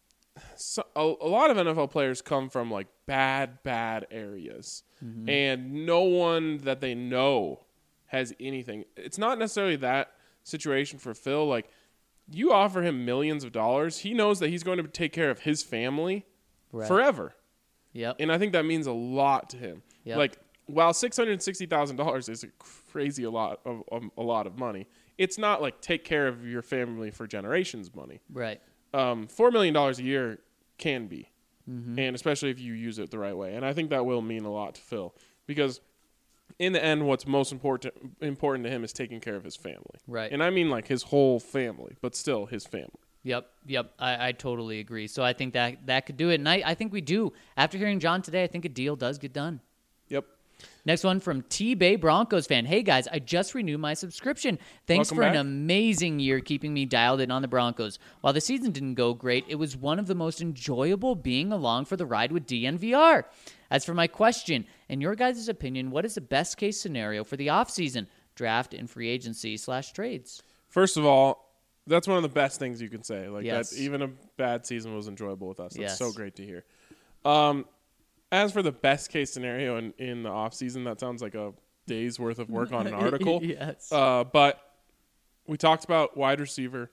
so, a, a lot of N F L players come from like bad, bad areas, Mm-hmm. and no one that they know has anything. It's not necessarily that situation for Phil. Like, you offer him millions of dollars, he knows that he's going to take care of his family Right. forever. Yep. And I think that means a lot to him. Yep. Like, while six hundred sixty thousand dollars is a crazy a lot of, of a lot of money, it's not like take care of your family for generations money. Right. Um, four million dollars a year can be, Mm-hmm. and especially if you use it the right way. And I think that will mean a lot to Phil, because in the end, what's most important important to him is taking care of his family. Right. And I mean like his whole family, but still his family. Yep. Yep. I, I totally agree. So I think that that could do it. And I, I think we do. After hearing John today, I think a deal does get done. Yep. Next one from T-Bay Broncos fan. Hey, guys, I just renewed my subscription. Thanks Welcome for back. an amazing year keeping me dialed in on the Broncos. While the season didn't go great, it was one of the most enjoyable being along for the ride with D N V R. As for my question, in your guys' opinion, what is the best-case scenario for the offseason, draft, and free agency slash trades? First of all, that's one of the best things you can say. Like Yes. that, even a bad season was enjoyable with us. That's Yes. so great to hear. Um, as for the best case scenario in, in the off season, that sounds like a day's worth of work on an article. Yes. Uh, but we talked about wide receiver.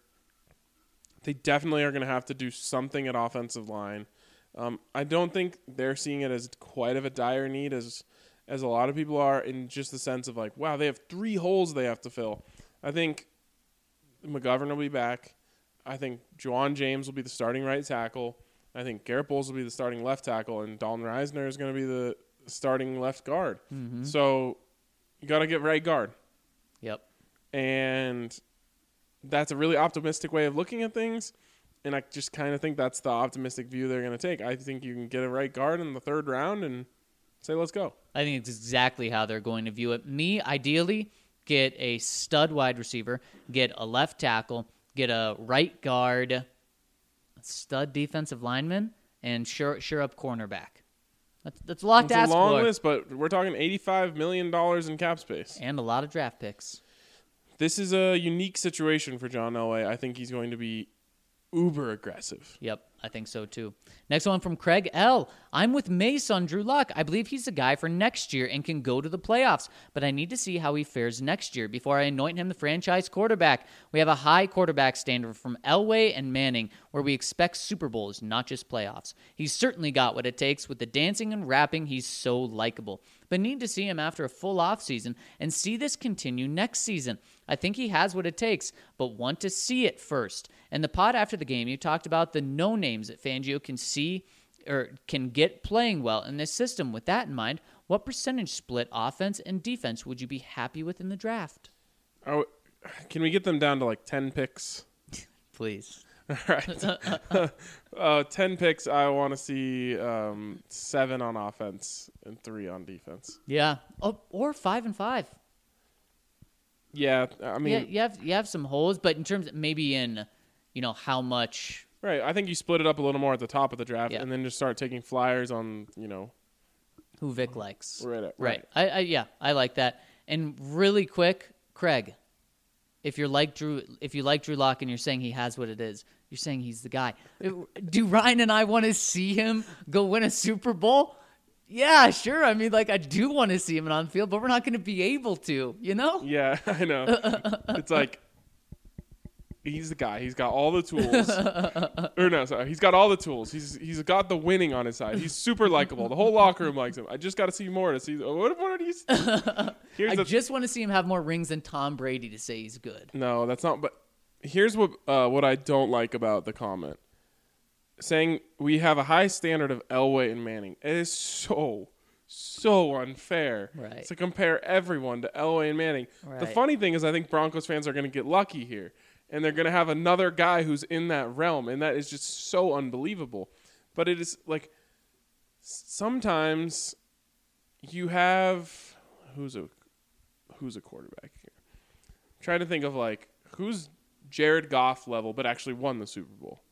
They definitely are going to have to do something at offensive line. Um, I don't think they're seeing it as quite of a dire need as as a lot of people are, in just the sense of like, wow, they have three holes they have to fill. I think McGovern will be back. I think Juwan James will be the starting right tackle. I think Garrett Bowles will be the starting left tackle, and Dalton Reisner is going to be the starting left guard. Mm-hmm. So you got to get right guard. Yep. And that's a really optimistic way of looking at things. And I just kind of think that's the optimistic view they're going to take. I think you can get a right guard in the third round and say, let's go. I think it's exactly how they're going to view it. Me, ideally, get a stud wide receiver, get a left tackle, get a right guard, a stud defensive lineman, and sure, sure up cornerback. That's, that's a lot It's to a ask long for. list, but we're talking eighty-five million dollars in cap space. And a lot of draft picks. This is a unique situation for John Elway. I think he's going to be uber aggressive. Yep, I think so too. Next one from Craig L. I'm with Mace on Drew Lock. I believe he's the guy for next year and can go to the playoffs, but I need to see how he fares next year before I anoint him the franchise quarterback. We have a high quarterback standard from Elway and Manning where we expect Super Bowls, not just playoffs. He's certainly got what it takes with the dancing and rapping. He's so likable, but need to see him after a full offseason and see this continue next season. I think he has what it takes, but want to see it first. And the pod after the game, you talked about the no names that Fangio can see or can get playing well in this system. With that in mind, what percentage split offense and defense would you be happy with in the draft? Oh, can we get them down to like ten picks? Please. All right. uh, ten picks. I want to see um, seven on offense and three on defense. Yeah. Oh, or five and five. Yeah, I mean, Yeah, you have you have some holes, but in terms of maybe in, you know, how much. right. I think you split it up a little more at the top of the draft, Yeah. and then just start taking flyers on, you know, Who Vic likes. right. At, Right. I, I yeah, I like that. And really quick, Craig, if you're like Drew, if you like Drew Lock and you're saying he has what it is, you're saying he's the guy. Do Ryan and I want to see him go win a Super Bowl? Yeah, sure. I mean, like, I do want to see him on the field, but we're not going to be able to, you know? Yeah, I know. It's like he's the guy. He's got all the tools. or no, sorry, he's got all the tools. He's he's got the winning on his side. He's super likable. The whole locker room likes him. I just got to see more to see what what are these. Here's I the, just want to see him have more rings than Tom Brady to say he's good. no, that's not. But here's what uh, what I don't like about the comment. Saying we have a high standard of Elway and Manning. It is so, so unfair Right. to compare everyone to Elway and Manning. The Right. funny thing is I think Broncos fans are going to get lucky here, and they're going to have another guy who's in that realm, and that is just so unbelievable. But it is like sometimes you have who's a who's a quarterback here? I'm trying to think of like who's Jared Goff level, but actually won the Super Bowl.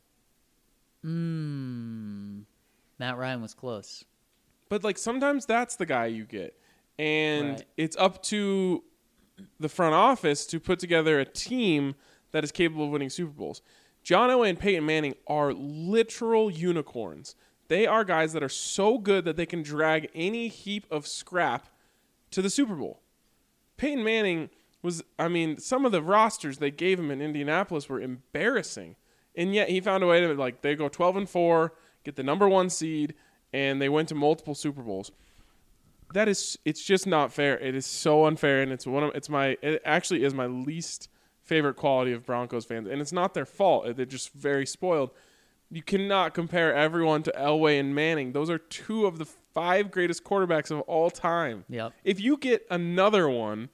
Mm. Matt Ryan was close. But like sometimes that's the guy you get. And Right. it's up to the front office to put together a team that is capable of winning Super Bowls. John Elway and Peyton Manning are literal unicorns. They are guys that are so good that they can drag any heap of scrap to the Super Bowl. Peyton Manning was, I mean, some of the rosters they gave him in Indianapolis were embarrassing. And yet he found a way to, like, they go twelve and four, get the number one seed, and they went to multiple Super Bowls. That is, it's just not fair. It is so unfair, and it's one of, it's my, it actually is my least favorite quality of Broncos fans, and it's not their fault. They're just very spoiled. You cannot compare everyone to Elway and Manning. Those are two of the five greatest quarterbacks of all time. Yep. If you get another one,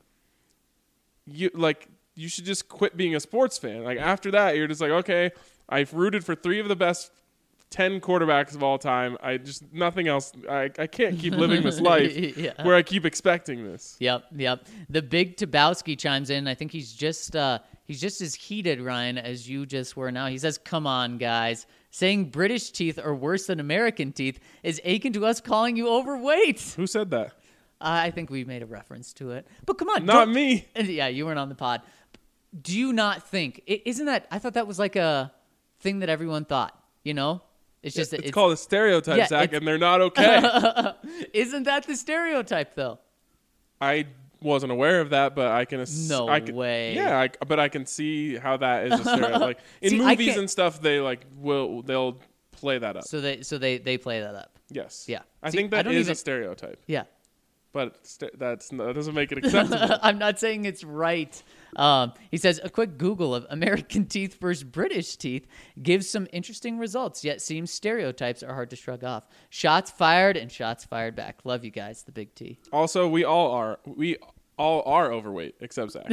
you like you should just quit being a sports fan. Like after that, you're just like, okay, I've rooted for three of the best ten quarterbacks of all time. I just nothing else. I, I can't keep living this life Yeah. where I keep expecting this. Yep, yep. The big Tabowski chimes in. I think he's just uh, he's just as heated, Ryan, as you just were now. He says, "Come on, guys. Saying British teeth are worse than American teeth is akin to us calling you overweight." Who said that? Uh, I think we made a reference to it. But come on. Not don't- me. Yeah, you weren't on the pod. Do you not think, i- isn't that, I thought that was like a thing that everyone thought, you know? It's just that It's, called a stereotype, Yeah, Zach, it's- and they're not okay. Isn't that the stereotype, though? I wasn't aware of that, but I can. Ass- No I can, way. Yeah, I, but I can see how that is a stereotype. Like in See, I movies can't- and stuff, they like will they'll play that up. So they so they, they play that up. Yes. Yeah. I See, think I that don't is a even- stereotype, Yeah. but st- that's that doesn't make it acceptable. I'm not saying it's right. Um, he says a quick Google of American teeth versus British teeth gives some interesting results, yet seems stereotypes are hard to shrug off. Shots fired and shots fired back. Love you guys, the big T. Also, we all are we all are overweight except Zach.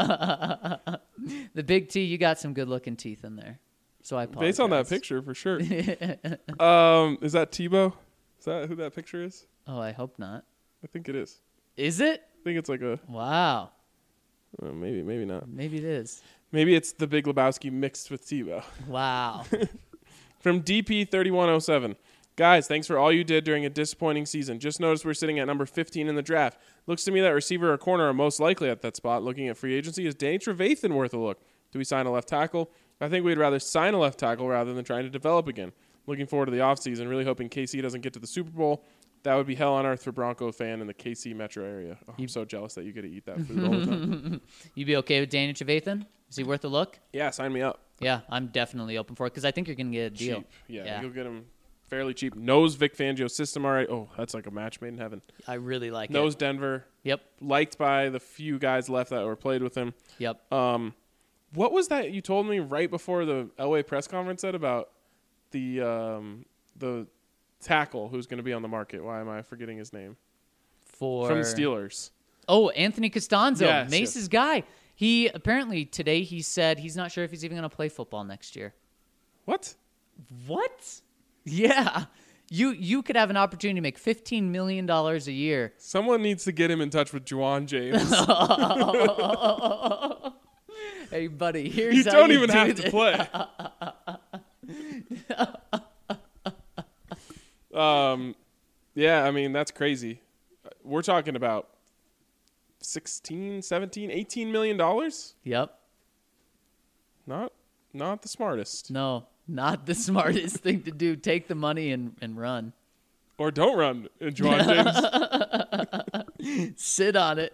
The big T, you got some good-looking teeth in there. So I apologize. Based on that picture, for sure. um, is that Tebow? Is that who that picture is? Oh, I hope not. I think it is. Is it? I think it's like a Wow. uh, maybe, maybe not. Maybe it is. Maybe it's the Big Lebowski mixed with Tebow. Wow. From D P thirty-one oh seven. Guys, thanks for all you did during a disappointing season. Just noticed we're sitting at number fifteen in the draft. Looks to me that receiver or corner are most likely at that spot. Looking at free agency, is Danny Trevathan worth a look? Do we sign a left tackle? I think we'd rather sign a left tackle rather than trying to develop again. Looking forward to the offseason. Really hoping K C doesn't get to the Super Bowl. That would be hell on earth for Bronco fan in the K C metro area. Oh, I'm so jealous that you get to eat that food all the time. You be okay with Danny Trevathan? Is he worth a look? Yeah, sign me up. Yeah, I'm definitely open for it because I think you're going to get a deal. Cheap. Yeah, Yeah. you'll get him fairly cheap. Knows Vic Fangio's system already. Oh, that's like a match made in heaven. I really like Knows it. Denver. Yep. Liked by the few guys left that were played with him. Yep. Um, what was that you told me right before the Elway press conference said about the um, the tackle who's going to be on the market? Why am I forgetting his name? For From the Steelers. Oh, Anthony Costanzo, Yes, Mace's yes. guy. He apparently today he said he's not sure if he's even going to play football next year. What? What? Yeah. You you could have an opportunity to make fifteen million dollars a year. Someone needs to get him in touch with Juwan James. Hey, buddy, here's you how don't you even do have this. to play. um, yeah, I mean, that's crazy. We're talking about sixteen, seventeen, eighteen million dollars? Yep. Not not the smartest. No, not the smartest thing to do. Take the money and, and run. Or don't run, uh, Juwan James. Sit on it.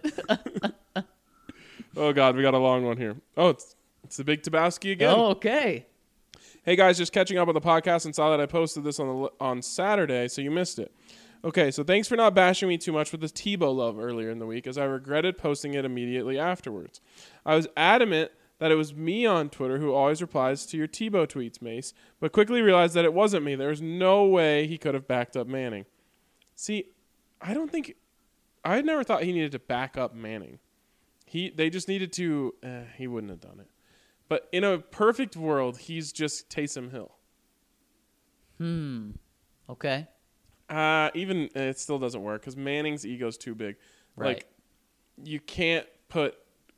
Oh, God, we got a long one here. Oh, it's, it's the Big Tabowski again. Oh, okay. Hey, guys, just catching up on the podcast and saw that I posted this on the on Saturday, so you missed it. Okay, so thanks for not bashing me too much with the Tebow love earlier in the week, as I regretted posting it immediately afterwards. I was adamant that it was me on Twitter who always replies to your Tebow tweets, Mace, but quickly realized that it wasn't me. There was no way he could have backed up Manning. See, I don't think... I had never thought he needed to back up Manning. He They just needed to... Eh, he wouldn't have done it. But in a perfect world, he's just Taysom Hill. Hmm. Okay. Uh, even uh, it still doesn't work because Manning's ego's too big. Right. Like, you can't put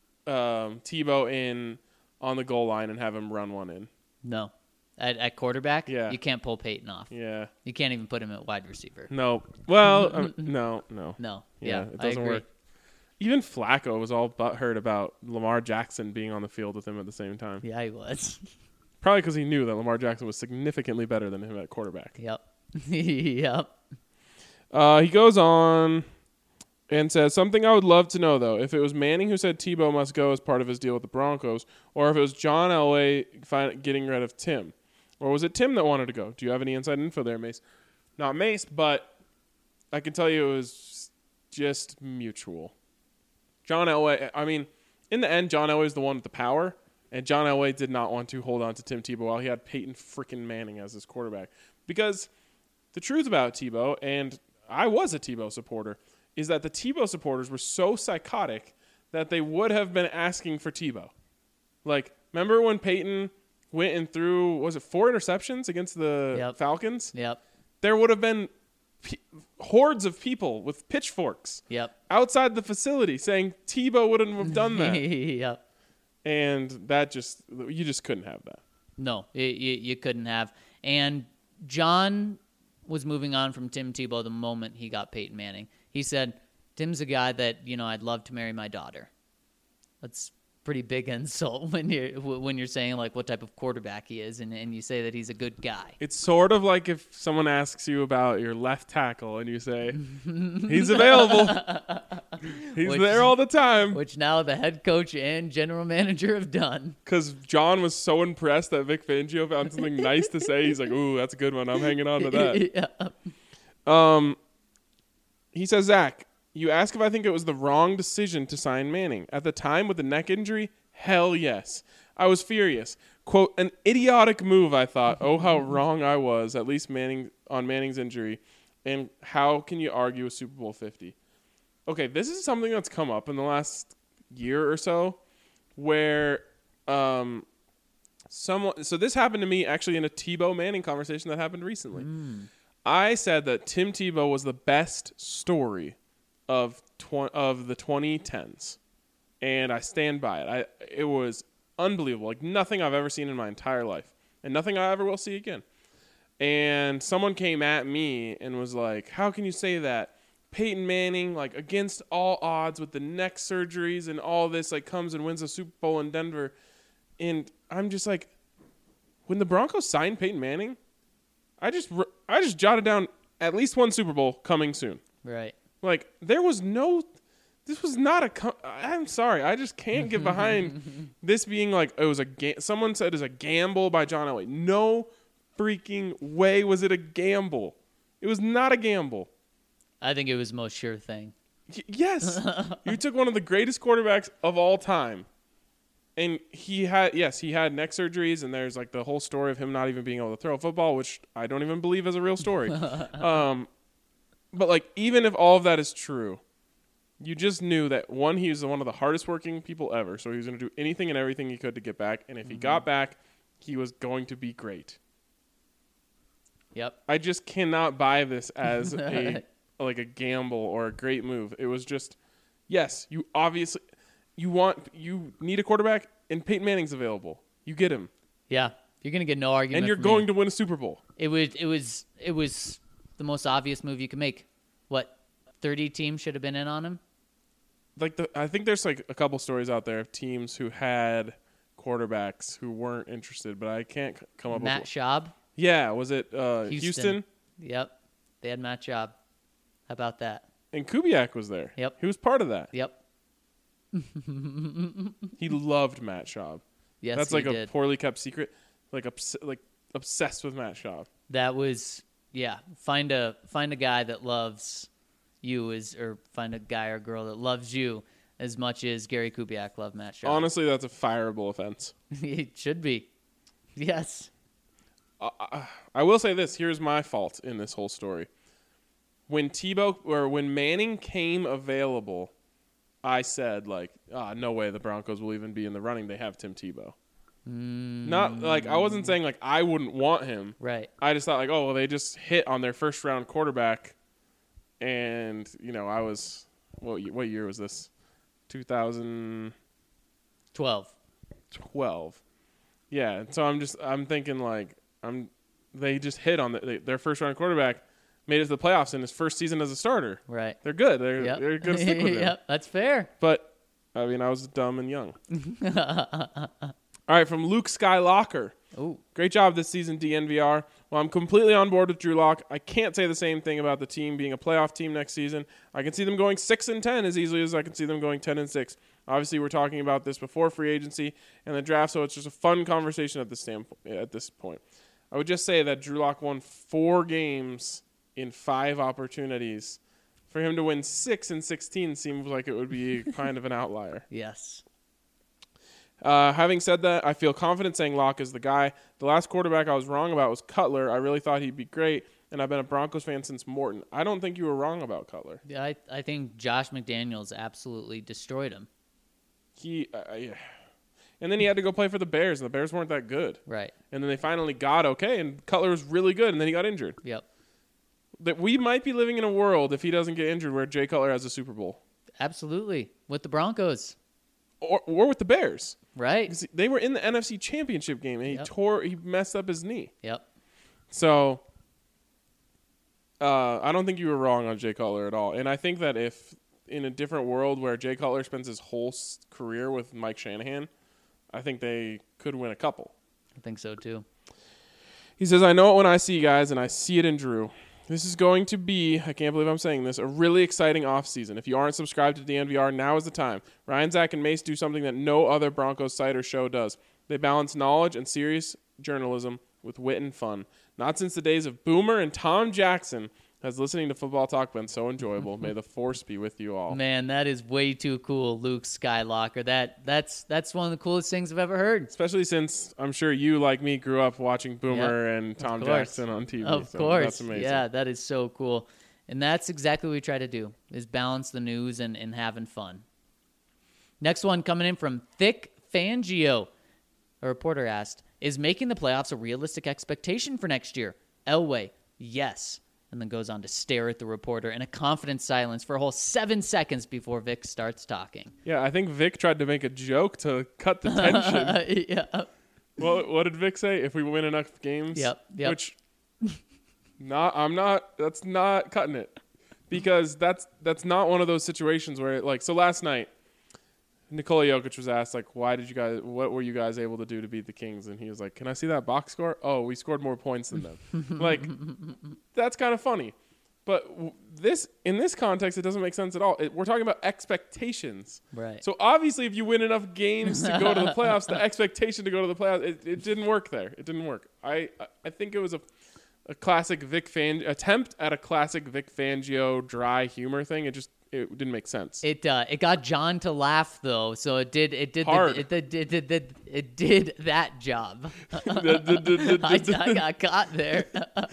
um, Tebow in on the goal line and have him run one in. No. At, at quarterback, Yeah. you can't pull Peyton off. Yeah. You can't even put him at wide receiver. No. Well, um, no, no. No. Yeah, Yeah, it I doesn't agree. work. Even Flacco was all butthurt about Lamar Jackson being on the field with him at the same time. Yeah, he was. Probably because he knew that Lamar Jackson was significantly better than him at quarterback. Yep. Yep. Uh, he goes on and says, something I would love to know, though, if it was Manning who said Tebow must go as part of his deal with the Broncos, or if it was John Elway find, getting rid of Tim. Or was it Tim that wanted to go? Do you have any inside info there, Mace? Not Mace, but I can tell you it was just mutual. John Elway, I mean, in the end, John Elway is the one with the power, and John Elway did not want to hold on to Tim Tebow while he had Peyton freaking Manning as his quarterback. Because the truth about Tebow, and I was a Tebow supporter, is that the Tebow supporters were so psychotic that they would have been asking for Tebow. Like, remember when Peyton went and threw, was it four interceptions against the Yep. Falcons? Yep. There would have been pe- hordes of people with pitchforks Yep. outside the facility saying Tebow wouldn't have done that. Yep. And that just, you just couldn't have that. No, you, you, you couldn't have. And John was moving on from Tim Tebow the moment he got Peyton Manning. He said, Tim's a guy that, you know, I'd love to marry my daughter. That's pretty big insult when you're when you're saying like what type of quarterback he is, and, and you say that he's a good guy. It's sort of like if someone asks you about your left tackle and you say, he's available. He's Which- there all the time. Which now the head coach and general manager have done. Because John was so impressed that Vic Fangio found something nice to say. He's like, ooh, that's a good one. I'm hanging on to that. Yeah. Um, he says, Zach, you ask if I think it was the wrong decision to sign Manning. At the time with the neck injury, hell yes. I was furious. Quote, an idiotic move, I thought. Oh, how wrong I was, at least Manning on Manning's injury. And how can you argue with Super Bowl fifty? okay, this is something that's come up in the last year or so where um, someone, so this happened to me actually in a Tebow Manning conversation that happened recently. Mm. I said that Tim Tebow was the best story of tw- of the twenty tens, and I stand by it. I it was unbelievable, like nothing I've ever seen in my entire life, and nothing I ever will see again. And someone came at me and was like, "How can you say that? Peyton Manning, like against all odds with the neck surgeries and all this, like comes and wins a Super Bowl in Denver." And I'm just like, when the Broncos signed Peyton Manning, I just I just jotted down at least one Super Bowl coming soon. Right. Like there was no, this was not a. I'm sorry, I just can't get behind this being like it was a. Ga- someone said it was a gamble by John Elway. No freaking way was it a gamble. It was not a gamble. I think it was the most sure thing. Y- yes, you took one of the greatest quarterbacks of all time. And he had, yes, he had neck surgeries, and there's like the whole story of him not even being able to throw a football, which I don't even believe is a real story. um, but like, even if all of that is true, you just knew that one, he was one of the hardest working people ever, so he was going to do anything and everything he could to get back. And if mm-hmm. he got back, he was going to be great. Yep. I just cannot buy this as a like a gamble or a great move. It was just, yes, you obviously. You want you need a quarterback, and Peyton Manning's available. You get him. Yeah, you're gonna get no argument. And you're from going me. to win a Super Bowl. It was it was it was the most obvious move you could make. What, thirty teams should have been in on him? Like the, I think there's like a couple stories out there of teams who had quarterbacks who weren't interested, but I can't c- come up Matt with Schaub. Yeah, was it uh, Houston. Houston? Yep, they had Matt Schaub. How about that? And Kubiak was there. Yep, he was part of that. Yep. He loved Matt Schaub. Yes, that's like he a did. poorly kept secret. Like obs- like obsessed with Matt Schaub. That was yeah. Find a find a guy that loves you as, or find a guy or girl that loves you as much as Gary Kubiak loved Matt Schaub. Honestly, that's a fireable offense. It should be. Yes. Uh, I will say this. Here's my fault in this whole story. When Tebow or when Manning came available, I said, like, ah, no way the Broncos will even be in the running. They have Tim Tebow. Mm. Not, like, I wasn't saying, like, I wouldn't want him. Right. I just thought, like, oh, well, they just hit on their first-round quarterback. And, you know, I was, what, what year was this? two thousand twelve. twelve. Yeah, and so I'm just, I'm thinking, like, I'm, they just hit on the, they, their first-round quarterback. Made it to the playoffs in his first season as a starter. Right. They're good. They're, yep. they're going to stick with him. Yep, that's fair. But, I mean, I was dumb and young. All right, from Luke Skylocker. Ooh. Great job this season, D N V R. Well, I'm completely on board with Drew Lock. I can't say the same thing about the team being a playoff team next season. I can see them going six and ten as easily as I can see them going ten and six. Obviously, we're talking about this before free agency and the draft, so it's just a fun conversation at this standpoint. At this point, I would just say that Drew Lock won four games in five opportunities. For him to win six and sixteen seems like it would be kind of an outlier. Yes. Uh, having said that, I feel confident saying Locke is the guy. The last quarterback I was wrong about was Cutler. I really thought he'd be great, and I've been a Broncos fan since Morton. I don't think you were wrong about Cutler. Yeah, I, I think Josh McDaniels absolutely destroyed him. He, uh, yeah. And then he had to go play for the Bears, and the Bears weren't that good. Right. And then they finally got okay, and Cutler was really good, and then he got injured. Yep. That we might be living in a world, if he doesn't get injured, where Jay Cutler has a Super Bowl. Absolutely. With the Broncos. Or or with the Bears. Right. They were in the N F C Championship game, and he yep. tore, he messed up his knee. Yep. So, uh, I don't think you were wrong on Jay Cutler at all. And I think that if in a different world where Jay Cutler spends his whole s- career with Mike Shanahan, I think they could win a couple. I think so, too. He says, I know it when I see guys, and I see it in Drew. This is going to be, I can't believe I'm saying this, a really exciting offseason. If you aren't subscribed to D N V R, now is the time. Ryan, Zach, and Mace do something that no other Broncos site or show does. They balance knowledge and serious journalism with wit and fun. Not since the days of Boomer and Tom Jackson has listening to Football Talk been so enjoyable. May the force be with you all. Man, that is way too cool, Luke Skylocker. That that's that's one of the coolest things I've ever heard. Especially since I'm sure you, like me, grew up watching Boomer yep, and Tom Jackson on T V. Of so course. That's amazing. Yeah, that is so cool. And that's exactly what we try to do, is balance the news and, and having fun. Next one coming in from Thick Fangio. A reporter asked, is making the playoffs a realistic expectation for next year? Elway, yes. And then goes on to stare at the reporter in a confident silence for a whole seven seconds before Vic starts talking. Yeah, I think Vic tried to make a joke to cut the tension. yeah. Well, what did Vic say? If we win enough games? Yep, yep. Which, not, I'm not, that's not cutting it. Because that's that's not one of those situations where, like, so last night, Nikola Jokic was asked, like, why did you guys, what were you guys able to do to beat the Kings? And he was like, can I see that box score? Oh, we scored more points than them. Like, that's kind of funny. But w- this, in this context, it doesn't make sense at all. It, we're talking about expectations. Right. So obviously, if you win enough games to go to the playoffs, the expectation to go to the playoffs, it, it didn't work there. It didn't work. I, I think it was a, a classic Vic Fan attempt at a classic Vic Fangio dry humor thing. It just, it didn't make sense. It uh, it got John to laugh though, so it did it did Hard. The, it, did, it, did, it, it did that job. I, I got caught there.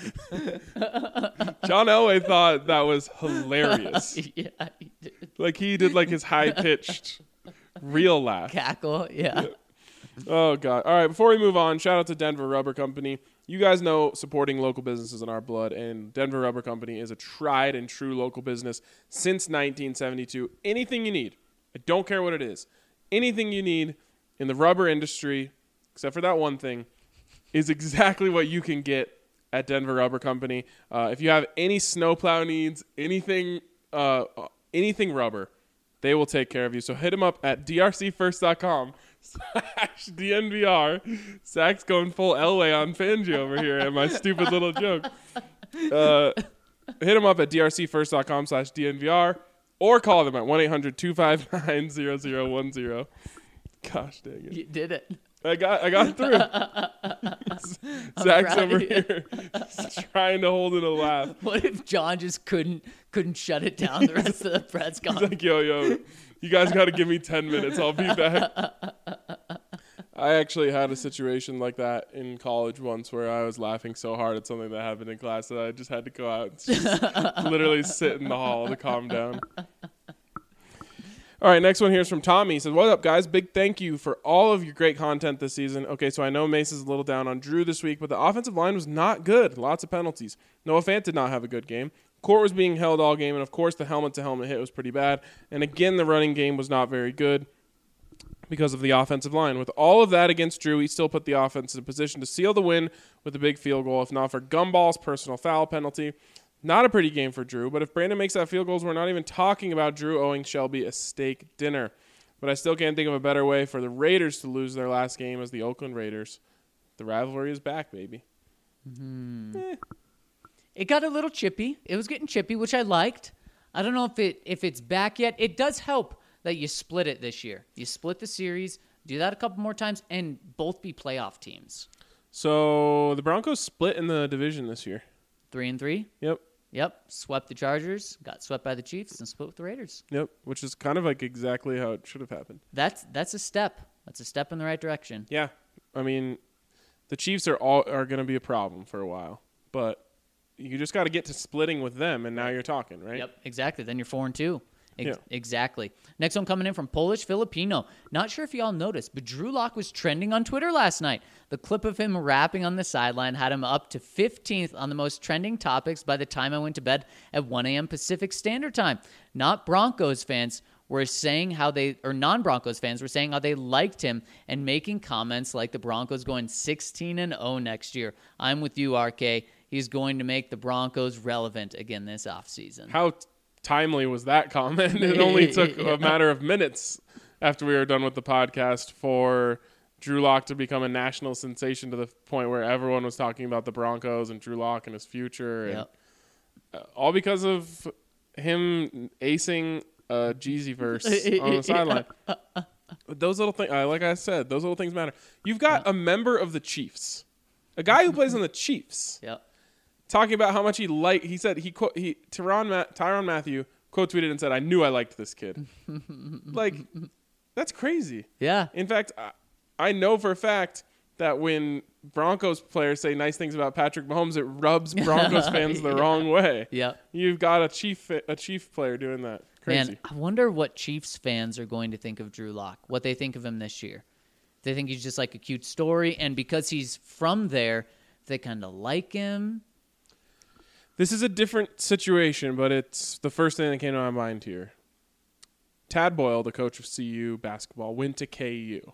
John Elway thought that was hilarious. yeah, he did. Like he did like his high pitched real laugh. Cackle. Yeah. Oh God! All right, before we move on, shout out to Denver Rubber Company. You guys know supporting local businesses in our blood, and Denver Rubber Company is a tried and true local business since nineteen seventy-two. Anything you need, I don't care what it is, anything you need in the rubber industry, except for that one thing, is exactly what you can get at Denver Rubber Company. Uh, if you have any snowplow needs, anything, uh, anything rubber, they will take care of you. So hit them up at d r c first dot com slash D N V R. Zach's going full Elway on Fangio over here and my stupid little joke. Uh, hit them up at d r c first dot com slash D N V R or call them at one eight hundred two five nine zero zero one zero. Gosh dang it. You did it. I got I got through. Zach's proud over of you. here trying to hold in a laugh. What if John just couldn't couldn't shut it down the rest of the press He's conference? like, yo, yo, you guys got to give me ten minutes. I'll be back. I actually had a situation like that in college once where I was laughing so hard at something that happened in class that I just had to go out and just literally sit in the hall to calm down. All right, next one here is from Tommy. He says, what up, guys? Big thank you for all of your great content this season. Okay, so I know Mace is a little down on Drew this week, but the offensive line was not good. Lots of penalties. Noah Fant did not have a good game. Court was being held all game, and of course the helmet-to-helmet hit was pretty bad. And again, the running game was not very good because of the offensive line. With all of that against Drew, he still put the offense in a position to seal the win with a big field goal, if not for Gumball's personal foul penalty. Not a pretty game for Drew, but if Brandon makes that field goal, we're not even talking about Drew owing Shelby a steak dinner. But I still can't think of a better way for the Raiders to lose their last game as the Oakland Raiders. The rivalry is back, baby. Hmm. Eh. It got a little chippy. It was getting chippy, which I liked. I don't know if it if it's back yet. It does help that you split it this year. You split the series, do that a couple more times, and both be playoff teams. So the Broncos split in the division this year. Three and three. Yep. Yep. Swept the Chargers, got swept by the Chiefs, and split with the Raiders. Yep. Which is kind of like exactly how it should have happened. That's that's a step. That's a step in the right direction. Yeah. I mean, the Chiefs are all are going to be a problem for a while, but you just got to get to splitting with them, and now you're talking, right? Yep, exactly. Then you're four and two. Ex- Yeah. Exactly. Next one coming in from Polish Filipino. Not sure if y'all noticed, but Drew Lock was trending on Twitter last night. The clip of him rapping on the sideline had him up to fifteenth on the most trending topics by the time I went to bed at one a.m. Pacific Standard Time. Not Broncos fans were saying how they, or non-Broncos fans were saying how they liked him and making comments like the Broncos going sixteen and oh next year. I'm with you, R K. He's going to make the Broncos relevant again this offseason. How t- timely was that comment? It only took a matter of minutes after we were done with the podcast for Drew Lock to become a national sensation to the point where everyone was talking about the Broncos and Drew Lock and his future. And Yep. uh, all because of him acing a Jeezy verse on the sideline. Those little things, like I said, those little things matter. You've got a member of the Chiefs, a guy who plays on the Chiefs, Yep. talking about how much he liked. He said he quote he Tyrann Ma- Tyrann Mathieu quote tweeted and said, "I knew I liked this kid." Like, that's crazy. Yeah. In fact, I, I know for a fact that when Broncos players say nice things about Patrick Mahomes, it rubs Broncos fans the Yeah. wrong way. Yep. You've got a chief a chief player doing that. Crazy. Man, I wonder what Chiefs fans are going to think of Drew Lock, what they think of him this year. They think he's just like a cute story, and because he's from there, they kind of like him. This is a different situation, but it's the first thing that came to my mind here. Tad Boyle, the coach of C U basketball, went to K U.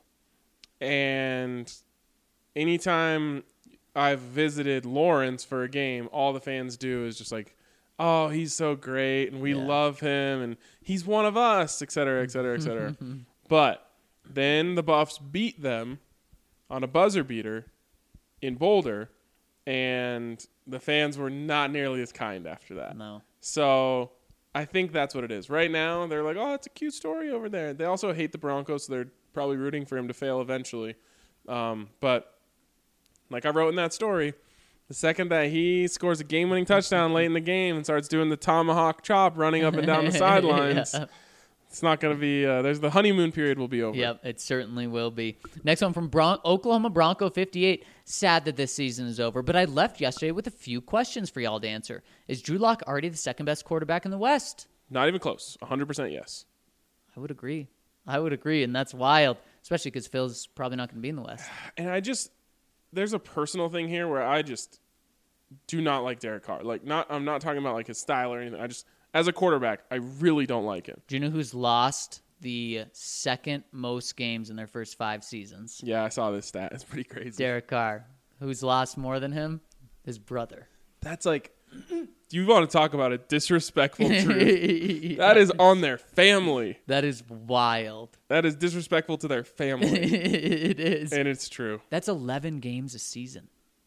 And anytime I've visited Lawrence for a game, all the fans do is just like, oh, he's so great, and we Yeah. love him, and he's one of us, et cetera, et cetera, et cetera. But then the Buffs beat them on a buzzer beater in Boulder, and the fans were not nearly as kind after that. No. So I think that's what it is. Right now, they're like, oh, it's a cute story over there. They also hate the Broncos, so they're probably rooting for him to fail eventually. Um, but like I wrote in that story, the second that he scores a game-winning touchdown late in the game and starts doing the tomahawk chop running up and down the sidelines, Yeah. it's not going to be uh, – there's the honeymoon period will be over. Yep, it certainly will be. Next one from Bron- Oklahoma Bronco fifty-eight. Sad that this season is over, but I left yesterday with a few questions for y'all to answer. Is Drew Lock already the second-best quarterback in the West? Not even close. one hundred percent yes. I would agree. I would agree, and that's wild, especially because Phil's probably not going to be in the West. And I just – there's a personal thing here where I just do not like Derek Carr. Like, not I'm not talking about like his style or anything. I just – as a quarterback, I really don't like him. Do you know who's lost the second most games in their first five seasons? Yeah, I saw this stat. It's pretty crazy. Derek Carr. Who's lost more than him? His brother. That's like – you want to talk about a disrespectful truth. That is on their family. That is wild. That is disrespectful to their family. It is. And it's true. That's eleven games a season.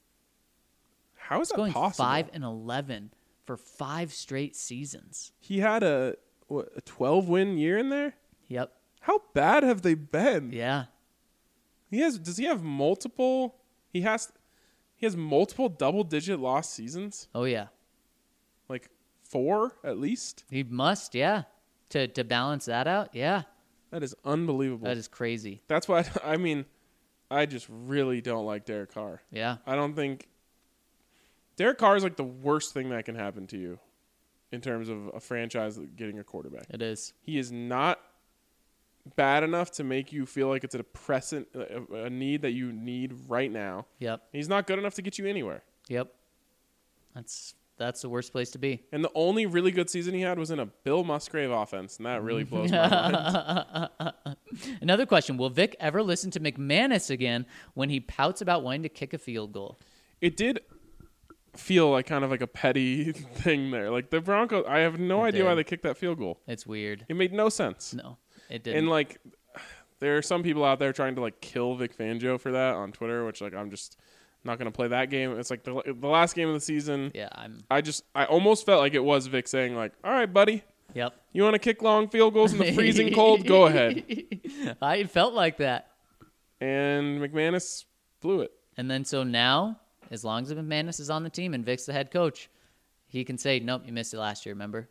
How is It's that going possible? five and eleven for five straight seasons. He had a what, a twelve-win year in there? Yep. How bad have they been? Yeah. He has. Does he have multiple? He has. He has multiple double-digit loss seasons. Oh yeah. Like four at least. He must. Yeah. To to balance that out. Yeah. That is unbelievable. That is crazy. That's why I mean, I just really don't like Derek Carr. Yeah. I don't think Derek Carr is like the worst thing that can happen to you in terms of a franchise getting a quarterback. It is. He is not bad enough to make you feel like it's a pressant a, a need that you need right now. Yep. He's not good enough to get you anywhere. Yep. That's that's the worst place to be. And the only really good season he had was in a Bill Musgrave offense, and that really blows my mind. Another question: will Vic ever listen to McManus again when he pouts about wanting to kick a field goal? It did feel like kind of like a petty thing there. Like the Broncos, I have no It idea why did. they kicked that field goal. It's weird. It made no sense. No, it didn't. And like, there are some people out there trying to like kill Vic Fangio for that on Twitter, which like I'm just not gonna play that game. It's like the the last game of the season. yeah, I'm. I just I almost felt like it was Vic saying like, "All right, buddy, Yep. you want to kick long field goals in the freezing cold? Go ahead." I felt like that. And McManus blew it. And then so now, as long as McManus is on the team and Vic's the head coach, he can say, "Nope, you missed it last year." Remember?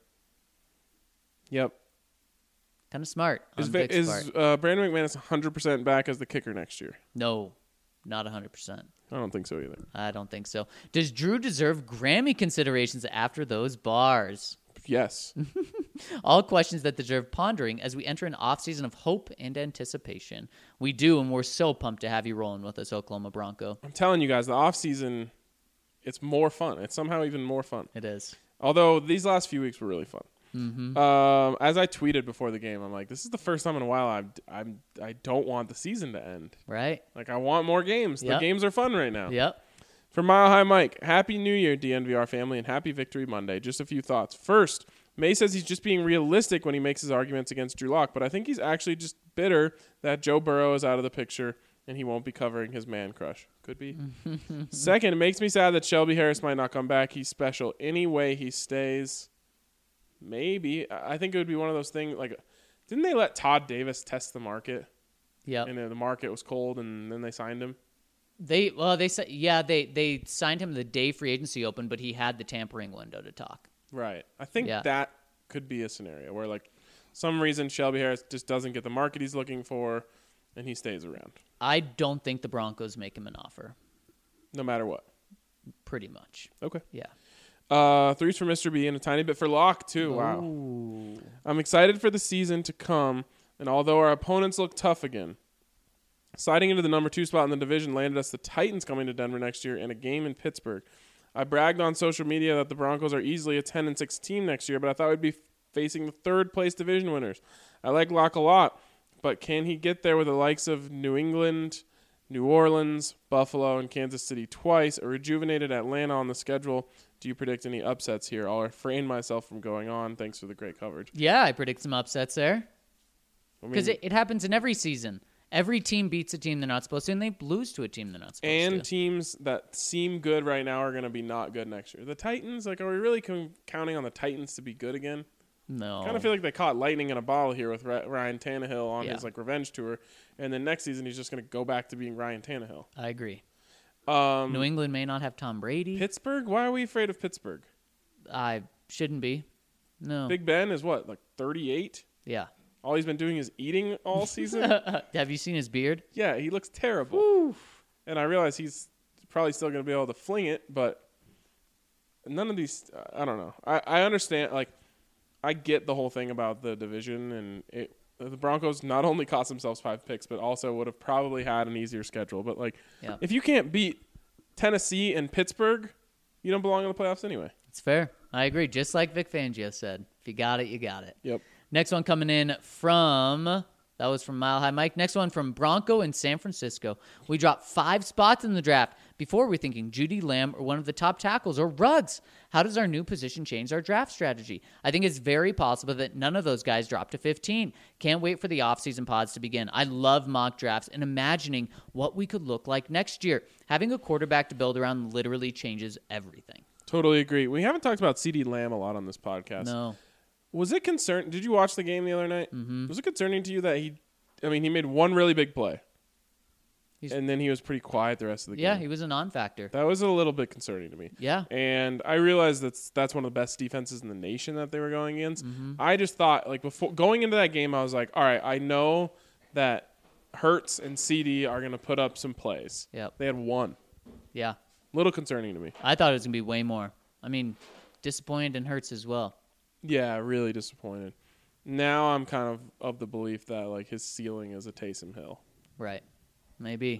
Yep. Kind of smart on Is, Vic, Vic's is part. uh, Brandon McManus one hundred percent back as the kicker next year? No, not one hundred percent. I don't think so either. I don't think so. Does Drew deserve Grammy considerations after those bars? Yes. All questions that deserve pondering as we enter an offseason of hope and anticipation. We do, and we're so pumped to have you rolling with us, Oklahoma Bronco. I'm telling you guys, the offseason, it's more fun. It's somehow even more fun. It is. Although these last few weeks were really fun. Mm-hmm. Um, as I tweeted before the game, I'm like, this is the first time in a while I'm, I'm, I don't want the season to end. Right? Like, I want more games. Yep. The games are fun right now. Yep. From Mile High Mike, Happy New Year, D N V R family, and Happy Victory Monday. Just a few thoughts. First, May says he's just being realistic when he makes his arguments against Drew Lock, but I think he's actually just bitter that Joe Burrow is out of the picture and he won't be covering his man crush. Could be. Second, it makes me sad that Shelby Harris might not come back. He's special. Any way he stays, maybe. I I think it would be one of those things, like, didn't they let Todd Davis test the market? Yep. And uh, the market was cold, and then they signed him? They well, they said yeah, they they signed him the day free agency opened, but he had the tampering window to talk. Right. I think Yeah. that could be a scenario where, like, some reason Shelby Harris just doesn't get the market he's looking for, and he stays around, I don't think the Broncos make him an offer. no matter what. Pretty much. Okay. Yeah. Uh, threes for Mister B and a tiny bit for Locke, too. Wow. Ooh. I'm excited for the season to come, and although our opponents look tough again, sliding into the number two spot in the division landed us the Titans coming to Denver next year and a game in Pittsburgh. I bragged on social media that the Broncos are easily a ten and six team next year, but I thought we'd be facing the third place division winners. I like Locke a lot, but can he get there with the likes of New England, New Orleans, Buffalo, and Kansas City twice, a rejuvenated Atlanta on the schedule? Do you predict any upsets here? I'll refrain myself from going on. Thanks for the great coverage. Yeah, I predict some upsets there. I Because mean, it, it happens in every season. Every team beats a team they're not supposed to, and they lose to a team they're not supposed and to. teams that seem good right now are going to be not good next year. The Titans, like, are we really com- counting on the Titans to be good again? No. I kind of feel like they caught lightning in a bottle here with Ra- Ryan Tannehill on Yeah. his like revenge tour, and then next season he's just going to go back to being Ryan Tannehill. I agree. Um, New England may not have Tom Brady. Pittsburgh? Why are we afraid of Pittsburgh? I shouldn't be. No. Big Ben is what, like thirty-eight? Yeah. All he's been doing is eating all season? Have you seen his beard? Yeah, he looks terrible. And I realize he's probably still going to be able to fling it, but none of these, I don't know. I, I understand, like, I get the whole thing about the division, and it, the Broncos not only cost themselves five picks, but also would have probably had an easier schedule. But, like, Yeah. if you can't beat Tennessee and Pittsburgh, you don't belong in the playoffs anyway. It's fair. I agree. Just like Vic Fangio said, if you got it, you got it. Yep. Next one coming in from, that was from Mile High Mike. Next one from Bronco in San Francisco. We dropped five spots in the draft. Before we're thinking Judy Lamb or one of the top tackles or Ruggs. How does our new position change our draft strategy? I think it's very possible that none of those guys drop to fifteen. Can't wait for the offseason pods to begin. I love mock drafts and imagining what we could look like next year. Having a quarterback to build around literally changes everything. Totally agree. We haven't talked about CeeDee Lamb a lot on this podcast. No. Was it concern? Did you watch the game the other night? Mm-hmm. Was it concerning to you that he, I mean, he made one really big play, He's- and then he was pretty quiet the rest of the Yeah, game? he was a non-factor. That was a little bit concerning to me. Yeah. And I realized that's that's one of the best defenses in the nation that they were going against. Mm-hmm. I just thought, like, before going into that game, I was like, all right, I know that Hurts and CeeDee are going to put up some plays. Yep. They had one. Yeah. Little concerning to me. I thought it was going to be way more. I mean, disappointed and hurts as well. Yeah, really disappointed. Now I'm kind of of the belief that, like, his ceiling is a Taysom Hill. Right. Maybe.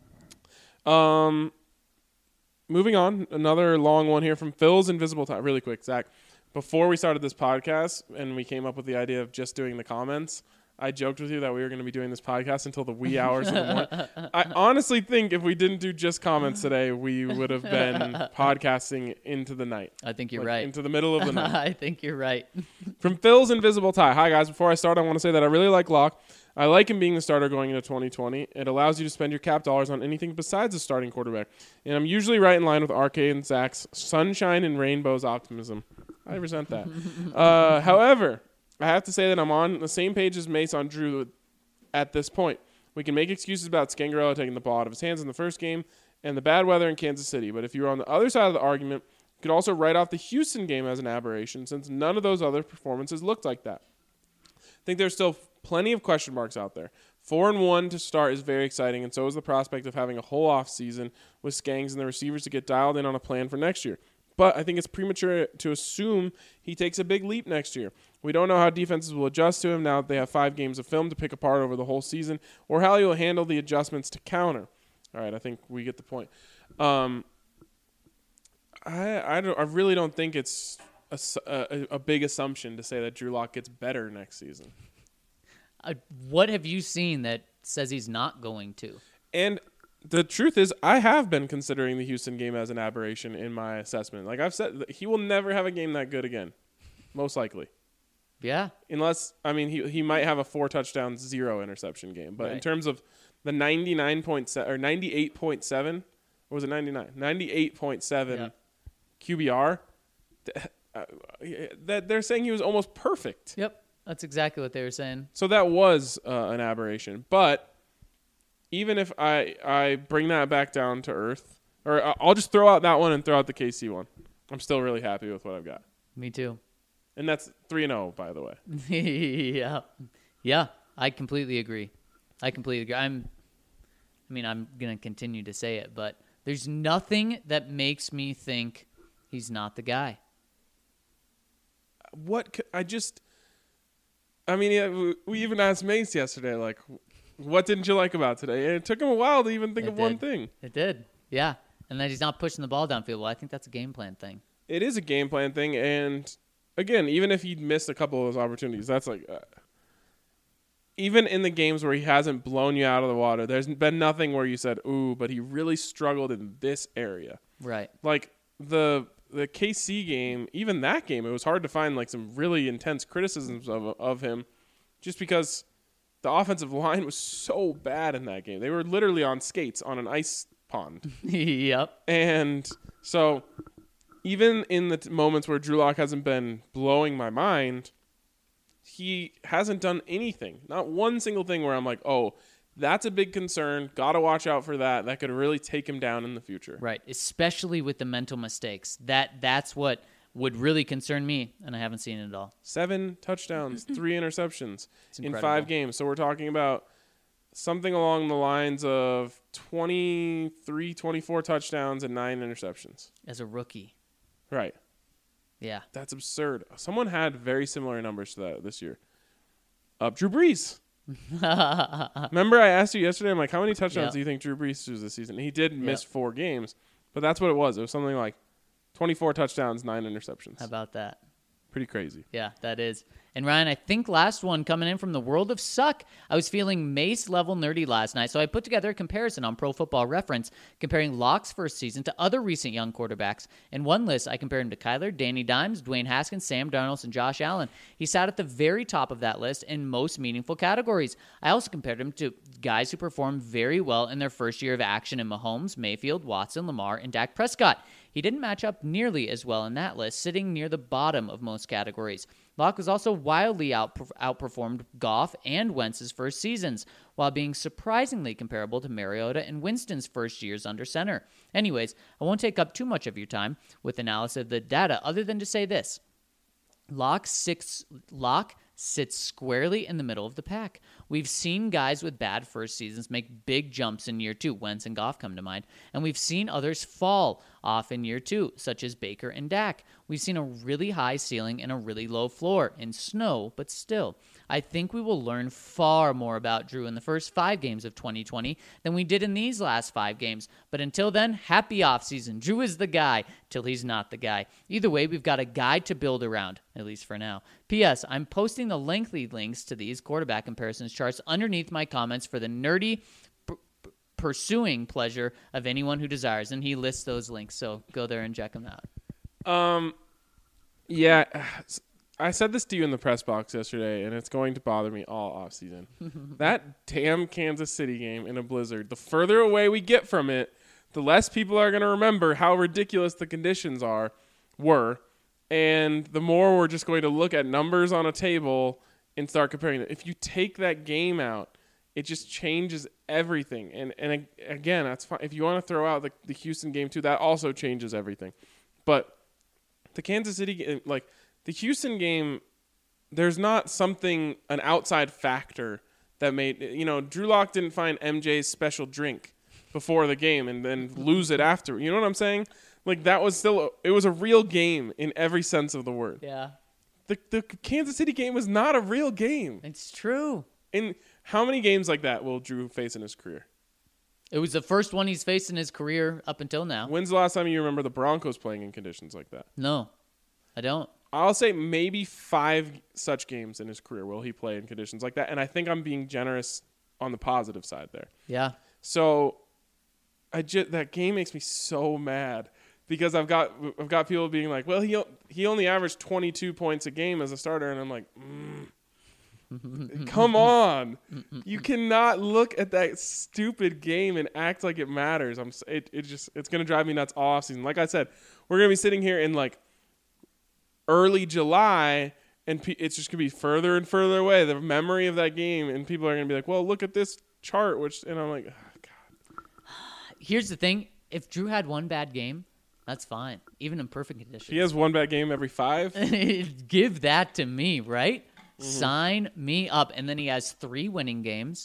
Um, moving on, another long one here from Phil's Invisible Time. Really quick, Zach. Before we started this podcast and we came up with the idea of just doing the comments, I joked with you that we were going to be doing this podcast until the wee hours of the morning. I honestly think if we didn't do just comments today, we would have been podcasting into the night. I think you're Like, right. into the middle of the night. I think you're right. From Phil's Invisible Tie. Hi, guys. Before I start, I want to say that I really like Locke. I like him being the starter going into twenty twenty. It allows you to spend your cap dollars on anything besides a starting quarterback. And I'm usually right in line with R K and Zach's sunshine and rainbows optimism. I resent that. uh, however, I have to say that I'm on the same page as Mace on Drew at this point. We can make excuses about Scangarello taking the ball out of his hands in the first game and the bad weather in Kansas City. But if you're on the other side of the argument, you could also write off the Houston game as an aberration since none of those other performances looked like that. I think there's still plenty of question marks out there. Four and one to start is very exciting, and so is the prospect of having a whole off season with Skangs and the receivers to get dialed in on a plan for next year. But I think it's premature to assume he takes a big leap next year. We don't know how defenses will adjust to him now that they have five games of film to pick apart over the whole season, or how he will handle the adjustments to counter. All right, I think we get the point. Um, I I, don't, I really don't think it's a, a, a big assumption to say that Drew Lock gets better next season. Uh, what have you seen that says he's not going to? And the truth is, I have been considering the Houston game as an aberration in my assessment. Like I've said, he will never have a game that good again, most likely. Yeah. Unless, I mean, he he might have a four touchdown, zero interception game. But in Right. terms of the ninety-nine point seven or ninety-eight point seven, or was it ninety-nine? ninety-eight point seven Yeah. Q B R. th- uh, That they're saying he was almost perfect. Yep. That's exactly what they were saying. So that was uh, an aberration. But even if I, I bring that back down to earth, or I- I'll just throw out that one and throw out the K C one. I'm still really happy with what I've got. Me too. And that's three and oh, by the way. yeah. Yeah. I completely agree. I completely agree. I'm, I mean, I'm going to continue to say it, but there's nothing that makes me think he's not the guy. What, c- I just, I mean, yeah, we- we even asked Mace yesterday, like, what didn't you like about today? And it took him a while to even think It of one did. thing. It did. Yeah. And that he's not pushing the ball downfield. Well, I think that's a game plan thing. It is a game plan thing, and again, even if he'd missed a couple of those opportunities, that's like, uh, even in the games where he hasn't blown you out of the water, there's been nothing where you said, ooh, but he really struggled in this area. Right. Like the the K C game, even that game, it was hard to find like some really intense criticisms of of him, just because the offensive line was so bad in that game. They were literally on skates on an ice pond. Yep. And so even in the t- moments where Drew Lock hasn't been blowing my mind, he hasn't done anything. Not one single thing where I'm like, oh, that's a big concern. Got to watch out for that. That could really take him down in the future. Right. Especially with the mental mistakes. That That's what would really concern me, and I haven't seen it at all. Seven touchdowns, three interceptions in incredible. five games. So we're talking about something along the lines of twenty-three, twenty-four touchdowns and nine interceptions. As a rookie. Right. Yeah. That's absurd. Someone had very similar numbers to that this year. Uh, Drew Brees. Remember I asked you yesterday, I'm like, how many touchdowns Yep. do you think Drew Brees threw this season? He did miss Yep. four games, but that's what it was. It was something like twenty-four touchdowns, nine interceptions. How about that? Pretty crazy. Yeah, that is. And Ryan, I think last one coming in from the world of suck. I was feeling Mace level nerdy last night, so I put together a comparison on Pro Football Reference, comparing Locke's first season to other recent young quarterbacks. In one list, I compared him to Kyler, Danny Dimes, Dwayne Haskins, Sam Darnold, and Josh Allen. He sat at the very top of that list in most meaningful categories. I also compared him to guys who performed very well in their first year of action in Mahomes, Mayfield, Watson, Lamar, and Dak Prescott. He didn't match up nearly as well in that list, sitting near the bottom of most categories. Locke was also wildly outper- outperformed Goff and Wentz's first seasons, while being surprisingly comparable to Mariota and Winston's first years under center. Anyways, I won't take up too much of your time with analysis of the data, other than to say this. Locke, six, Locke sits squarely in the middle of the pack. We've seen guys with bad first seasons make big jumps in year two. Wentz and Goff come to mind. And we've seen others fall off in year two, such as Baker and Dak. We've seen a really high ceiling and a really low floor in snow, but still. I think we will learn far more about Drew in the first five games of twenty twenty than we did in these last five games. But until then, happy offseason. Drew is the guy till he's not the guy. Either way, we've got a guy to build around, at least for now. P S. I'm posting the lengthy links to these quarterback comparisons charts underneath my comments for the nerdy p- p- pursuing pleasure of anyone who desires. And he lists those links, so go there and check them out. Um, yeah, I said this to you in the press box yesterday, and it's going to bother me all offseason. That damn Kansas City game in a blizzard, the further away we get from it, the less people are going to remember how ridiculous the conditions are, were, and the more we're just going to look at numbers on a table and start comparing it. If you take that game out, it just changes everything. And and again, that's fine. If you want to throw out the, the Houston game too, that also changes everything. But the Kansas City game, like the Houston game, there's not something, an outside factor that made, you know, Drew Lock didn't find M J's special drink before the game and then lose it after. You know what I'm saying? Like that was still, a, it was a real game in every sense of the word. Yeah, The the Kansas City game was not a real game. it's true. And how many games like that will Drew face in his career? It was the first one he's faced in his career up until now. When's the last time you remember the Broncos playing in conditions like that? No, I don't. I'll say maybe five such games in his career will he play in conditions like that. And I think I'm being generous on the positive side there. Yeah. So I just, that game makes me so mad because I've got I've got people being like, well, he he only averaged twenty-two points a game as a starter. And I'm like, mm. Come on. You cannot look at that stupid game and act like it matters. I'm it, it just it's going to drive me nuts all offseason. Like I said, we're going to be sitting here in like early July and pe- it's just going to be further and further away, the memory of that game, and people are going to be like, "Well, look at this chart," which and I'm like, oh, God. Here's the thing. If Drew had one bad game, that's fine. Even in perfect conditions. He has one bad game every five. Give that to me, right? Mm-hmm. Sign me up. And then he has three winning games.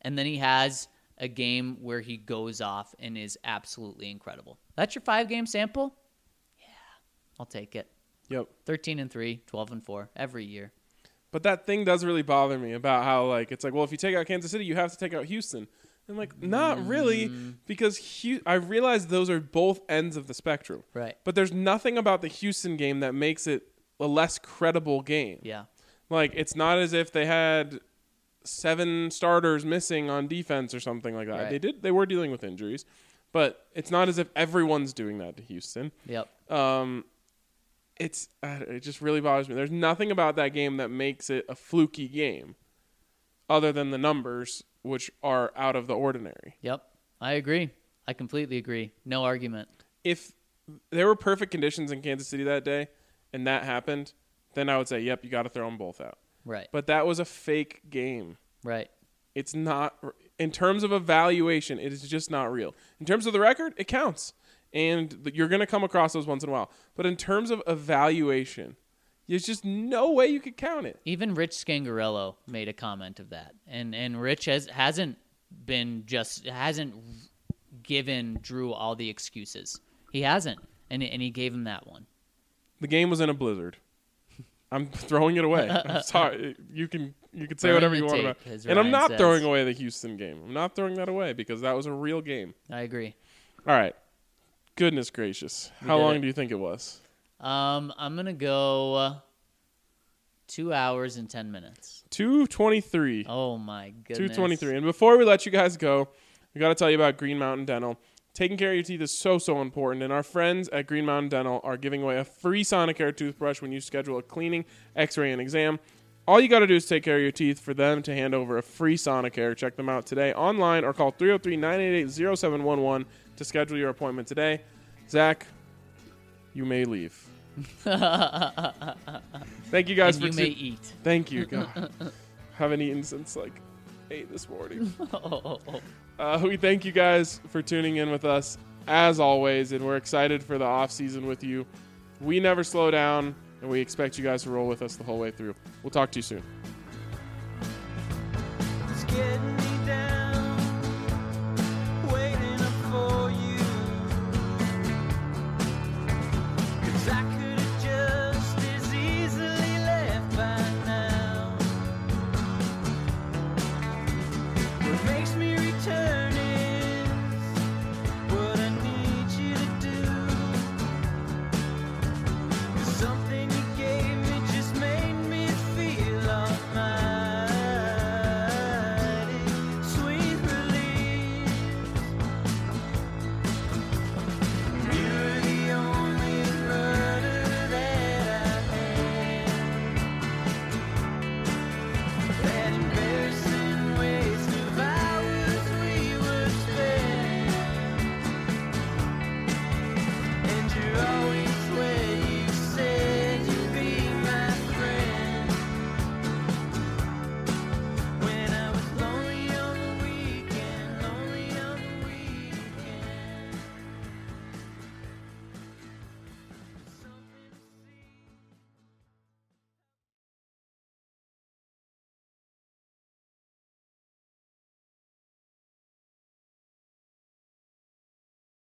and then he has a game where he goes off and is absolutely incredible. That's your five-game sample? Yeah, I'll take it. Yep. thirteen and three, twelve and four every year. But that thing does really bother me about how, like, it's like, well, if you take out Kansas City, you have to take out Houston. I'm like, not really, because Hu- I realize those are both ends of the spectrum. Right. But there's nothing about the Houston game that makes it a less credible game. Yeah. Like, it's not as if they had seven starters missing on defense or something like that. Right. They did. They were dealing with injuries. But it's not as if everyone's doing that to Houston. Yep. Um, it's uh, it just really bothers me. There's nothing about that game that makes it a fluky game other than the numbers, which are out of the ordinary. Yep. I agree. I completely agree. No argument. If there were perfect conditions in Kansas City that day and that happened, then I would say, yep, you got to throw them both out. Right. But that was a fake game. Right. It's not, in terms of evaluation, it is just not real. In terms of the record, it counts. And you're going to come across those once in a while. But in terms of evaluation, there's just no way you could count it. Even Rich Scangarello made a comment of that. And and Rich has, hasn't been just, hasn't given Drew all the excuses. He hasn't. And, and he gave him that one. The game was in a blizzard. I'm throwing it away. I'm sorry. You can you can say Burn whatever the you want tape, about as it. And I'm Ryan not says. throwing away the Houston game. I'm not throwing that away because that was a real game. I agree. All right. Goodness gracious. We How did long it. do you think it was? Um, I'm going to go uh, two hours and ten minutes. two twenty-three. Oh, my goodness. two twenty-three. And before we let you guys go, we got to tell you about Green Mountain Dental. Taking care of your teeth is so, so important. And our friends at Green Mountain Dental are giving away a free Sonicare toothbrush when you schedule a cleaning, x-ray, and exam. All you got to do is take care of your teeth for them to hand over a free Sonicare. Check them out today online or call three oh three, nine eight eight, oh seven one one to schedule your appointment today. Zach, you may leave. Thank you guys And for you may tu- eat. Thank you. God. Haven't eaten since like eight this morning. Uh, we thank you guys for tuning in with us as always, and we're excited for the off season with you. We never slow down, and we expect you guys to roll with us the whole way through. We'll talk to you soon. It's getting